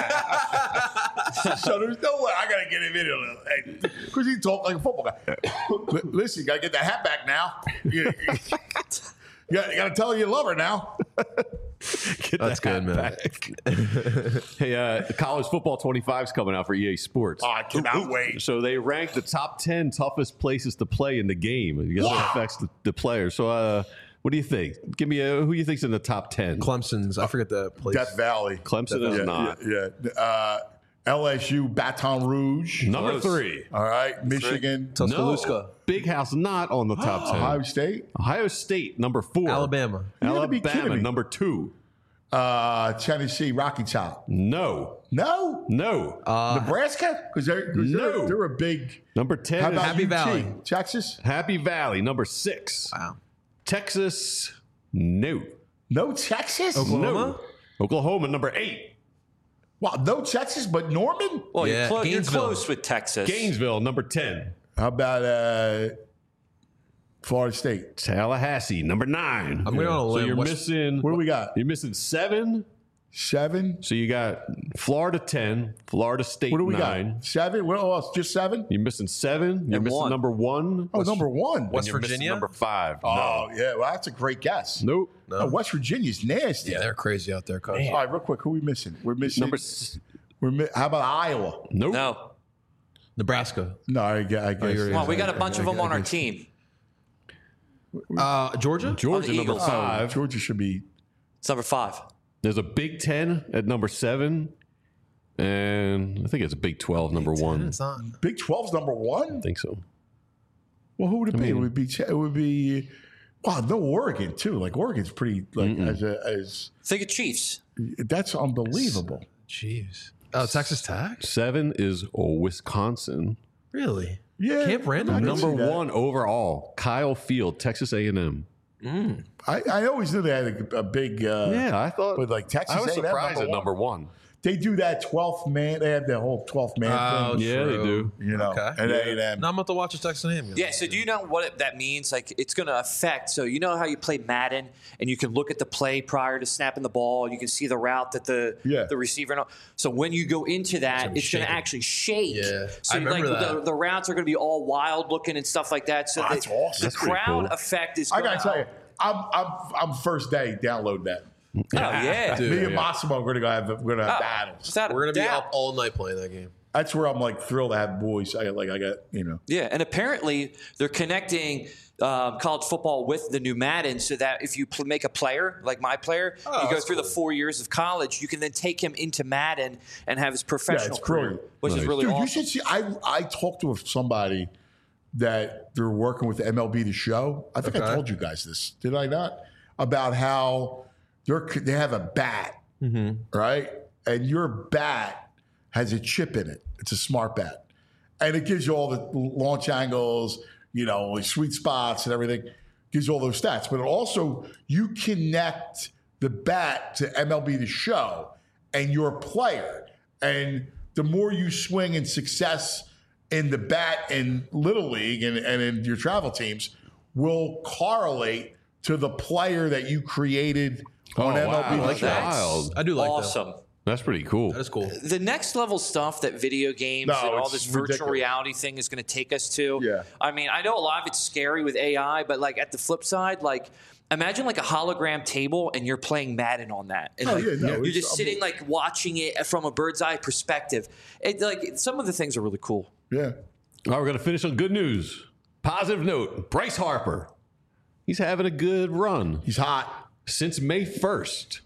So there's no way I gotta get him in it because he talked like a football guy. Listen, you gotta get that hat back now. You gotta tell her you love her now. That's good, man. Hey, College Football 25 is coming out for EA Sports. Oh, I cannot wait. So they rank the top 10 toughest places to play in the game. I guess it affects the players. So what do you think? Give me who you think's in the top 10? Clemson's. I forget the place. Death Valley. Clemson is not. Yeah. LSU, Baton Rouge. Number 3. All right. Michigan. Tuscaloosa. No, Big House not on the top 10. Ohio State. Ohio State, number 4. Alabama. You gotta be kidding Alabama, me. number 2. Tennessee, Rocky Top. No. No. Nebraska? Because No. they're a big. Number 10 How is about Happy UT? Valley. Texas? Happy Valley, number 6. Wow. Texas, no. No Texas? Oklahoma? No. Oklahoma, number 8. Wow, no Texas, but Norman? Well, Yeah, you're Gainesville. close with Texas. Gainesville, number 10. How about Florida State? Tallahassee, number 9. I'm going on a So limb. you're West- missing. What do we got? You're missing 7. 7? So you got Florida 10, Florida State What do we 9. got? 7? What else? Just 7? You're missing 7. You're And missing 1. number 1. Oh, number 1. West You're missing Virginia? number 5. Oh, yeah. Well, that's a great guess. Nope. No. Oh, West Virginia's nasty. Yeah, they're crazy out there, coach. All right, real quick. Who are we missing? We're missing. How about Iowa? Nope. No. Nebraska. No, I guess. Come on, we got a bunch of them on our team. Georgia? Georgia, the number Eagles. 5. Georgia should be. It's number 5. There's a Big 10 at number 7. And I think it's a Big 12, number 1. It's not. Big 12's number 1? I think so. Well, who would it be? It would be. Wow, no Oregon too. Like Oregon's pretty like as Think of Chiefs. that's unbelievable. Jeez. Oh, Texas Tech? 7 is Wisconsin. Really? Yeah, Camp Randall? I can Number see that. 1 overall, Kyle Field, Texas A&M. I always knew they had a big. Yeah, I thought. But like Texas, I was A&M, surprised at number 1. they do that 12th man. They have the whole 12th man thing. Yeah, they do. You know, Okay. and A&M. Now I'm about to watch a Texas A&M game. Yeah, so do you know what that means? Like, it's going to affect. So you know how you play Madden and you can look at the play prior to snapping the ball and you can see the route that the receiver. And all. So when you go into that, it's going to actually shake. Yeah, so I remember that. The routes are going to be all wild looking and stuff like that. So that's awesome. The crowd effect is. I got to tell you, I'm first day download that. Oh yeah, Dude, Me and Massimo are going to have battles. We're going to be up all night playing that game. That's where I'm like thrilled to have boys. I got Yeah, and apparently they're connecting college football with the new Madden, so that if you make a player like my player, you go through the 4 years of college, you can then take him into Madden and have his professional career, which is really awesome. You should see. I talked to somebody that they're working with MLB The Show. I think I told you guys this, did I not? About how they have a bat, right? And your bat has a chip in it. It's a smart bat. And it gives you all the launch angles, sweet spots and everything. Gives you all those stats. But also, you connect the bat to MLB The Show and your player. And the more you swing in success in the bat in Little League and in your travel teams will correlate to the player that you created on MLB. That's wild. I do like awesome. that. That's pretty cool. That is cool. The next level stuff that video games and all this virtual reality thing is going to take us to. Yeah. I mean, I know a lot of it's scary with AI, but like at the flip side, like imagine like a hologram table and you're playing Madden on that. And you're just sitting like watching it from a bird's eye perspective. Like some of the things are really cool. Yeah. All right, we're going to finish on good news. Positive note. Bryce Harper. He's having a good run. He's hot. Since May 1st,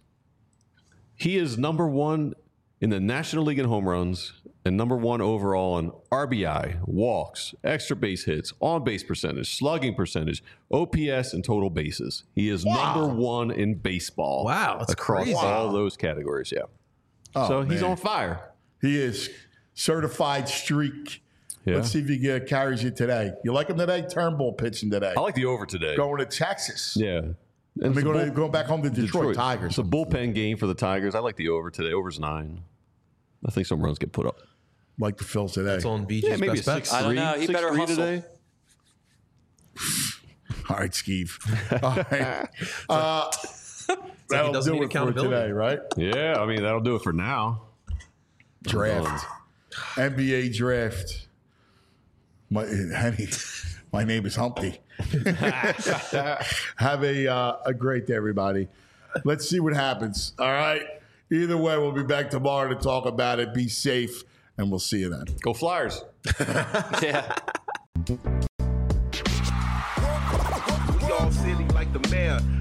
he is number one in the National League in home runs and number one overall in RBI, walks, extra base hits, on-base percentage, slugging percentage, OPS, and total bases. He is number one in baseball. Wow, that's across crazy. all those categories, yeah. Oh, he's man. on fire. He is certified streak. Yeah. Let's see if he carries it today. You like him today? Turnbull pitching today. I like the over today. Going to Texas. Yeah. And we're going back home to Detroit Tigers. It's a bullpen game for the Tigers. I like the over today. Over's 9. I think some runs get put up. Like the Phils today. It's on BJ's maybe best a bets. 6-3. I don't know. He better hustle today. All right, Skeeve. All right. That'll do it for today, right? Yeah, I mean, that'll do it for now. Draft. NBA draft. My name is Humpty. Have a great day, everybody. Let's see what happens. All right. Either way, we'll be back tomorrow to talk about it. Be safe, and we'll see you then. Go Flyers. Yeah. We all silly like the mayor.